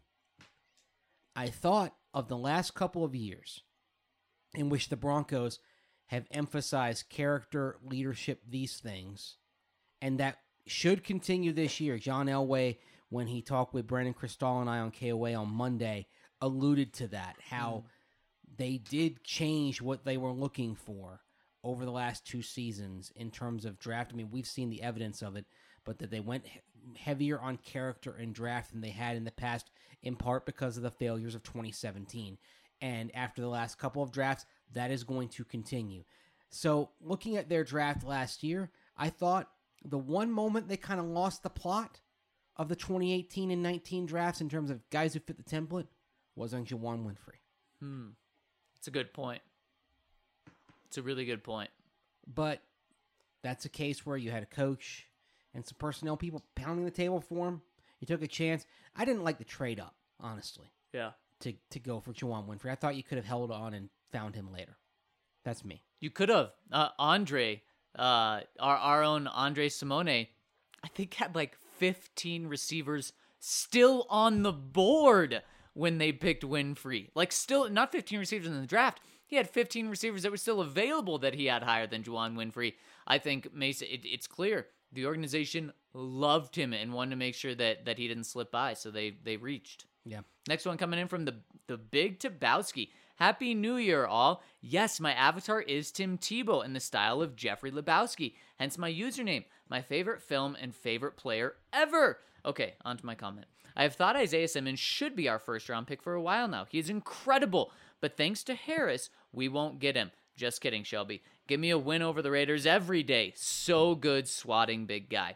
I thought of the last couple of years in which the Broncos have emphasized character, leadership, these things, and that should continue this year. John Elway, when he talked with Brandon Cristal and I on K O A on Monday, alluded to that, how mm. they did change what they were looking for over the last two seasons in terms of draft. I mean, we've seen the evidence of it, but that they went he- heavier on character and draft than they had in the past, in part because of the failures of twenty seventeen. And after the last couple of drafts, that is going to continue. So looking at their draft last year, I thought the one moment they kind of lost the plot of the twenty eighteen and nineteen drafts in terms of guys who fit the template was on Juwan Winfrey. Hmm. It's a good point. It's a really good point. But that's a case where you had a coach and some personnel people pounding the table for him. You took a chance. I didn't like the trade up, honestly. Yeah. To to go for Juwan Winfrey. I thought you could have held on and found him later. That's me. You could have. Uh, Andre, uh, our, our own Andre Simone, I think had like fifteen receivers still on the board when they picked Winfrey. Like still, not fifteen receivers in the draft. He had fifteen receivers that were still available that he had higher than Juwan Winfrey. I think Mesa, it, it's clear the organization loved him and wanted to make sure that, that he didn't slip by, so they they reached. Yeah. Next one coming in from the, the Big Tabowski. Happy New Year, all. Yes, my avatar is Tim Tebow in the style of Jeffrey Lebowski, hence my username. My favorite film and favorite player ever. Okay, on to my comment. I have thought Isaiah Simmons should be our first round pick for a while now. He is incredible, but thanks to Harris, we won't get him. Just kidding, Shelby. Give me a win over the Raiders every day. So good, swatting big guy.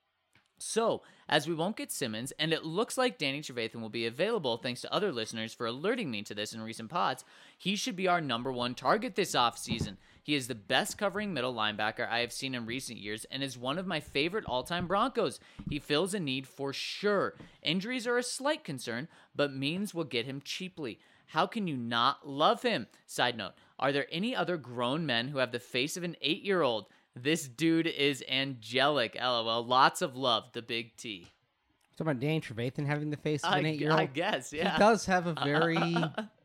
So, as we won't get Simmons, and it looks like Danny Trevathan will be available thanks to other listeners for alerting me to this in recent pods, he should be our number one target this offseason. He is the best covering middle linebacker I have seen in recent years and is one of my favorite all-time Broncos. He fills a need for sure. Injuries are a slight concern, but means will get him cheaply. How can you not love him? Side note, are there any other grown men who have the face of an eight-year-old? This dude is angelic. LOL. Lots of love. The Big T. Talking about Danny Trevathan having the face of an I, eight-year-old? I guess, yeah. He does have a very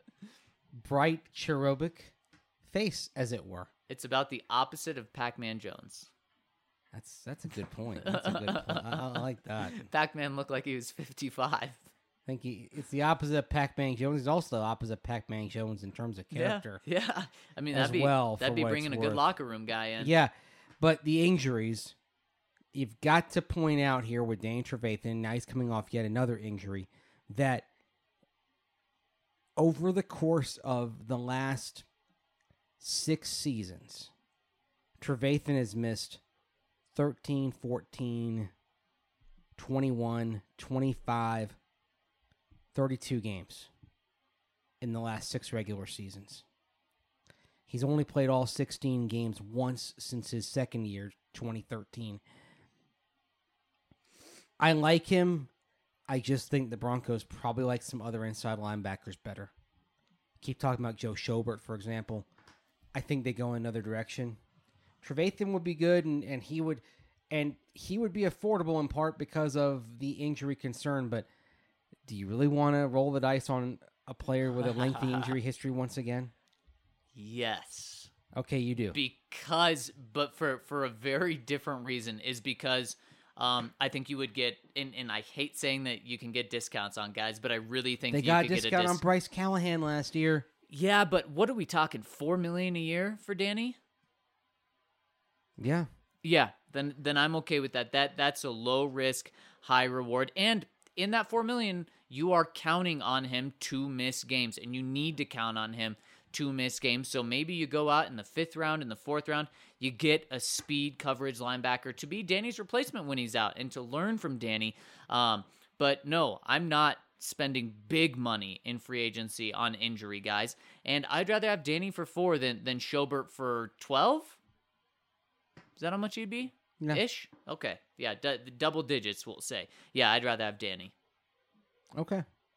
bright, cherubic face, as it were. It's about the opposite of Pac-Man Jones. That's that's a good point. That's a good point. I, I like that. Pac-Man looked like he was fifty-five. I think he, it's the opposite of Pac-Man Jones. He's also the opposite of Pac-Man Jones in terms of character. Yeah, yeah. I mean, as that'd be, well, that'd for be what bringing it's a good worth. locker room guy in. Yeah, but the injuries, you've got to point out here with Danny Trevathan, now he's coming off yet another injury, that over the course of the last six seasons, Trevathan has missed thirteen, fourteen, twenty-one, twenty-five, thirty-two games in the last six regular seasons. He's only played all sixteen games once since his second year, twenty thirteen. I like him. I just think the Broncos probably like some other inside linebackers better. Keep talking about Joe Schobert, for example. I think they go in another direction. Trevathan would be good, and, and he would and he would be affordable in part because of the injury concern, but do you really want to roll the dice on a player with a lengthy injury history once again? Yes. Okay, you do. Because, but for, for a very different reason, is because um, I think you would get, and, and I hate saying that you can get discounts on guys, but I really think they you got could a get a discount dis- on Bryce Callahan last year. Yeah, but what are we talking? Four million a year for Danny? Yeah. Yeah, then then I'm okay with that. That that's a low risk, high reward, and in that four million, you are counting on him to miss games, and you need to count on him to miss games. So maybe you go out in the fifth round, in the fourth round, you get a speed coverage linebacker to be Danny's replacement when he's out, and to learn from Danny. Um, but no, I'm not spending big money in free agency on injury guys, and I'd rather have Danny for four than than Schobert for twelve. Is that how much he'd be? Yeah. Ish? Okay. Yeah, d- double digits, we'll say. Yeah, I'd rather have Danny. Okay.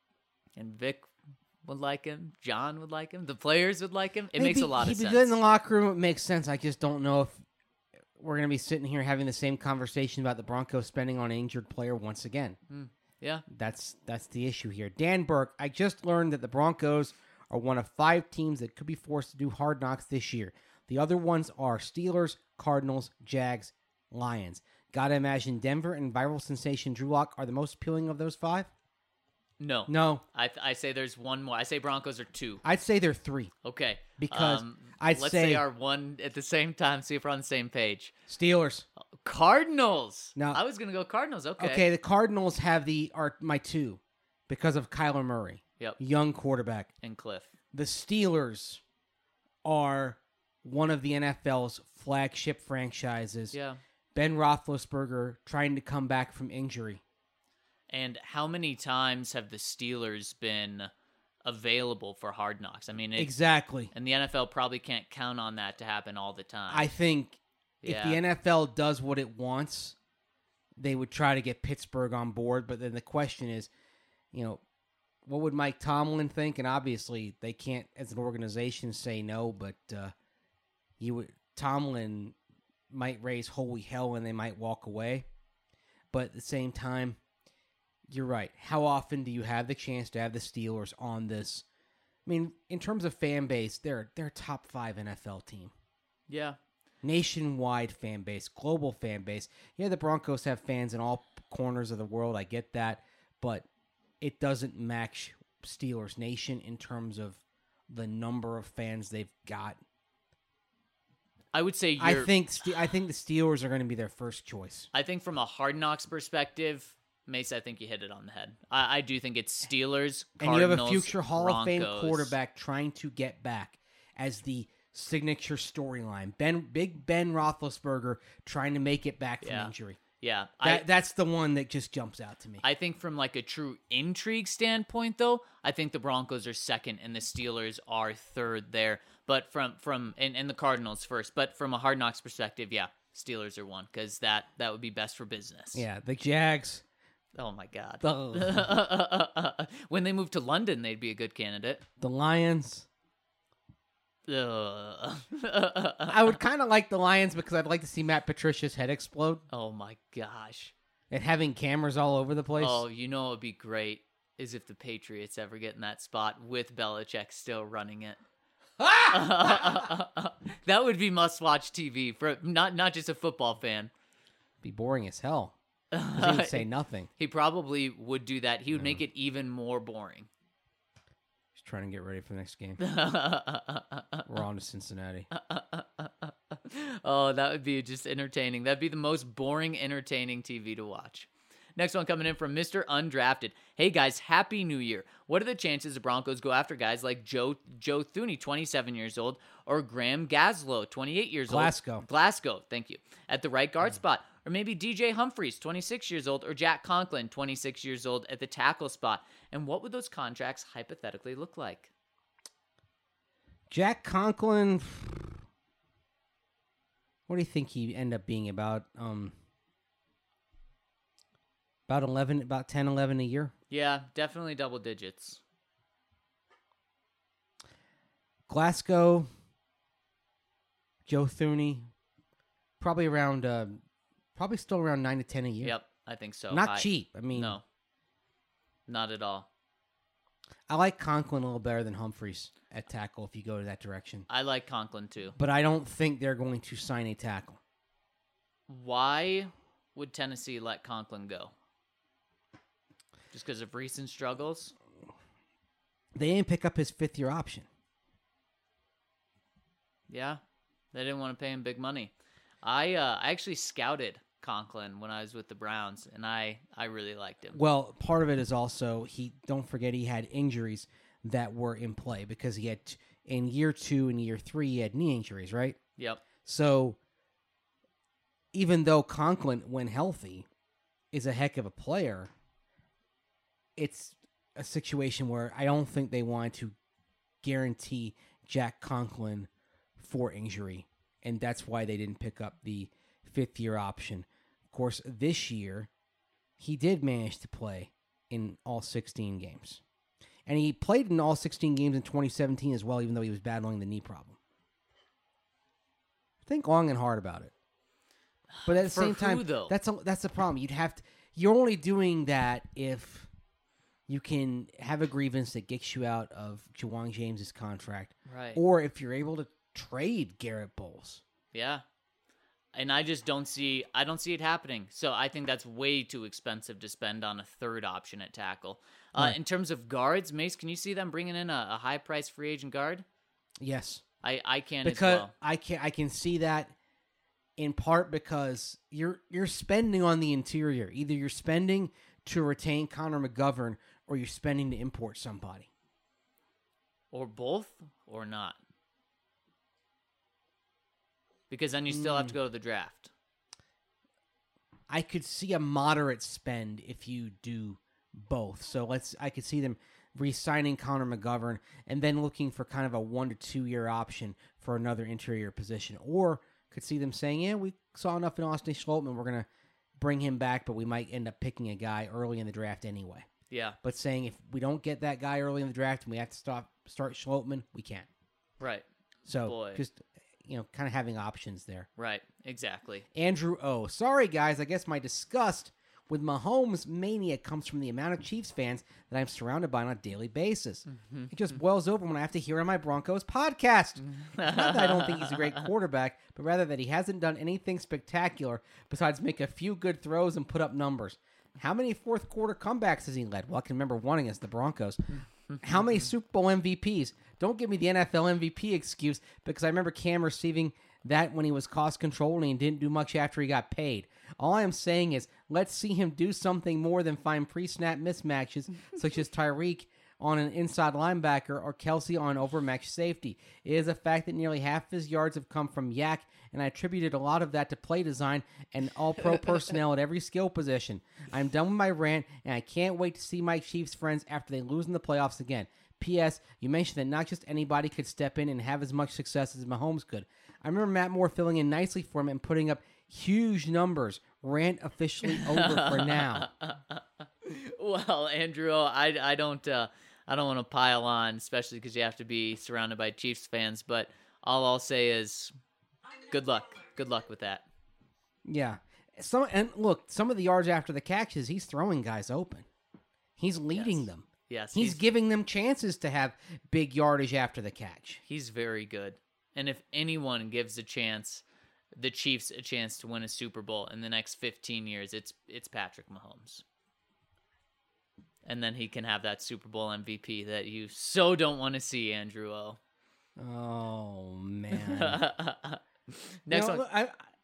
And Vic would like him. John would like him. The players would like him. It He'd makes be- a lot of he'd sense. be good in the locker room. It makes sense. I just don't know if we're going to be sitting here having the same conversation about the Broncos spending on an injured player once again. Yeah. That's that's the issue here. Dan Burke, I just learned that the Broncos are one of five teams that could be forced to do Hard Knocks this year. The other ones are Steelers, Cardinals, Jags, Lions. Gotta imagine Denver and viral sensation Drew Lock are the most appealing of those five? No. No. I th- I say there's one more. I say Broncos are two. I'd say they're three. Okay. Because um, I'd let's say- say our one at the same time. See if we're on the same page. Steelers. Cardinals. No. I was gonna go Cardinals. Okay. Okay, the Cardinals have the are my two because of Kyler Murray. Yep. Young quarterback. And Cliff. The Steelers are one of the N F L's flagship franchises. Yeah. Ben Roethlisberger trying to come back from injury. And how many times have the Steelers been available for Hard Knocks? I mean, it, Exactly. and the N F L probably can't count on that to happen all the time. I think Yeah. if the N F L does what it wants, they would try to get Pittsburgh on board. But then the question is, you know, what would Mike Tomlin think? And obviously, they can't, as an organization, say no. But uh, you would Tomlin might raise holy hell, and they might walk away. But at the same time, you're right. How often do you have the chance to have the Steelers on this? I mean, in terms of fan base, they're they're a top five N F L team. yeah. Nationwide fan base, global fan base. Yeah, the Broncos have fans in all corners of the world. I get that. But it doesn't match Steelers Nation in terms of the number of fans they've got. I would say you're, I think Ste- I think the Steelers are going to be their first choice. I think from a Hard Knocks perspective, Mace, I think you hit it on the head. I, I do think it's Steelers, And you have a Cardinals, future Hall of Fame Broncos. quarterback trying to get back as the signature storyline. Ben, Big Ben Roethlisberger trying to make it back from Yeah. injury. Yeah. That, I, that's the one that just jumps out to me. I think from like a true intrigue standpoint, though, I think the Broncos are second and the Steelers are third there. But from from and, and the Cardinals first. But from a Hard Knocks perspective, yeah, Steelers are one because that that would be best for business. yeah, the Jags. Oh my God. The, When they move to London, they'd be a good candidate. the Lions. Ugh. I would kind of like the Lions because I'd like to see Matt Patricia's head explode Oh my gosh. and having cameras all over the place. Oh, you know what would be great is if the Patriots ever get in that spot with Belichick still running it. That would be must-watch T V for not not just a football fan. Be boring as hell. 'Cause he would say nothing. He probably would do that. He would make it even more boring. He's trying to get ready for the next game. We're on to Cincinnati. Oh, that would be just entertaining. That'd be the most boring, entertaining T V to watch. Next one coming in from Mister Undrafted. Hey guys, Happy New Year. What are the chances the Broncos go after guys like Joe Joe Thuney, twenty-seven years old, or Graham Gaslow, twenty-eight years Glasgow. old? Glasgow. Thank you. At the right guard spot. Or maybe D J Humphries, twenty-six years old, or Jack Conklin, twenty-six years old, at the tackle spot. And what would those contracts hypothetically look like? Jack Conklin. What do you think he end up being about? Um, about eleven, about ten, eleven a year. Yeah, definitely double digits. Glasgow, Joe Thuney, probably around, uh, probably still around nine to ten a year. Yep, I think so. Not High. cheap. I mean, No, not at all. I like Conklin a little better than Humphreys at tackle if you go to that direction. I like Conklin too. But I don't think they're going to sign a tackle. Why would Tennessee let Conklin go? Just because of recent struggles? They didn't pick up his fifth year option. Yeah, they didn't want to pay him big money. I uh, I actually scouted Conklin when I was with the Browns, and I, I really liked him. Well, part of it is also he. Don't forget he had injuries that were in play because he had in year two and year three he had knee injuries, right? Yep. So even though Conklin, when healthy, is a heck of a player, it's a situation where I don't think they wanted to guarantee Jack Conklin for injury, and that's why they didn't pick up the fifth year option. Of course, this year, he did manage to play in all sixteen games. And he played in all sixteen games in twenty seventeen as well, even though he was battling the knee problem. Think long and hard about it. But at the For same who, time, though? that's a, that's the problem. You'd have to. You're only doing that if you can have a grievance that gets you out of Ja'Wuan James's contract, Right. or if you're able to trade Garrett Bowles. Yeah. And I just don't see I don't see it happening. So I think that's way too expensive to spend on a third option at tackle. Uh, Right. In terms of guards, Mace, can you see them bringing in a, a high price free agent guard? Yes, I, I can because as well. I can I can see that in part because you're you're spending on the interior. Either you're spending to retain Connor McGovern, or you're spending to import somebody. Or both or not. Because then you still have to go to the draft. I could see a moderate spend if you do both. So let's I could see them re-signing Connor McGovern and then looking for kind of a one to two year option for another interior position. Or could see them saying, yeah, we saw enough in Austin Schlottman, we're gonna bring him back, but we might end up picking a guy early in the draft anyway. Yeah. But saying if we don't get that guy early in the draft and we have to stop start Schlottman, we can't. Right. So Boy. just you know, kind of having options there. Right. Exactly. Andrew O. Sorry, guys. I guess my disgust with Mahomes mania comes from the amount of Chiefs fans that I'm surrounded by on a daily basis. It just boils over when I have to hear on my Broncos podcast. Not that I don't think he's a great quarterback, but rather that he hasn't done anything spectacular besides make a few good throws and put up numbers. How many fourth quarter comebacks has he led? Well, I can remember one against the Broncos. How many Super Bowl M V Ps? Don't give me the N F L M V P excuse, because I remember Cam receiving that when he was cost controlling and didn't do much after he got paid. All I am saying is let's see him do something more than find pre-snap mismatches such as Tyreek on an inside linebacker or Kelsey on overmatched safety. It is a fact that nearly half of his yards have come from Yak, and I attributed a lot of that to play design and all-pro personnel at every skill position. I'm done with my rant, and I can't wait to see my Chiefs friends after they lose in the playoffs again. P S. You mentioned that not just anybody could step in and have as much success as Mahomes could. I remember Matt Moore filling in nicely for him and putting up huge numbers. Rant officially over for now. Well, Andrew, I, I don't uh, I don't want to pile on, especially because you have to be surrounded by Chiefs fans. But all I'll say is, good luck. Good luck with that. Yeah. Some and look, some of the yards after the catches, he's throwing guys open. He's leading Yes. them. Yes, He's, he's giving them chances to have big yardage after the catch. he's very good. And if anyone gives a chance, the Chiefs a chance to win a Super Bowl in the next fifteen years, it's it's Patrick Mahomes. And then he can have that Super Bowl M V P that you so don't want to see, Andrew O. Oh man. Next You know, one. I,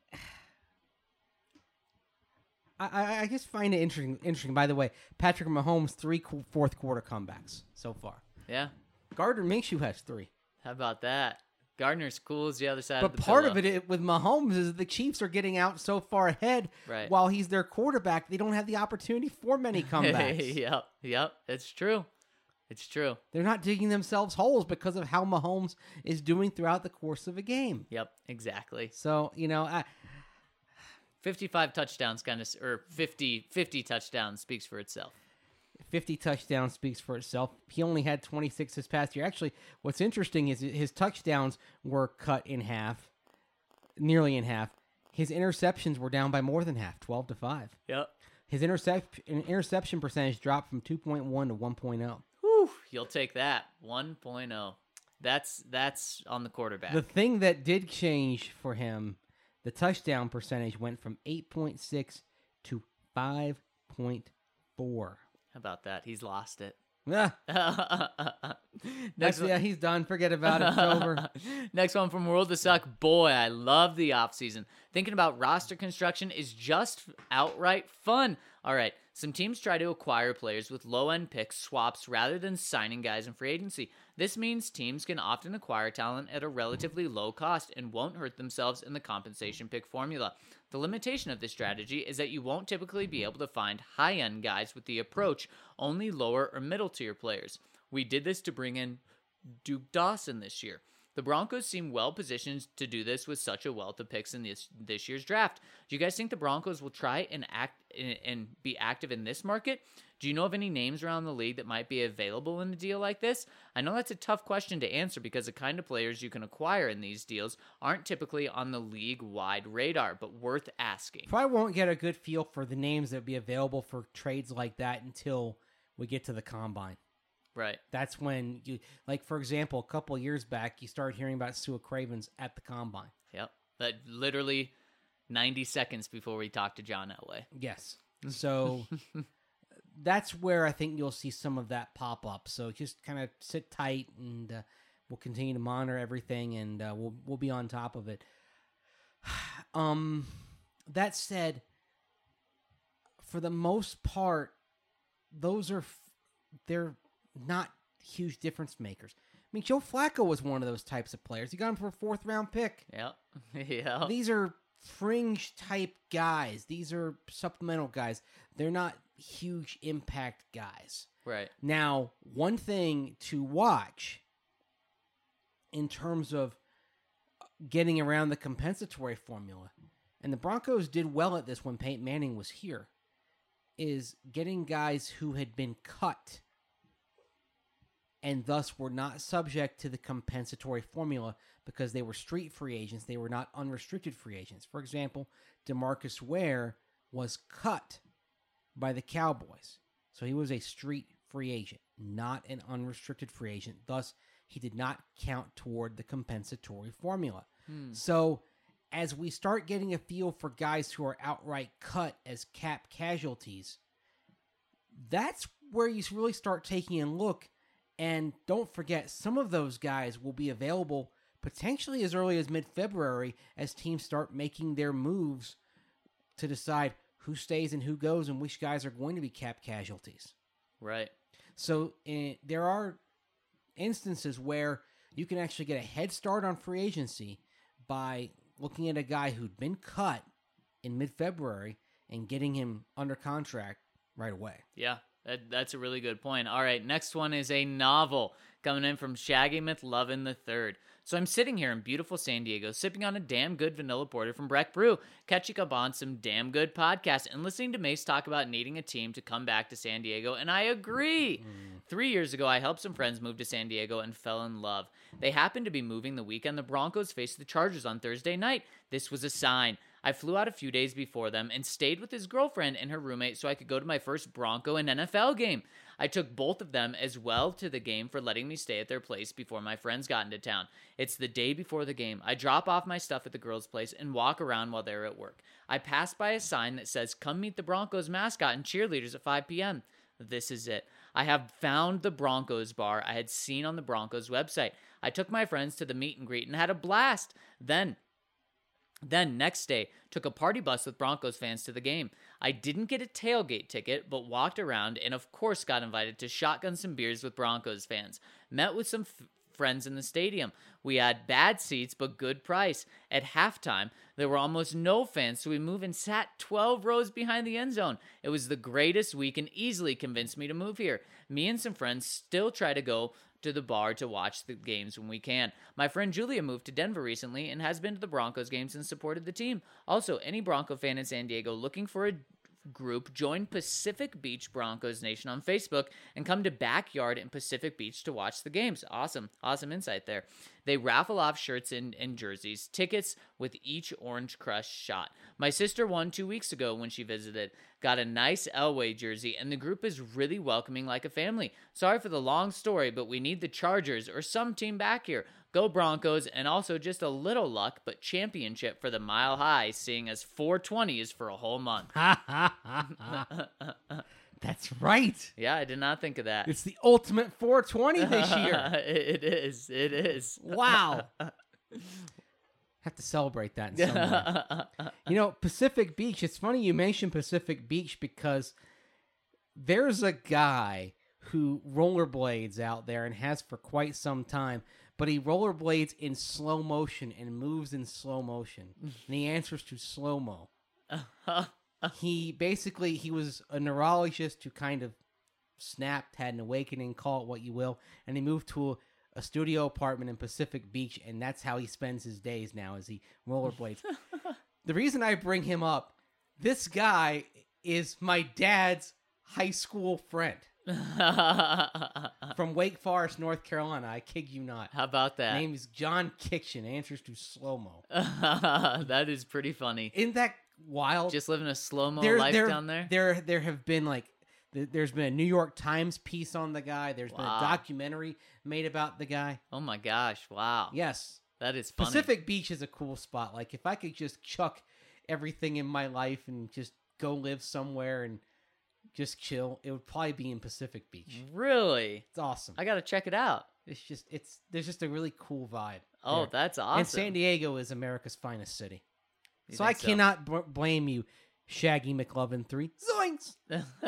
I, I, I just find it interesting. Interesting. By the way, Patrick Mahomes three qu- fourth quarter comebacks so far. Yeah. Gardner Minshew has three. How about that? Gardner's cool as the other side But of the part pillow. of it i- with Mahomes is the Chiefs are getting out so far ahead. Right. While he's their quarterback, they don't have the opportunity for many comebacks. yep, yep, it's true. It's true. They're not digging themselves holes because of how Mahomes is doing throughout the course of a game. Yep, exactly. So, you know, I, fifty-five touchdowns kind of, or fifty, fifty touchdowns speaks for itself. fifty touchdowns speaks for itself. He only had twenty-six this past year. Actually, what's interesting is his touchdowns were cut in half, nearly in half. His interceptions were down by more than half, twelve to five. Yep. His intercept interception percentage dropped from two point one to one point oh. Whew, you'll take that. one point oh. That's that's on the quarterback. The thing that did change for him, the touchdown percentage went from eight point six to five point four. How about that? He's lost it. Yeah, Next that's, yeah, he's done. Forget about it. It's over. Next one from World to Suck. Boy, I love the offseason. Thinking about roster construction is just outright fun. All right, some teams try to acquire players with low-end picks, swaps, rather than signing guys in free agency. This means teams can often acquire talent at a relatively low cost and won't hurt themselves in the compensation pick formula. The limitation of this strategy is that you won't typically be able to find high-end guys with the approach, only lower or middle tier players. We did this to bring in Duke Dawson this year. The Broncos seem well positioned to do this with such a wealth of picks in this this year's draft. Do you guys think the Broncos will try and act and be active in this market? Do you know of any names around the league that might be available in a deal like this? I know that's a tough question to answer because the kind of players you can acquire in these deals aren't typically on the league-wide radar, but worth asking. Probably won't get a good feel for the names that would be available for trades like that until we get to the combine. Right. That's when you, like, for example, a couple of years back, you started hearing about Sua Cravens at the combine. Yep. That literally ninety seconds before we talked to John Elway. Yes. So that's where I think you'll see some of that pop up. So just kind of sit tight, and uh, we'll continue to monitor everything, and uh, we'll we'll be on top of it. Um, that said, for the most part, those are they're not huge difference makers. I mean, Joe Flacco was one of those types of players. He got him for a fourth round pick. Yep. Yeah. These are fringe type guys. These are supplemental guys. They're not huge impact guys. Right. Now, one thing to watch in terms of getting around the compensatory formula, and the Broncos did well at this when Peyton Manning was here, is getting guys who had been cut and thus were not subject to the compensatory formula because they were street free agents. They were not unrestricted free agents. For example, DeMarcus Ware was cut by the Cowboys. So he was a street free agent, not an unrestricted free agent. Thus, he did not count toward the compensatory formula. Hmm. So as we start getting a feel for guys who are outright cut as cap casualties, that's where you really start taking a look. And don't forget, some of those guys will be available potentially as early as mid-February as teams start making their moves to decide who stays and who goes and which guys are going to be cap casualties. Right. So uh, there are instances where you can actually get a head start on free agency by looking at a guy who'd been cut in mid-February and getting him under contract right away. Yeah. That, that's a really good point. All right, next one is a novel coming in from Shaggy McLovin the third. So I'm sitting here in beautiful San Diego, sipping on a damn good vanilla porter from Breck Brew, catching up on some damn good podcasts, and listening to Mace talk about needing a team to come back to San Diego, and I agree. Mm. Three years ago, I helped some friends move to San Diego and fell in love. They happened to be moving the weekend the Broncos faced the Chargers on Thursday night. This was a sign. I flew out a few days before them and stayed with his girlfriend and her roommate so I could go to my first Bronco and N F L game. I took both of them as well to the game for letting me stay at their place before my friends got into town. It's the day before the game. I drop off my stuff at the girls' place and walk around while they're at work. I pass by a sign that says, "Come meet the Broncos mascot and cheerleaders at five p.m. This is it. I have found the Broncos bar I had seen on the Broncos website. I took my friends to the meet and greet and had a blast. Then... Then, next day, took a party bus with Broncos fans to the game. I didn't get a tailgate ticket, but walked around and, of course, got invited to shotgun some beers with Broncos fans. Met with some f- friends in the stadium. We had bad seats, but good price. At halftime, there were almost no fans, so we moved and sat twelve rows behind the end zone. It was the greatest week and easily convinced me to move here. Me and some friends still try to go to the bar to watch the games when we can. My friend Julia moved to Denver recently and has been to the Broncos games and supported the team. Also, any Bronco fan in San Diego looking for a group, join Pacific Beach Broncos Nation on Facebook and come to Backyard in Pacific Beach to watch the games. Awesome. Awesome insight there. They raffle off shirts and, and jerseys, tickets with each Orange Crush shot. My sister won two weeks ago when she visited. Got a nice Elway jersey, and the group is really welcoming like a family. Sorry for the long story, but we need the Chargers or some team back here. Go Broncos, and also just a little luck, but championship for the Mile High, seeing as four twenty is for a whole month. That's right. Yeah, I did not think of that. It's the ultimate four twenty this year. It is. It is. Wow. Have to celebrate that in some way. You know, Pacific Beach, it's funny you mentioned Pacific Beach because there's a guy who rollerblades out there and has for quite some time, but he rollerblades in slow motion and moves in slow motion. And he answers to slow-mo. He basically, he was a neurologist who kind of snapped, had an awakening, call it what you will, and he moved to a studio apartment in Pacific Beach, and that's how he spends his days now as he rollerblades. The reason I bring him up, this guy is my dad's high school friend from Wake Forest, North Carolina. I kid you not. How about that? Name is John Kiction, answers to slow-mo. That is pretty funny. Isn't that wild? Just living a slow-mo There- life there- down there? There, there have been like, th- there's been a New York Times piece on the guy. There's been Wow. a documentary made about the guy. Oh my gosh, wow. Yes, That is funny. Pacific Beach is a cool spot. Like if I could just chuck everything in my life and just go live somewhere and just chill, it would probably be in Pacific Beach. Really? It's awesome. I got to check it out. It's just it's there's just a really cool vibe. Oh, there. that's awesome. And San Diego is America's finest city. You So I think so? cannot b- blame you, Shaggy McLovin three, zoinks,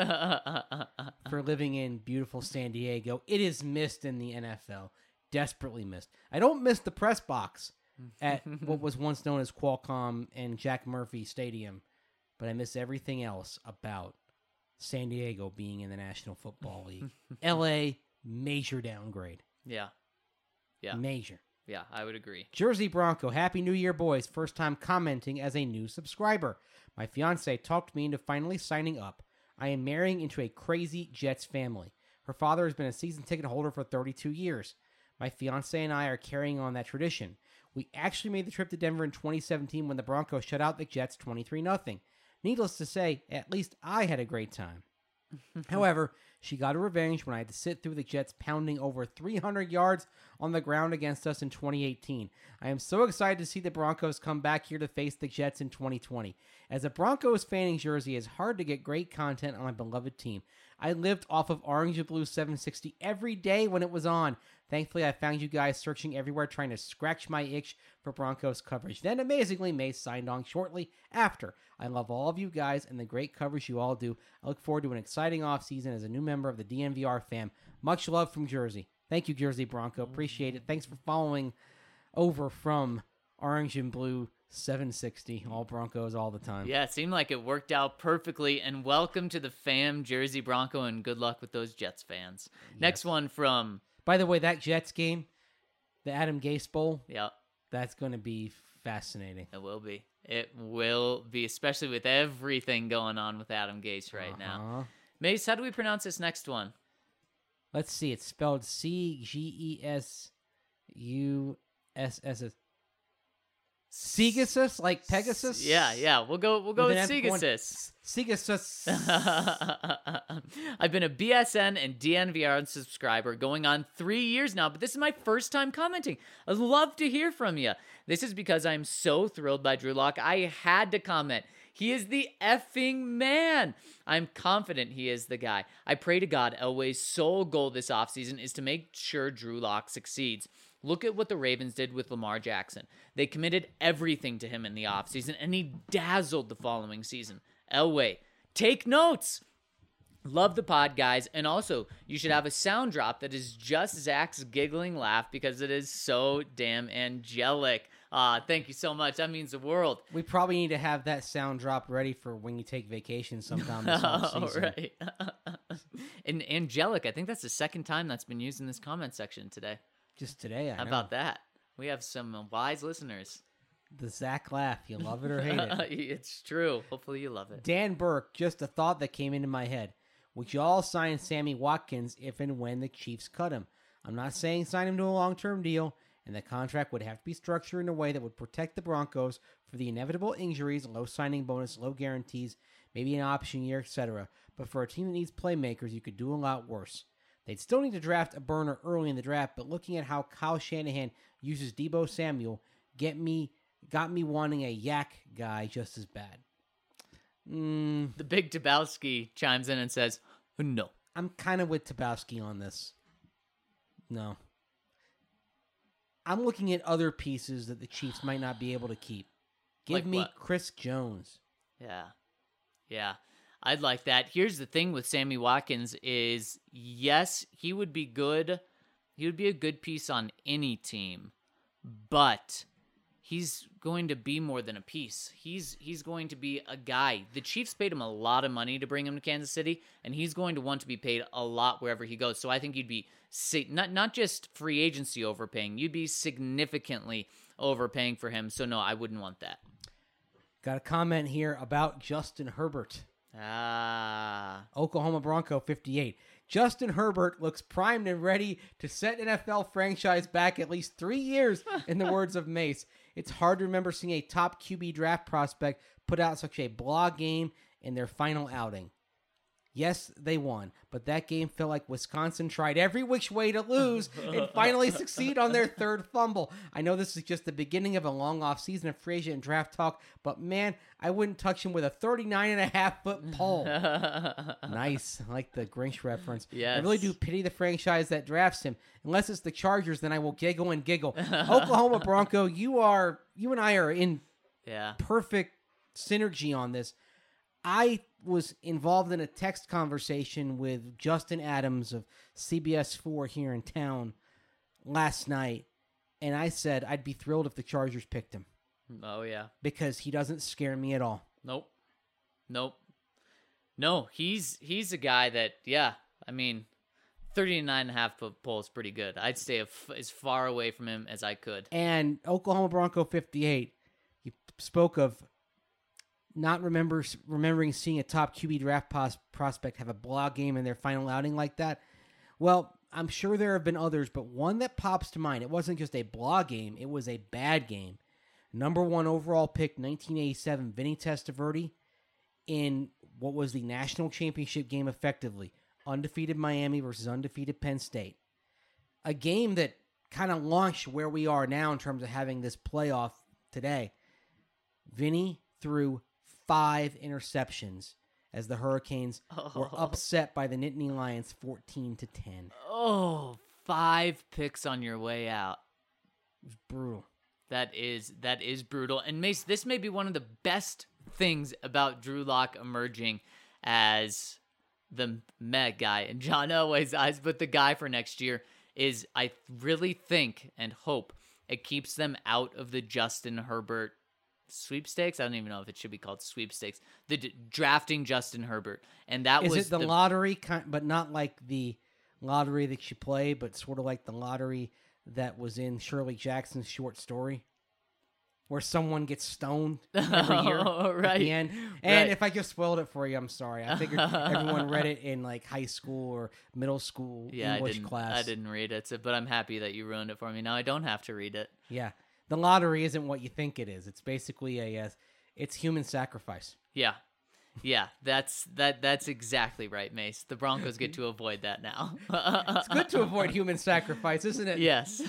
for living in beautiful San Diego. It is missed in the N F L. Desperately missed. I don't miss the press box at what was once known as Qualcomm and Jack Murphy Stadium, but I miss everything else about San Diego being in the National Football League. L A, major downgrade. Yeah. Yeah. Major. Yeah, I would agree. Jersey Bronco, Happy New Year, boys. First time commenting as a new subscriber. My fiance talked me into finally signing up. I am marrying into a crazy Jets family. Her father has been a season ticket holder for thirty-two years. My fiance and I are carrying on that tradition. We actually made the trip to Denver in twenty seventeen when the Broncos shut out the Jets twenty-three nothing. Needless to say, at least I had a great time. However, she got her revenge when I had to sit through the Jets pounding over three hundred yards on the ground against us in twenty eighteen. I am so excited to see the Broncos come back here to face the Jets in twenty twenty. As a Broncos fan in Jersey, it's hard to get great content on my beloved team. I lived off of Orange and Blue seven sixty every day when it was on. Thankfully, I found you guys searching everywhere trying to scratch my itch for Broncos coverage. Then, amazingly, May signed on shortly after. I love all of you guys and the great coverage you all do. I look forward to an exciting offseason as a new member of the D N V R fam. Much love from Jersey. Thank you, Jersey Bronco. Appreciate it. Thanks for following over from Orange and Blue seven sixty. All Broncos all the time. Yeah, it seemed like it worked out perfectly. And welcome to the fam, Jersey Bronco, and good luck with those Jets fans. Next one from... By the way, that Jets game, the Adam Gase Bowl, Yep, that's going to be fascinating. it will be. It will be, especially with everything going on with Adam Gase right now. Uh-huh. Mace, how do we pronounce this next one? Let's see. It's spelled C G E S U S S S. Segasus, like Pegasus? Yeah, yeah. We'll go. We'll go with, With an F one. Segasus. Segasus. I've been a B S N and D N V R subscriber going on three years now, but this is my first time commenting. I'd love to hear from you. This is because I'm so thrilled by Drew Lock. I had to comment. He is the effing man. I'm confident he is the guy. I pray to God Elway's sole goal this offseason is to make sure Drew Lock succeeds. Look at what the Ravens did with Lamar Jackson. They committed everything to him in the offseason, and he dazzled the following season. Elway, take notes. Love the pod, guys. And also, you should have a sound drop that is just Zach's giggling laugh because it is so damn angelic. Ah, thank you so much. That means the world. We probably need to have that sound drop ready for when you take vacation sometime this off Oh, season. right. And angelic, I think that's the second time that's been used in this comment section today. Just today, I How know. about that? We have some uh, wise listeners. The Zach laugh. You love it or hate it. It's true. Hopefully you love it. Dan Burke, just a thought that came into my head. Would you all sign Sammy Watkins if and when the Chiefs cut him? I'm not saying sign him to a long-term deal, and the contract would have to be structured in a way that would protect the Broncos for the inevitable injuries, low signing bonus, low guarantees, maybe an option year, et cetera. But for a team that needs playmakers, you could do a lot worse. They'd still need to draft a burner early in the draft, but looking at how Kyle Shanahan uses Deebo Samuel, get me got me wanting a yak guy just as bad. Mm, The big Dabowski chimes in and says, no. I'm kind of with Tabowski on this. No. I'm looking at other pieces that the Chiefs might not be able to keep. Give Like me what? Chris Jones. Yeah. Yeah. I'd like that. Here's the thing with Sammy Watkins is, yes, he would be good. He would be a good piece on any team, but he's going to be more than a piece. He's he's going to be a guy. The Chiefs paid him a lot of money to bring him to Kansas City, and he's going to want to be paid a lot wherever he goes. So I think you'd be sig- not not just free agency overpaying, you'd be significantly overpaying for him. So no, I wouldn't want that. Got a comment here about Justin Herbert. Ah, Oklahoma Bronco fifty-eight. Justin Herbert looks primed and ready to set N F L franchise back at least three years, in the words of Mace. It's hard to remember seeing a top Q B draft prospect put out such a blah game in their final outing. Yes, they won, but that game felt like Wisconsin tried every which way to lose and finally succeed on their third fumble. I know this is just the beginning of a long off season of free agent and draft talk, but man, I wouldn't touch him with a thirty-nine and a half foot pole. Nice. I like the Grinch reference. Yes. I really do pity the franchise that drafts him. Unless it's the Chargers, then I will giggle and giggle. Oklahoma Bronco, you are, you and I are in yeah. perfect synergy on this. I was involved in a text conversation with Justin Adams of C B S four here in town last night, and I said I'd be thrilled if the Chargers picked him. Oh, yeah. Because he doesn't scare me at all. Nope. Nope. No, he's he's a guy that, yeah, I mean, thirty-nine and a half foot pole is pretty good. I'd stay f- as far away from him as I could. And Oklahoma Bronco fifty-eight, you spoke of not remember remembering seeing a top Q B draft pos- prospect have a blog game in their final outing like that. Well, I'm sure there have been others, but one that pops to mind, it wasn't just a blog game, it was a bad game. Number one overall pick, nineteen eighty-seven, Vinny Testaverde, in what was the national championship game effectively. Undefeated Miami versus undefeated Penn State. A game that kind of launched where we are now in terms of having this playoff today. Vinny threw five interceptions as the Hurricanes oh. were upset by the Nittany Lions fourteen to ten. Oh, five picks on your way out. It was brutal. That is that is brutal. And Mace, this may be one of the best things about Drew Lock emerging as the meh guy in John Elway's eyes, but the guy for next year is, I really think and hope it keeps them out of the Justin Herbert sweepstakes. I don't even know if it should be called sweepstakes. The d- drafting Justin Herbert, and that is was it the, the lottery, kind, but not like the lottery that you play, but sort of like the lottery that was in Shirley Jackson's short story, where someone gets stoned every year oh, right. at the end. And right. if I just spoiled it for you, I'm sorry. I figured everyone read it in like high school or middle school yeah, English I didn't, class. I didn't read it, so, but I'm happy that you ruined it for me. Now I don't have to read it. Yeah, the lottery isn't what you think it is. It's basically a, uh, it's human sacrifice. Yeah. Yeah, that's that. That's exactly right, Mace. The Broncos get to avoid that now. It's good to avoid human sacrifice, isn't it? Yes.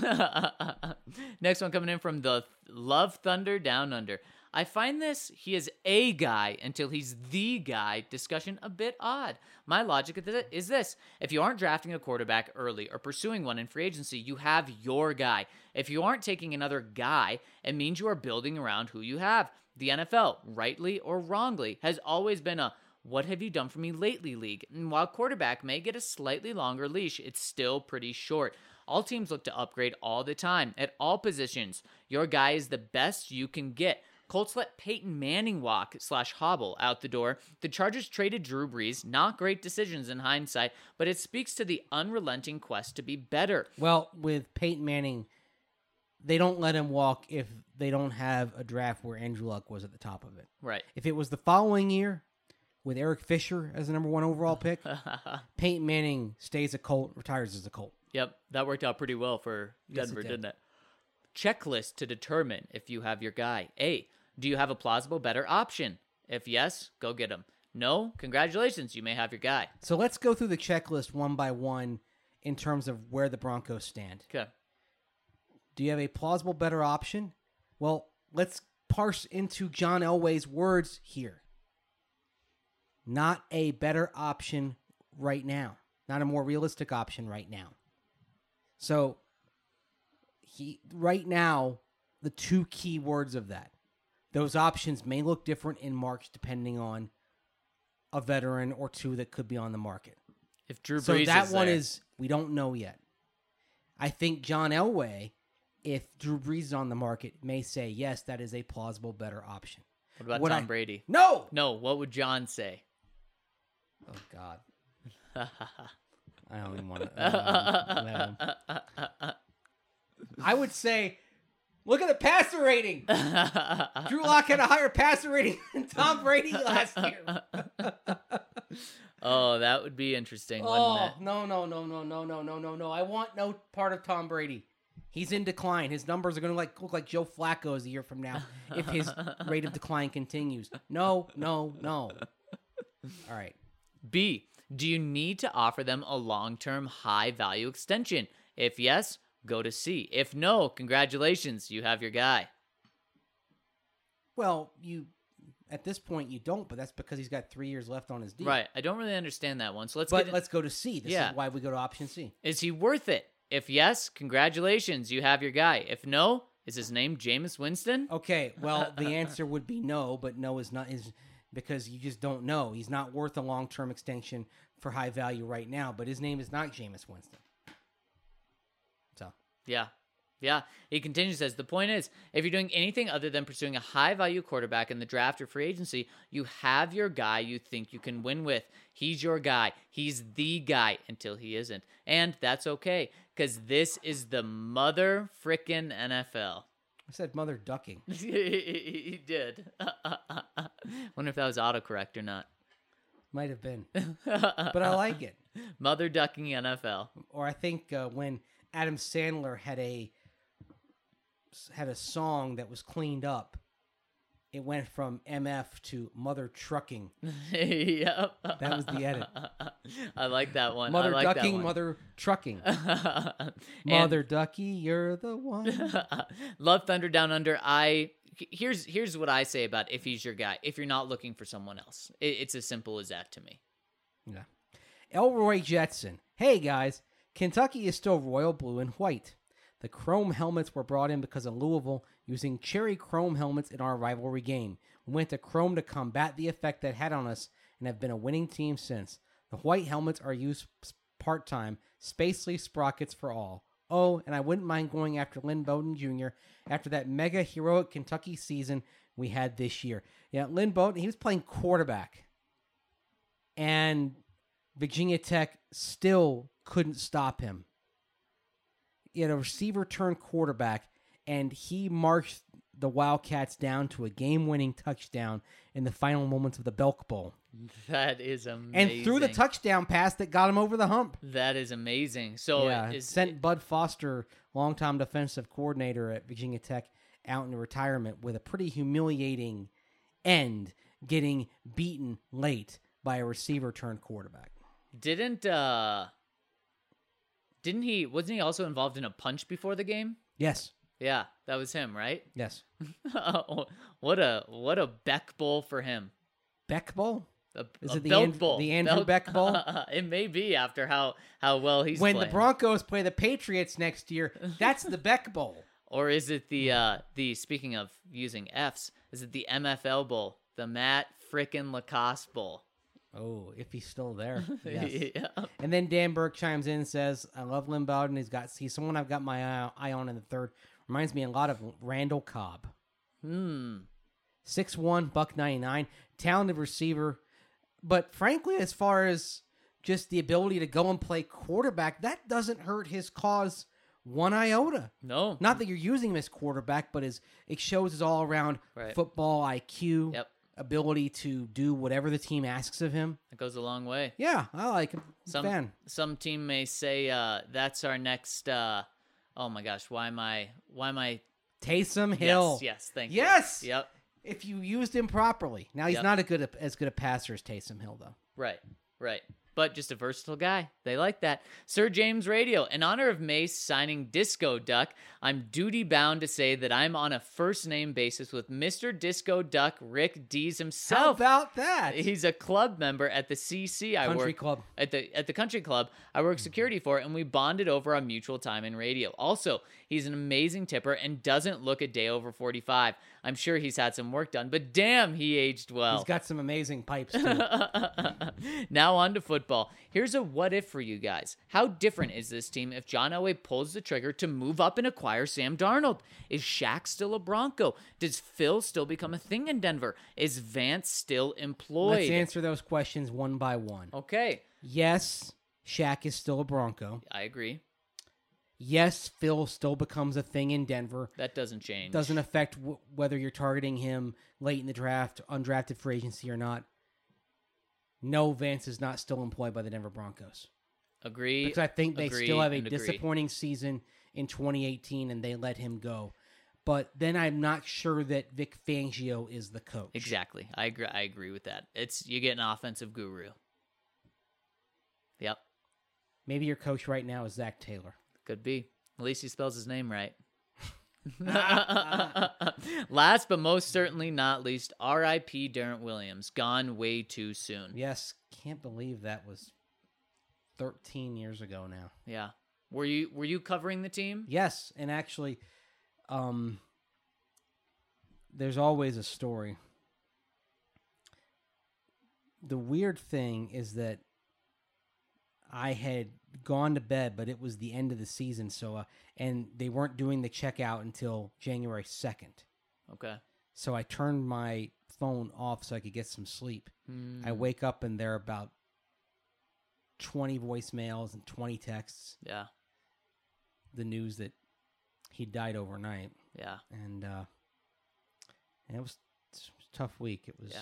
Next one coming in from the Love Thunder Down Under. I find this he is a guy until he's the guy discussion a bit odd. My logic is this. If you aren't drafting a quarterback early or pursuing one in free agency, you have your guy. If you aren't taking another guy, it means you are building around who you have. The N F L, rightly or wrongly, has always been a what have you done for me lately league. And while quarterback may get a slightly longer leash, it's still pretty short. All teams look to upgrade all the time at all positions. Your guy is the best you can get. Colts let Peyton Manning walk slash hobble out the door. The Chargers traded Drew Brees. Not great decisions in hindsight, but it speaks to the unrelenting quest to be better. Well, with Peyton Manning, they don't let him walk if they don't have a draft where Andrew Luck was at the top of it. Right. If it was the following year with Eric Fisher as the number one overall pick, Peyton Manning stays a Colt, retires as a Colt. Yep, that worked out pretty well for Yes, it Denver, did. didn't it? Checklist to determine if you have your guy. A, do you have a plausible better option? If yes, go get him. No, congratulations, you may have your guy. So let's go through the checklist one by one in terms of where the Broncos stand. Okay. Do you have a plausible better option? Well, let's parse into John Elway's words here. Not a better option right now. Not a more realistic option right now. So, he right now, the two key words of that. Those options may look different in March depending on a veteran or two that could be on the market. If Drew Brees So that is one there. is, we don't know yet. I think John Elway if Drew Brees is on the market, may say, yes, that is a plausible, better option. What about Would Tom I- Brady? No! No, what would John say? Oh, God. I don't even want to. I would say, look at the passer rating. Drew Lock had a higher passer rating than Tom Brady last year. Oh, that would be interesting, Oh, wouldn't it? no, no, no, no, no, no, no, no, no. I want no part of Tom Brady. He's in decline. His numbers are going to like look like Joe Flacco's a year from now if his rate of decline continues. No, no, no. All right. B, do you need to offer them a long-term high-value extension? If yes, go to C. If no, congratulations, you have your guy. Well, you at this point you don't, but that's because he's got three years left on his deal. Right, I don't really understand that one, so let's But get let's go to C. This Yeah. is why we go to option C. Is he worth it? If yes, congratulations, you have your guy. If no, is his name Jameis Winston? Okay, well, the answer would be no, but no is not is because you just don't know. He's not worth a long-term extension for high value right now, but his name is not Jameis Winston. So, Yeah. Yeah. He continues, says, the point is, if you're doing anything other than pursuing a high-value quarterback in the draft or free agency, you have your guy you think you can win with. He's your guy. He's the guy until he isn't. And that's okay, because this is the mother frickin' N F L. I said mother ducking. He did. Wonder if that was autocorrect or not. Might have been, but I like it. Mother ducking N F L. Or I think uh, when Adam Sandler had a had a song that was cleaned up, it went from M F to mother trucking. Yep. That was the edit. I like that one. Mother I like that ducking, one. mother trucking. And- Mother ducky, you're the one. Love Thunder Down Under. I here's here's what I say about if he's your guy. If you're not looking for someone else, it, it's as simple as that to me. Yeah. Elroy Jetson. Hey guys, Kentucky is still royal blue and white. The chrome helmets were brought in because of Louisville using cherry chrome helmets in our rivalry game. We went to chrome to combat the effect that had on us and have been a winning team since. The white helmets are used part-time, spacely sprockets for all. Oh, and I wouldn't mind going after Lynn Bowden Junior after that mega heroic Kentucky season we had this year. Yeah, Lynn Bowden, he was playing quarterback. And Virginia Tech still couldn't stop him. He had a receiver turned quarterback, and he marched the Wildcats down to a game-winning touchdown in the final moments of the Belk Bowl. That is amazing. And threw the touchdown pass that got him over the hump. That is amazing. So yeah, it is sent Bud Foster, longtime defensive coordinator at Virginia Tech, out into retirement with a pretty humiliating end, getting beaten late by a receiver turned quarterback. Didn't uh didn't he wasn't he also involved in a punch before the game? Yes. Yeah, that was him, right? Yes. What a what a Beck Bowl for him. Beck Bowl? A, Is a it the, Belk And- Bowl. the Andrew Belk- Beck Bowl? It may be after how how well he's When playing. the Broncos play the Patriots next year, that's the Beck Bowl. Or is it the uh the speaking of using F's, is it the M F L Bowl? The Matt frickin' Lacoste Bowl. Oh, if he's still there. Yes. Yeah. And then Dan Burke chimes in and says, I love Lynn Bowden. He's got he's someone I've got my eye, eye on in the third. Reminds me a lot of Randall Cobb. Hmm. six one, buck ninety-nine, talented receiver. But frankly, as far as just the ability to go and play quarterback, that doesn't hurt his cause one iota. No. Not that you're using him as quarterback, but as it shows his all-around Right. football I Q, Yep. ability to do whatever the team asks of him. It goes a long way. Yeah, I like him. I'm a Some fan. some team may say uh that's our next uh oh my gosh, why am I why am I Taysom Hill. Yes, yes, thank Yes! you. Yep. If you used him properly. Now, he's Yep. not a good as good a passer as Taysom Hill, though. Right, right. But just a versatile guy. They like that. Sir James Radio, in honor of Mace signing Disco Duck, I'm duty bound to say that I'm on a first name basis with Mister Disco Duck, Rick Dees How himself. about that? He's a club member at the C C I Country work club. at the at the country club I work security for, and we bonded over our mutual time in radio. Also, he's an amazing tipper and doesn't look a day over forty-five. I'm sure he's had some work done, but damn, he aged well. He's got some amazing pipes, too. Now on to football. football. Here's a what if for you guys. How different is this team if John Elway pulls the trigger to move up and acquire Sam Darnold? Is Shaq still a Bronco? Does Phil still become a thing in Denver? Is Vance still employed? Let's answer those questions one by one. Okay, Yes, Shaq is still a Bronco. I agree. Yes, Phil still becomes a thing in Denver. That doesn't change. Doesn't affect w- whether you're targeting him late in the draft, undrafted free agency or not. No, Vance is not still employed by the Denver Broncos. Agree. Because I think they agree, still have a and agree. disappointing season in twenty eighteen and they let him go. But then I'm not sure that Vic Fangio is the coach. Exactly. I agree. I agree with that. It's you get an offensive guru. Yep. Maybe your coach right now is Zach Taylor. Could be. At least he spells his name right. Last but most certainly not least, R I P Darren Williams. Gone way too soon. Yes, can't believe that was thirteen years ago now. Yeah. Were you were you covering the team? Yes, and actually, um, there's always a story. The weird thing is that I had gone to bed, but it was the end of the season, so uh, and they weren't doing the checkout until January second. Okay. So I turned my phone off so I could get some sleep. Hmm. I wake up and there are about twenty voicemails and twenty texts. Yeah. The news that he died overnight, Yeah. and uh, and it was, it was a tough week. It was Yeah.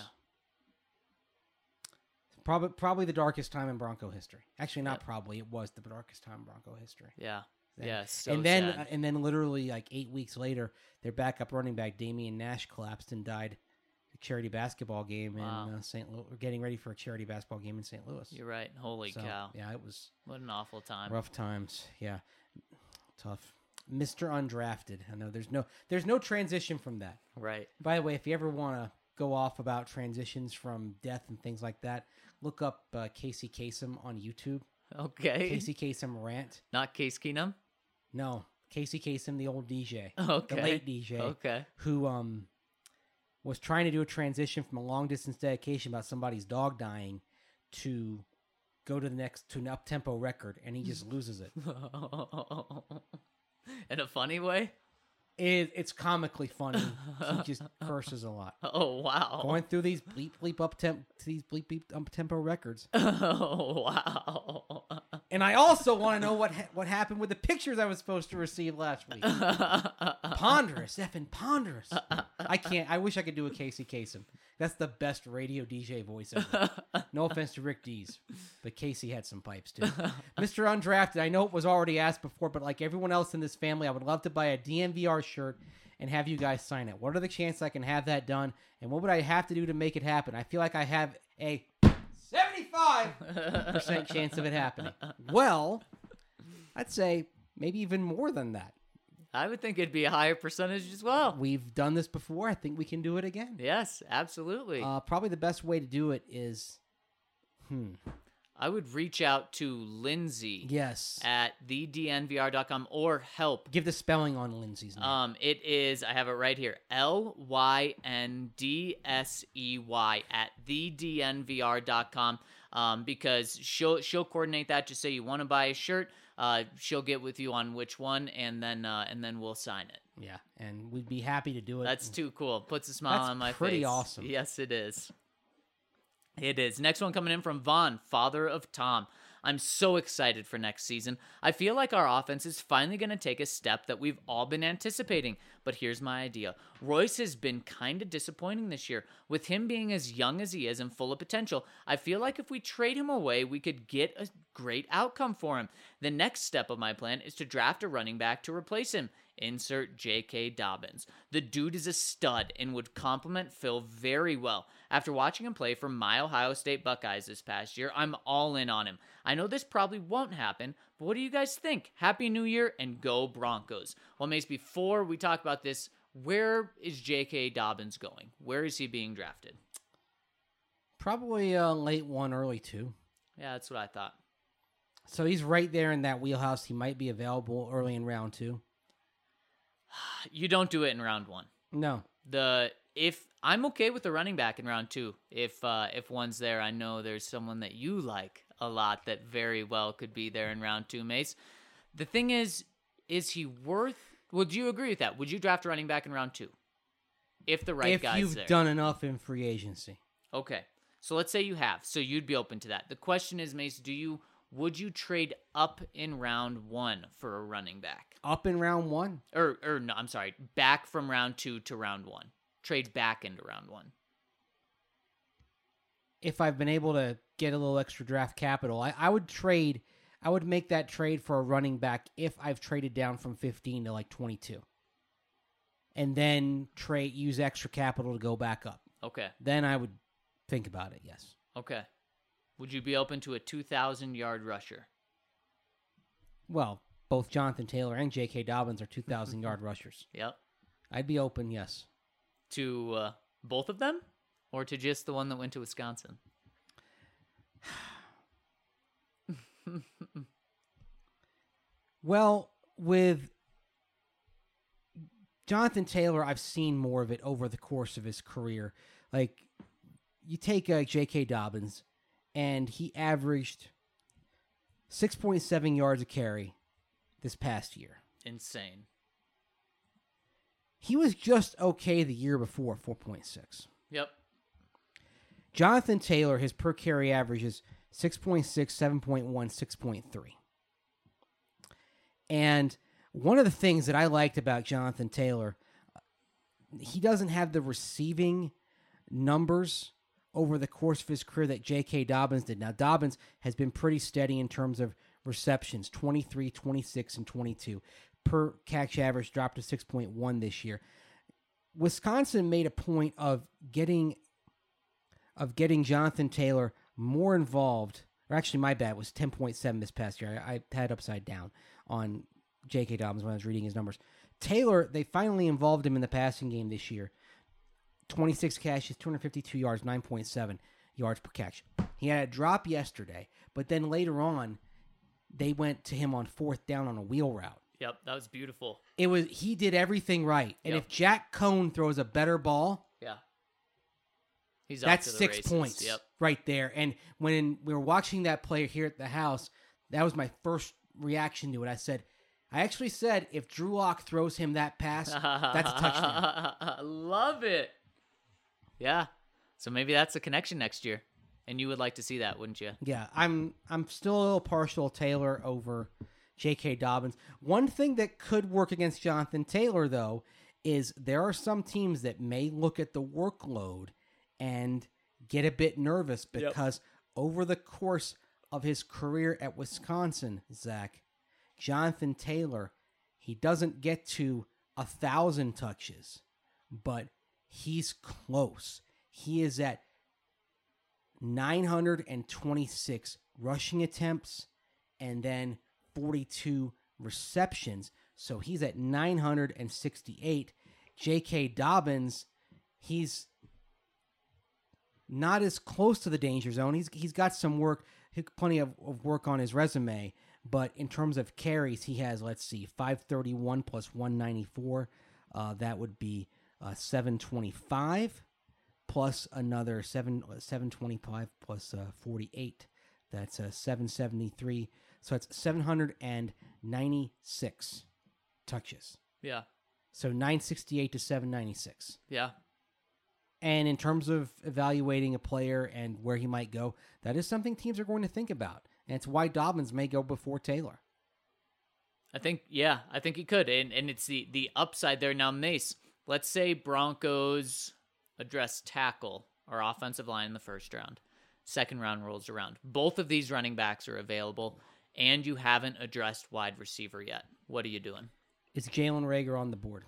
probably probably the darkest time in Bronco history. Actually, not Yep. probably. It was the darkest time in Bronco history. Yeah. Then- Yeah. So and then sad. uh, and then literally like eight weeks later, their backup running back Damian Nash collapsed and died at a charity basketball game Wow. in uh, Saint Louis. Getting ready for a charity basketball game in Saint Louis. You're right. Holy So, cow. Yeah, it was What an awful time. rough times. Yeah, tough. Mister Undrafted. I know there's no there's no transition from that. Right. By the way, if you ever want to go off about transitions from death and things like that, look up uh, Casey Kasem on YouTube. Okay. Casey Kasem rant. Not Case Keenum? No, Casey Kasem, the old D J, Okay. the late D J, Okay. who um was trying to do a transition from a long distance dedication about somebody's dog dying to go to the next to an up tempo record, and he just loses it. In a funny way? It, it's comically funny. He just curses a lot. Oh, wow. Going through these bleep bleep up temp these bleep bleep up tempo records. Oh, wow. And I also want to know what ha- what happened with the pictures I was supposed to receive last week. Ponderous, effing ponderous. I can't. I wish I could do a Casey Kasem. That's the best radio D J voice ever. No offense to Rick Dees, but Casey had some pipes too. Mister Undrafted, I know it was already asked before, but like everyone else in this family, I would love to buy a D N V R shirt and have you guys sign it. What are the chances I can have that done? And what would I have to do to make it happen? I feel like I have a seventy-five percent chance of it happening. Well, I'd say maybe even more than that. I would think it'd be a higher percentage as well. We've done this before. I think we can do it again. Yes, absolutely. Uh, probably the best way to do it is, hmm, I would reach out to Lindsay yes. at the d n v r dot com or help. Give the spelling on Lindsay's name. Um, it is, I have it right here, L Y N D S E Y at the d n v r dot com, um, because she'll, she'll coordinate that. Just say you want to buy a shirt. Uh, she'll get with you on which one, and then uh, and then we'll sign it. yeah, and we'd be happy to do it. That's too cool. Puts a smile That's on my face. pretty awesome. Yes, it is. It is. Next one coming in from Vaughn, father of Tom. I'm so excited for next season. I feel like our offense is finally going to take a step that we've all been anticipating. But here's my idea. Royce has been kind of disappointing this year. With him being as young as he is and full of potential, I feel like if we trade him away, we could get a great outcome for him. The next step of my plan is to draft a running back to replace him. Insert J K. Dobbins. The dude is a stud and would complement Phil very well. After watching him play for my Ohio State Buckeyes this past year, I'm all in on him. I know this probably won't happen, but what do you guys think? Happy New Year and go Broncos. Well, Mace, before we talk about this, where is J K. Dobbins going? Where is he being drafted? Probably uh, late one, early two. Yeah, that's what I thought. So he's right there in that wheelhouse. He might be available early in round two. You don't do it in round one. No. The if I'm okay with the running back in round two. If uh, if one's there, I know there's someone that you like a lot that very well could be there in round two, Mace. The thing is, is he worth... Would you agree with that? Would you draft a running back in round two? If the right if guy's you've there. done enough in free agency. Okay. So let's say you have. So you'd be open to that. The question is, Mace, do you would you trade up in round one for a running back? Up in round one? Or or no, I'm sorry, back from round two to round one. Trade back into round one. If I've been able to get a little extra draft capital, I, I would trade I would make that trade for a running back if I've traded down from fifteen to like twenty-two. And then trade use extra capital to go back up. Okay. Then I would think about it, yes. Okay. Would you be open to a two thousand yard rusher? Well, both Jonathan Taylor and J K. Dobbins are two thousand yard rushers. Yep. I'd be open, yes. To uh, both of them? Or to just the one that went to Wisconsin? Well, with Jonathan Taylor, I've seen more of it over the course of his career. Like, you take uh, J K. Dobbins, and he averaged six point seven yards a carry this past year. Insane. He was just okay the year before, four point six. Yep. Jonathan Taylor, his per carry average is six point six, seven point one, six point three. And one of the things that I liked about Jonathan Taylor, he doesn't have the receiving numbers over the course of his career that J K. Dobbins did. Now, Dobbins has been pretty steady in terms of receptions, twenty-three, twenty-six, and twenty-two. Per catch average dropped to six point one this year. Wisconsin made a point of getting of getting Jonathan Taylor more involved, or actually my bad, it was ten point seven this past year. I, I had upside down on J K. Dobbins when I was reading his numbers. Taylor, they finally involved him in the passing game this year. twenty-six catches, two hundred fifty-two yards, nine point seven yards per catch. He had a drop yesterday, but then later on, they went to him on fourth down on a wheel route. Yep, that was beautiful. It was he did everything right. And Yep. if Jack Cohn throws a better ball, Yeah. He's that's off to the six races. points Yep. right there. And when we were watching that play here at the house, that was my first reaction to it. I said, I actually said, if Drew Lock throws him that pass, that's a touchdown. Love it. Yeah. So maybe that's a connection next year. And you would like to see that, wouldn't you? Yeah, I'm I'm still a little partial Taylor over J K. Dobbins. One thing that could work against Jonathan Taylor, though, is there are some teams that may look at the workload and get a bit nervous because over the course of his career at Wisconsin, Zach, Jonathan Taylor, he doesn't get to a thousand touches, but he's close. He is at nine hundred twenty-six rushing attempts and then forty-two receptions. So he's at nine hundred sixty-eight. J K. Dobbins, he's not as close to the danger zone. He's he's got some work, plenty of, of work on his resume. But in terms of carries, he has, let's see, five thirty-one plus one ninety-four. Uh, that would be uh, seven twenty-five plus another seven, seven twenty-five plus uh, forty-eight. That's uh, seven seventy-three. So that's seven hundred ninety-six touches. Yeah. So nine sixty-eight to seven ninety-six. Yeah. And in terms of evaluating a player and where he might go, that is something teams are going to think about. And it's why Dobbins may go before Taylor. I think, yeah, I think he could. And and it's the, the upside there. Now, Mace, let's say Broncos address tackle or offensive line in the first round. Second round rolls around. Both of these running backs are available, and you haven't addressed wide receiver yet. What are you doing? Is Jalen Reagor on the board?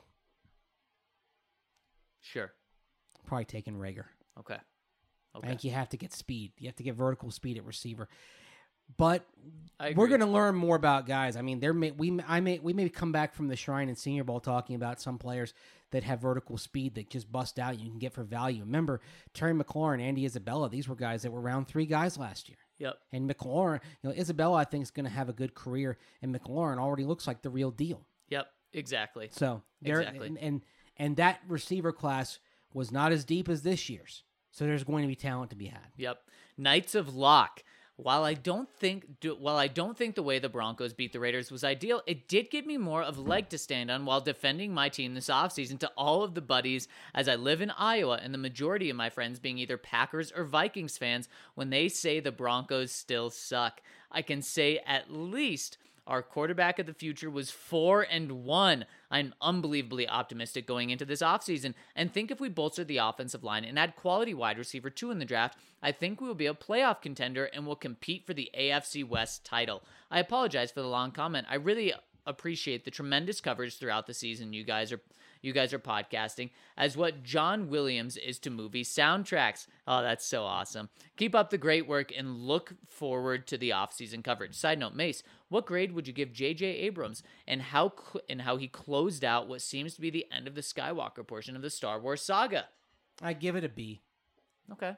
Sure. Probably taking Reagor. Okay. Okay. I think you have to get speed. You have to get vertical speed at receiver. But I we're agree. going to learn more about guys. I mean, there may we I may we may come back from the Shrine and Senior Bowl talking about some players that have vertical speed that just bust out. You can get for value. Remember Terry McLaurin, Andy Isabella. These were guys that were round three guys last year. Yep. And McLaurin, you know, Isabella, I think is going to have a good career, and McLaurin already looks like the real deal. Yep. Exactly. So there Exactly. and, and and that receiver class was not as deep as this year's. So there's going to be talent to be had. Yep. Knights of Lock. While I don't think do, while I don't think the way the Broncos beat the Raiders was ideal, it did give me more of a leg to stand on while defending my team this offseason to all of the buddies, as I live in Iowa and the majority of my friends being either Packers or Vikings fans. When they say the Broncos still suck, I can say at least our quarterback of the future was four and one. I'm unbelievably optimistic going into this offseason, and think if we bolster the offensive line and add quality wide receiver two in the draft, I think we will be a playoff contender and will compete for the A F C West title. I apologize for the long comment. I really appreciate the tremendous coverage throughout the season you guys are you guys are podcasting, as what John Williams is to movie soundtracks. Oh, that's so awesome. Keep up the great work and look forward to the offseason coverage. Side note, Mace, what grade would you give J J Abrams and how cl- and how he closed out what seems to be the end of the Skywalker portion of the Star Wars saga? I give it a B. Okay.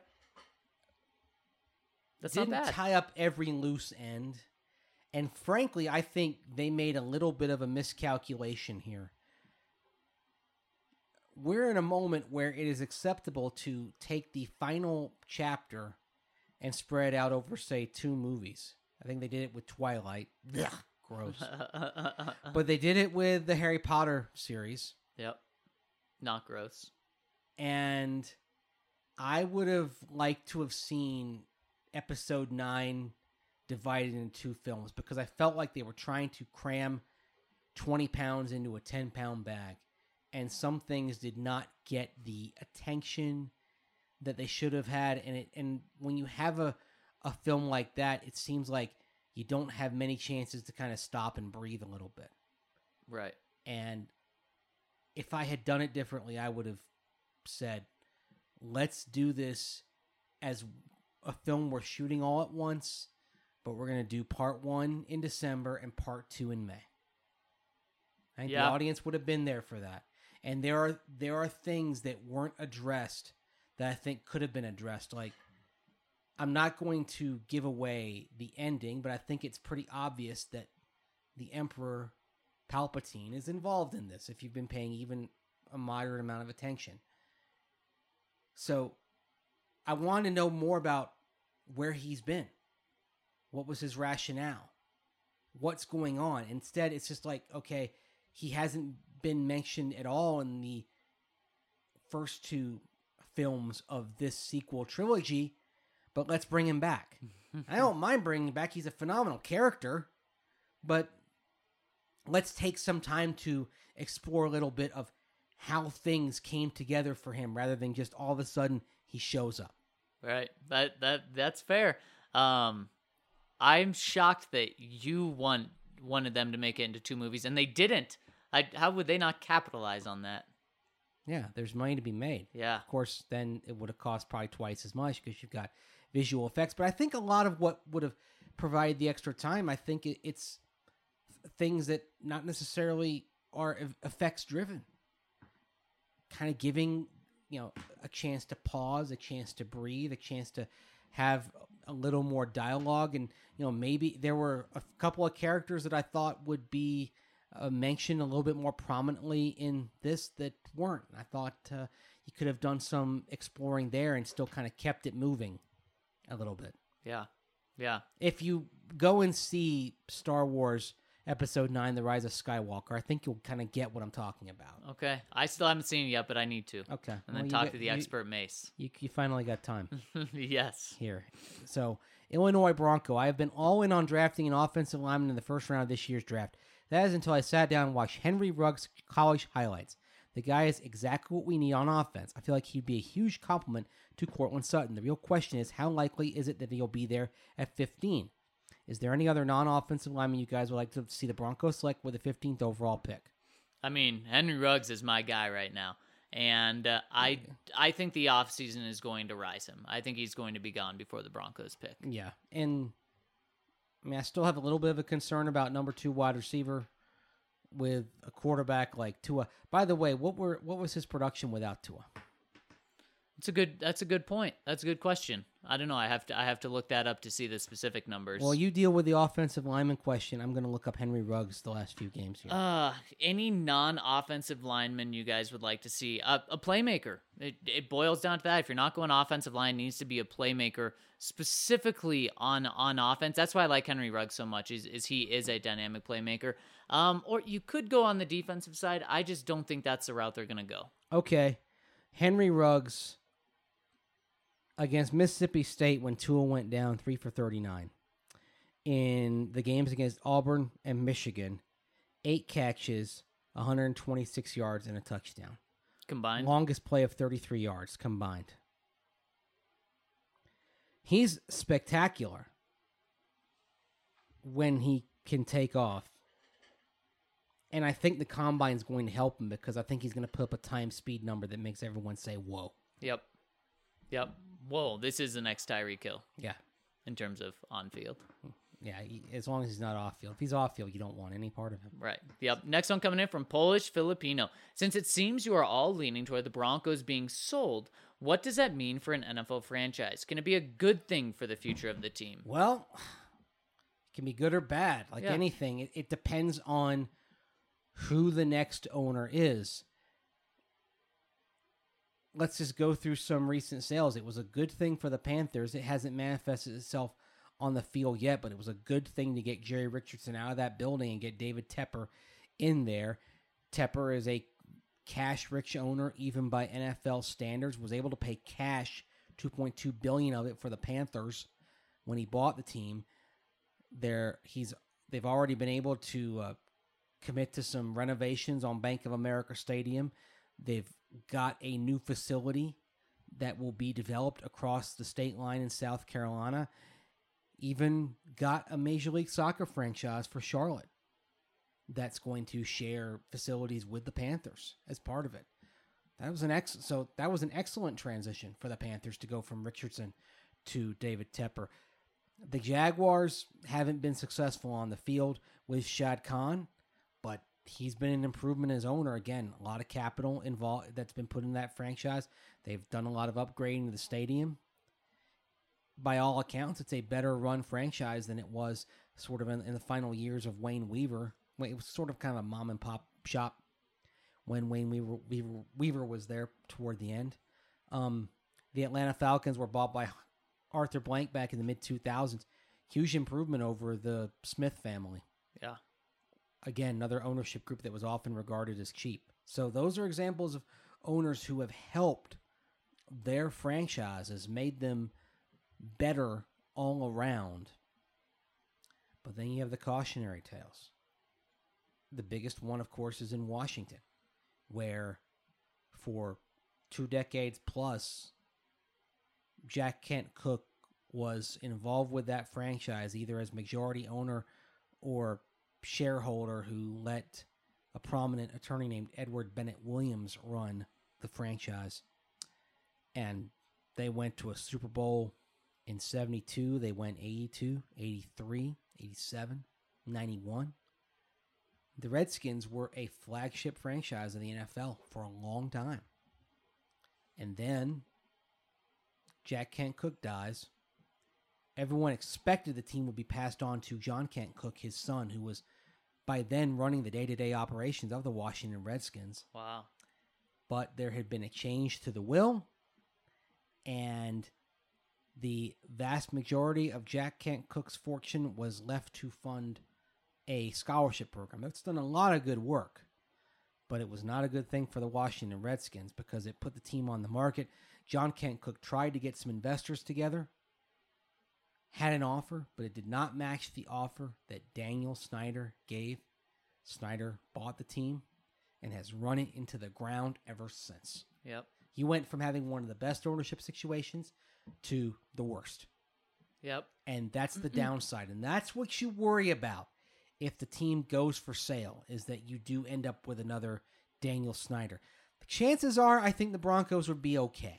That's Didn't not bad. tie up every loose end. And frankly, I think they made a little bit of a miscalculation here. We're in a moment where it is acceptable to take the final chapter and spread out over, say, two movies. I think they did it with Twilight. Ugh, gross. But they did it with the Harry Potter series. Yep. Not gross. And I would have liked to have seen episode nine divided into two films, because I felt like they were trying to cram twenty pounds into a ten pound bag. And some things did not get the attention that they should have had. And it, and when you have a, a film like that, it seems like you don't have many chances to kind of stop and breathe a little bit. Right. And if I had done it differently, I would have said, let's do this as a film we're shooting all at once, but we're going to do part one in December and part two in May. I think Yeah. the audience would have been there for that. And there are there are things that weren't addressed that I think could have been addressed. Like, I'm not going to give away the ending, but I think it's pretty obvious that the Emperor Palpatine is involved in this, if you've been paying even a moderate amount of attention. So I want to know more about where he's been. What was his rationale? What's going on? Instead, it's just like, okay, he hasn't been mentioned at all in the first two films of this sequel trilogy, but let's bring him back. I don't mind bringing him back. He's a phenomenal character, but let's take some time to explore a little bit of how things came together for him, rather than just all of a sudden he shows up. Right. That that that's fair. Um, I'm shocked that you want wanted them to make it into two movies and they didn't. I, how would they not capitalize on that? Yeah, there's money to be made. Yeah. Of course, then it would have cost probably twice as much because you've got visual effects. But I think a lot of what would have provided the extra time, I think it, it's things that not necessarily are effects driven. Kind of giving, you know, a chance to pause, a chance to breathe, a chance to have a little more dialogue. And, you know, maybe there were a couple of characters that I thought would be Uh, mentioned a little bit more prominently in this that weren't. I thought uh, you could have done some exploring there and still kind of kept it moving a little bit. Yeah. Yeah. If you go and see Star Wars Episode nine, The Rise of Skywalker, I think you'll kind of get what I'm talking about. Okay. I still haven't seen it yet, but I need to. Okay. And Well, then you talk get- to the you- expert Mace. You, you finally got time Yes. here. So, Illinois Bronco. I have been all in on drafting an offensive lineman in the first round of this year's draft. That is until I sat down and watched Henry Ruggs' college highlights. The guy is exactly what we need on offense. I feel like he'd be a huge compliment to Courtland Sutton. The real question is, how likely is it that he'll be there at fifteen? Is there any other non-offensive lineman you guys would like to see the Broncos select with the fifteenth overall pick? I mean, Henry Ruggs is my guy right now. And uh, I I think the offseason is going to rise him. I think he's going to be gone before the Broncos pick. Yeah, and I mean, I still have a little bit of a concern about number two wide receiver with a quarterback like Tua. By the way, what were what was his production without Tua? That's a good. That's a good point. That's a good question. I don't know. I have to. I have to look that up to see the specific numbers. Well, you deal with the offensive lineman question. I'm going to look up Henry Ruggs the last few games here. Uh, any non-offensive lineman you guys would like to see? Uh, a playmaker. It, it boils down to that. If you're not going offensive line, it needs to be a playmaker specifically on on offense. That's why I like Henry Ruggs so much. Is is he is a dynamic playmaker. Um, or you could go on the defensive side. I just don't think that's the route they're going to go. Okay, Henry Ruggs against Mississippi State when Tua went down three for thirty-nine. In the games against Auburn and Michigan, eight catches, one hundred twenty-six yards, and a touchdown. Combined? Longest play of thirty-three yards combined. He's spectacular when he can take off. And I think the combine's going to help him because I think he's going to put up a time speed number that makes everyone say, whoa. Yep. Yep. Whoa, this is the next Tyreek Hill Yeah. in terms of on-field. Yeah, he, as long as he's not off field. If he's off field, you don't want any part of him. Right. Yep. Next one coming in from Polish Filipino. Since it seems you are all leaning toward the Broncos being sold, what does that mean for an N F L franchise? Can it be a good thing for the future of the team? Well, it can be good or bad. Like Yeah. anything, it, it depends on who the next owner is. Let's just go through some recent sales. It was a good thing for the Panthers. It hasn't manifested itself on the field yet, but it was a good thing to get Jerry Richardson out of that building and get David Tepper in there. Tepper is a cash-rich owner, even by N F L standards, was able to pay cash, two point two billion dollars of it for the Panthers when he bought the team. There, he's they've already been able to uh, commit to some renovations on Bank of America Stadium. They've got a new facility that will be developed across the state line in South Carolina. Even got a Major League Soccer franchise for Charlotte that's going to share facilities with the Panthers as part of it. That was an ex- so that was an excellent transition for the Panthers to go from Richardson to David Tepper. The Jaguars haven't been successful on the field with Shad Khan, but he's been an improvement as owner. Again, a lot of capital involved that's been put in that franchise. They've done a lot of upgrading to the stadium. By all accounts, it's a better run franchise than it was sort of in, in the final years of Wayne Weaver. It was sort of kind of a mom and pop shop when Wayne Weaver, Weaver, Weaver was there toward the end. Um, the Atlanta Falcons were bought by Arthur Blank back in the mid two thousands. Huge improvement over the Smith family. Yeah. Again, another ownership group that was often regarded as cheap. So those are examples of owners who have helped their franchises, made them better all around. But then you have the cautionary tales. The biggest one, of course, is in Washington, where for two decades plus, Jack Kent Cooke was involved with that franchise, either as majority owner or shareholder, who let a prominent attorney named Edward Bennett Williams run the franchise. And they went to a Super Bowl in seventy-two. They went eighty-two, eighty-three, eighty-seven, ninety-one. The Redskins were a flagship franchise in the N F L for a long time. And then Jack Kent Cooke dies. Everyone expected the team would be passed on to John Kent Cooke, his son, who was by then running the day-to-day operations of the Washington Redskins. Wow. But there had been a change to the will, and the vast majority of Jack Kent Cooke's fortune was left to fund a scholarship program. That's done a lot of good work, but it was not a good thing for the Washington Redskins because it put the team on the market. John Kent Cooke tried to get some investors together, had an offer, but it did not match the offer that Daniel Snyder gave. Snyder bought the team and has run it into the ground ever since. Yep. He went from having one of the best ownership situations to the worst. Yep. And that's the downside. And that's what you worry about if the team goes for sale, is that you do end up with another Daniel Snyder. The chances are, I think the Broncos would be okay.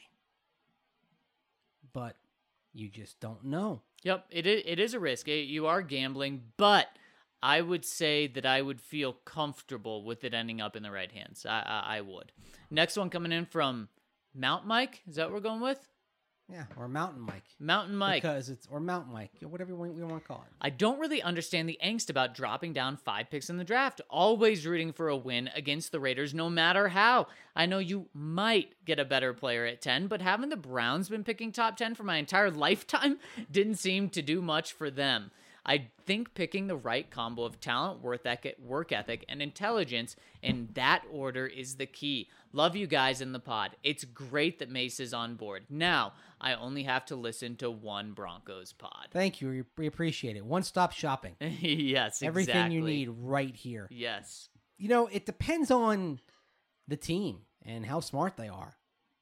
But you just don't know. Yep, it is, it is a risk. It, you are gambling, but I would say that I would feel comfortable with it ending up in the right hands. I, I, I would. Next one coming in from Mount Mike? Is that what we're going with? Yeah, or Mountain Mike. Mountain Mike. Because it's, or Mountain Mike, whatever we want, we want to call it. I don't really understand the angst about dropping down five picks in the draft. Always rooting for a win against the Raiders, no matter how. I know you might get a better player at ten, but having the Browns been picking top ten for my entire lifetime didn't seem to do much for them. I think picking the right combo of talent, work ethic, and intelligence in that order is the key. Love you guys in the pod. It's great that Mace is on board. Now, I only have to listen to one Broncos pod. Thank you. We- We appreciate it. One-stop shopping. Yes, exactly. Everything you need right here. Yes. You know, it depends on the team and how smart they are.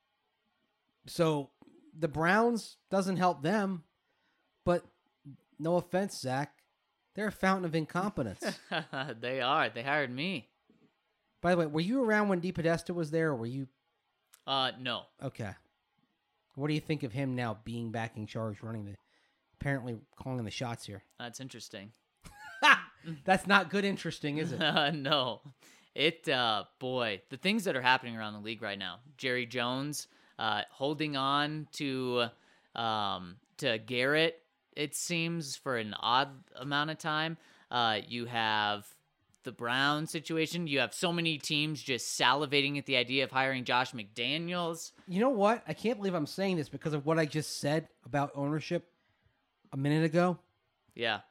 So, the Browns doesn't help them, but no offense, Zach, they're a fountain of incompetence. They are. They hired me. By the way, were you around when DePodesta was there, or were you... Uh, no. Okay. What do you think of him now being back in charge, running the... apparently calling the shots here? That's interesting. That's not good interesting, is it? No. It, uh, boy, the things that are happening around the league right now. Jerry Jones, uh, holding on to, um, to Garrett, it seems, for an odd amount of time. Uh, you have the Brown situation. You have so many teams just salivating at the idea of hiring Josh McDaniels. You know what? I can't believe I'm saying this because of what I just said about ownership a minute ago. Yeah.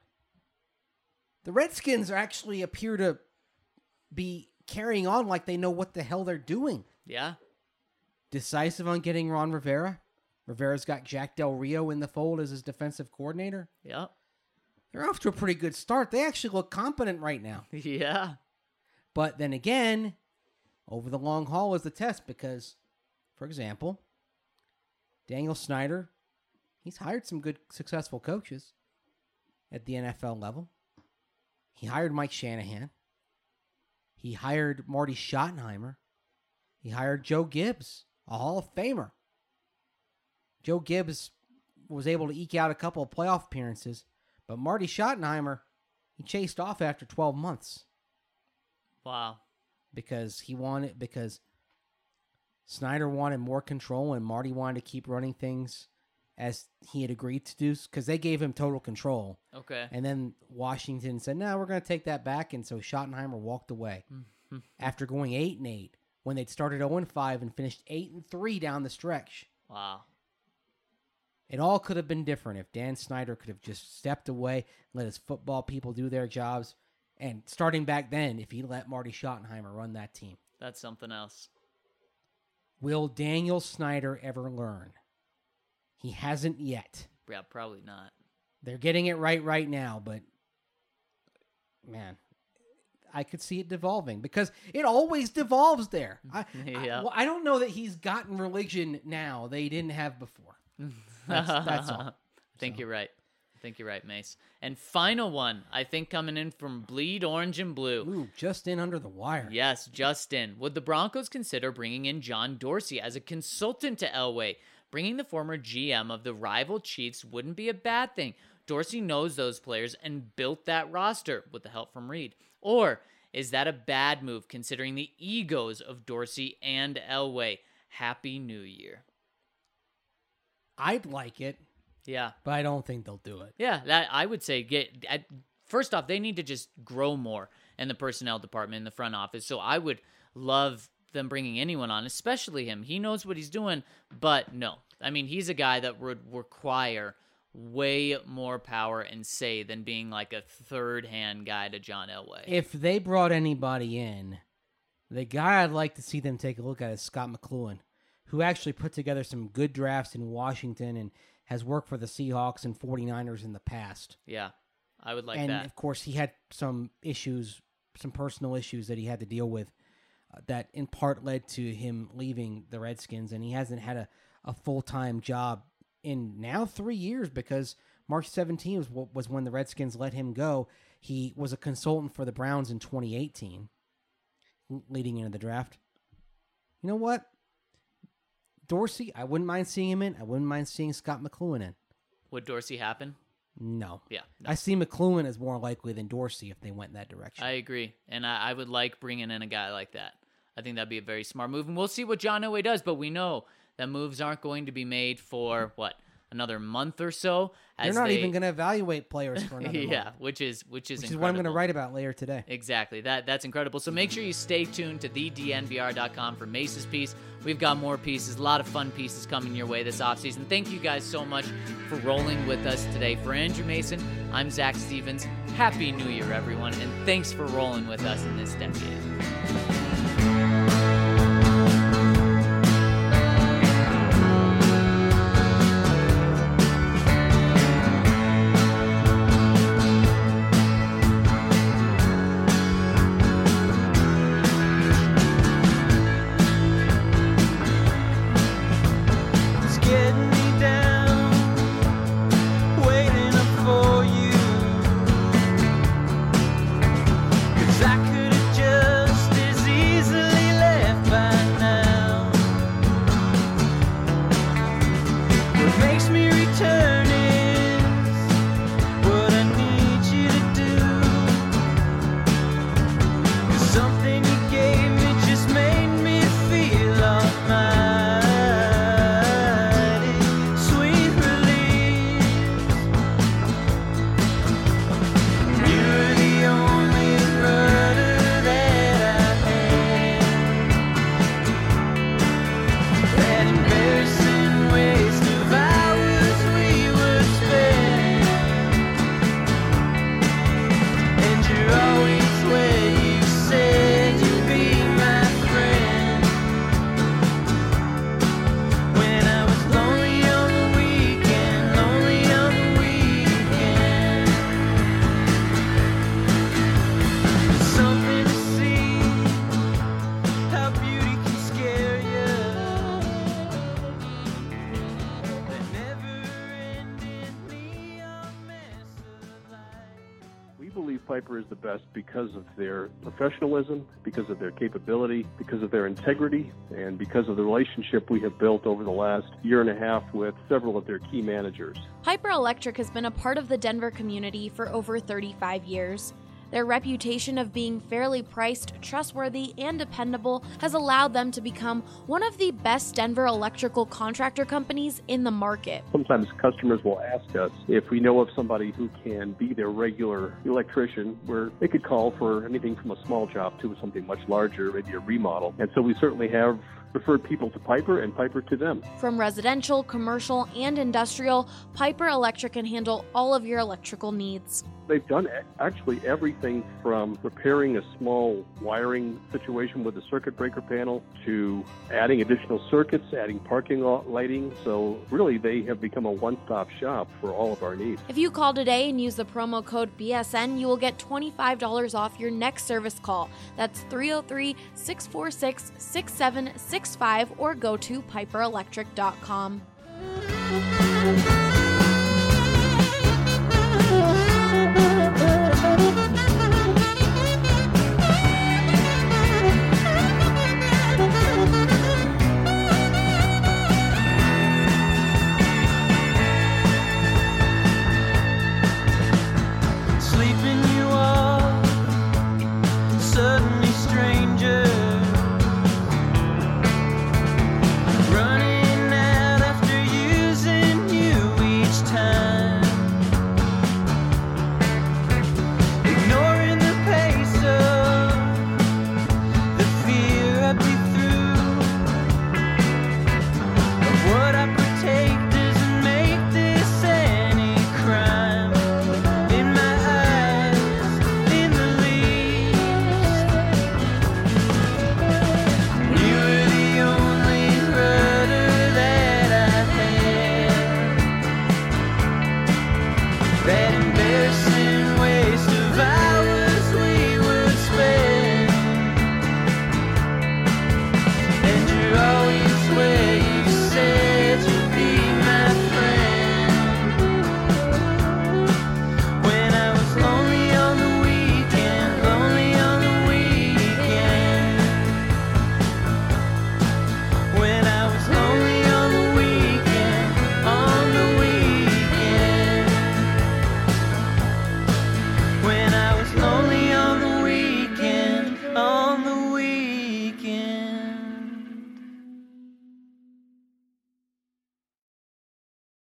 The Redskins are actually appear to be carrying on like they know what the hell they're doing. Yeah. Decisive on getting Ron Rivera. Rivera's got Jack Del Rio in the fold as his defensive coordinator. Yep. They're off to a pretty good start. They actually look competent right now. Yeah. But then again, over the long haul is the test because, for example, Daniel Snyder, he's hired some good, successful coaches at the N F L level. He hired Mike Shanahan. He hired Marty Schottenheimer. He hired Joe Gibbs, a Hall of Famer. Joe Gibbs was able to eke out a couple of playoff appearances, but Marty Schottenheimer, he chased off after twelve months. Wow. Because he wanted, because Snyder wanted more control and Marty wanted to keep running things as he had agreed to do, because they gave him total control. Okay. And then Washington said, no, we're going to take that back. And so Schottenheimer walked away after going eight and eight when they'd started oh and five and finished eight and three down the stretch. Wow. It all could have been different if Dan Snyder could have just stepped away, let his football people do their jobs, and starting back then, if he let Marty Schottenheimer run that team. That's something else. Will Daniel Snyder ever learn? He hasn't yet. Yeah, probably not. They're getting it right right now, but man, I could see it devolving because it always devolves there. I, Yeah. I, well, I don't know that he's gotten religion now they didn't have before. That's, that's all. I think So. you're right. I think you're right, Mace. And final one, I think coming in from Bleed Orange and Blue. Ooh, just in under the wire. Yes, Justin. Would the Broncos consider bringing in John Dorsey as a consultant to Elway? Bringing the former G M of the rival Chiefs wouldn't be a bad thing. Dorsey knows those players and built that roster with the help from Reed. Or is that a bad move considering the egos of Dorsey and Elway? Happy New Year. I'd like it, Yeah. but I don't think they'll do it. Yeah, that I would say get at, first off, they need to just grow more in the personnel department in the front office. So I would love them bringing anyone on, especially him. He knows what he's doing, but no. I mean, he's a guy that would require way more power and say than being like a third-hand guy to John Elway. If they brought anybody in, the guy I'd like to see them take a look at is Scott McLuhan, who actually put together some good drafts in Washington and has worked for the Seahawks and 49ers in the past. Yeah, I would like and, that. of course, he had some issues, some personal issues that he had to deal with uh, that in part led to him leaving the Redskins, and he hasn't had a, a full-time job in now three years because March seventeenth was, was when the Redskins let him go. He was a consultant for the Browns in twenty eighteen, leading into the draft. You know what? Dorsey, I wouldn't mind seeing him in. I wouldn't mind seeing Scott McLuhan in. Would Dorsey happen? No. Yeah. no. I see McLuhan as more likely than Dorsey if they went in that direction. I agree, and I, I would like bringing in a guy like that. I think that'd be a very smart move, and we'll see what John Elway does, but we know that moves aren't going to be made for, what, another month or so? They're not they... even going to evaluate players for another yeah, month. which is which is which incredible. is what I'm going to write about later today. Exactly. That That's incredible. So make sure you stay tuned to the D N V R dot com for Mace's piece. We've got more pieces, a lot of fun pieces coming your way this offseason. Thank you guys so much for rolling with us today. For Andrew Mason, I'm Zach Stevens. Happy New Year, everyone, and thanks for rolling with us in this decade. Piper is the best because of their professionalism, because of their capability, because of their integrity, and because of the relationship we have built over the last year and a half with several of their key managers. Piper Electric has been a part of the Denver community for over thirty-five years. Their reputation of being fairly priced, trustworthy, and dependable has allowed them to become one of the best Denver electrical contractor companies in the market. Sometimes customers will ask us if we know of somebody who can be their regular electrician, where they could call for anything from a small job to something much larger, maybe a remodel. And so we certainly have referred people to Piper and Piper to them. From residential, commercial, and industrial, Piper Electric can handle all of your electrical needs. They've done actually everything from repairing a small wiring situation with a circuit breaker panel to adding additional circuits, adding parking lot lighting. So really, they have become a one-stop shop for all of our needs. If you call today and use the promo code B S N, you will get twenty-five dollars off your next service call. That's three oh three, six four six, six seven six five or go to piper electric dot com.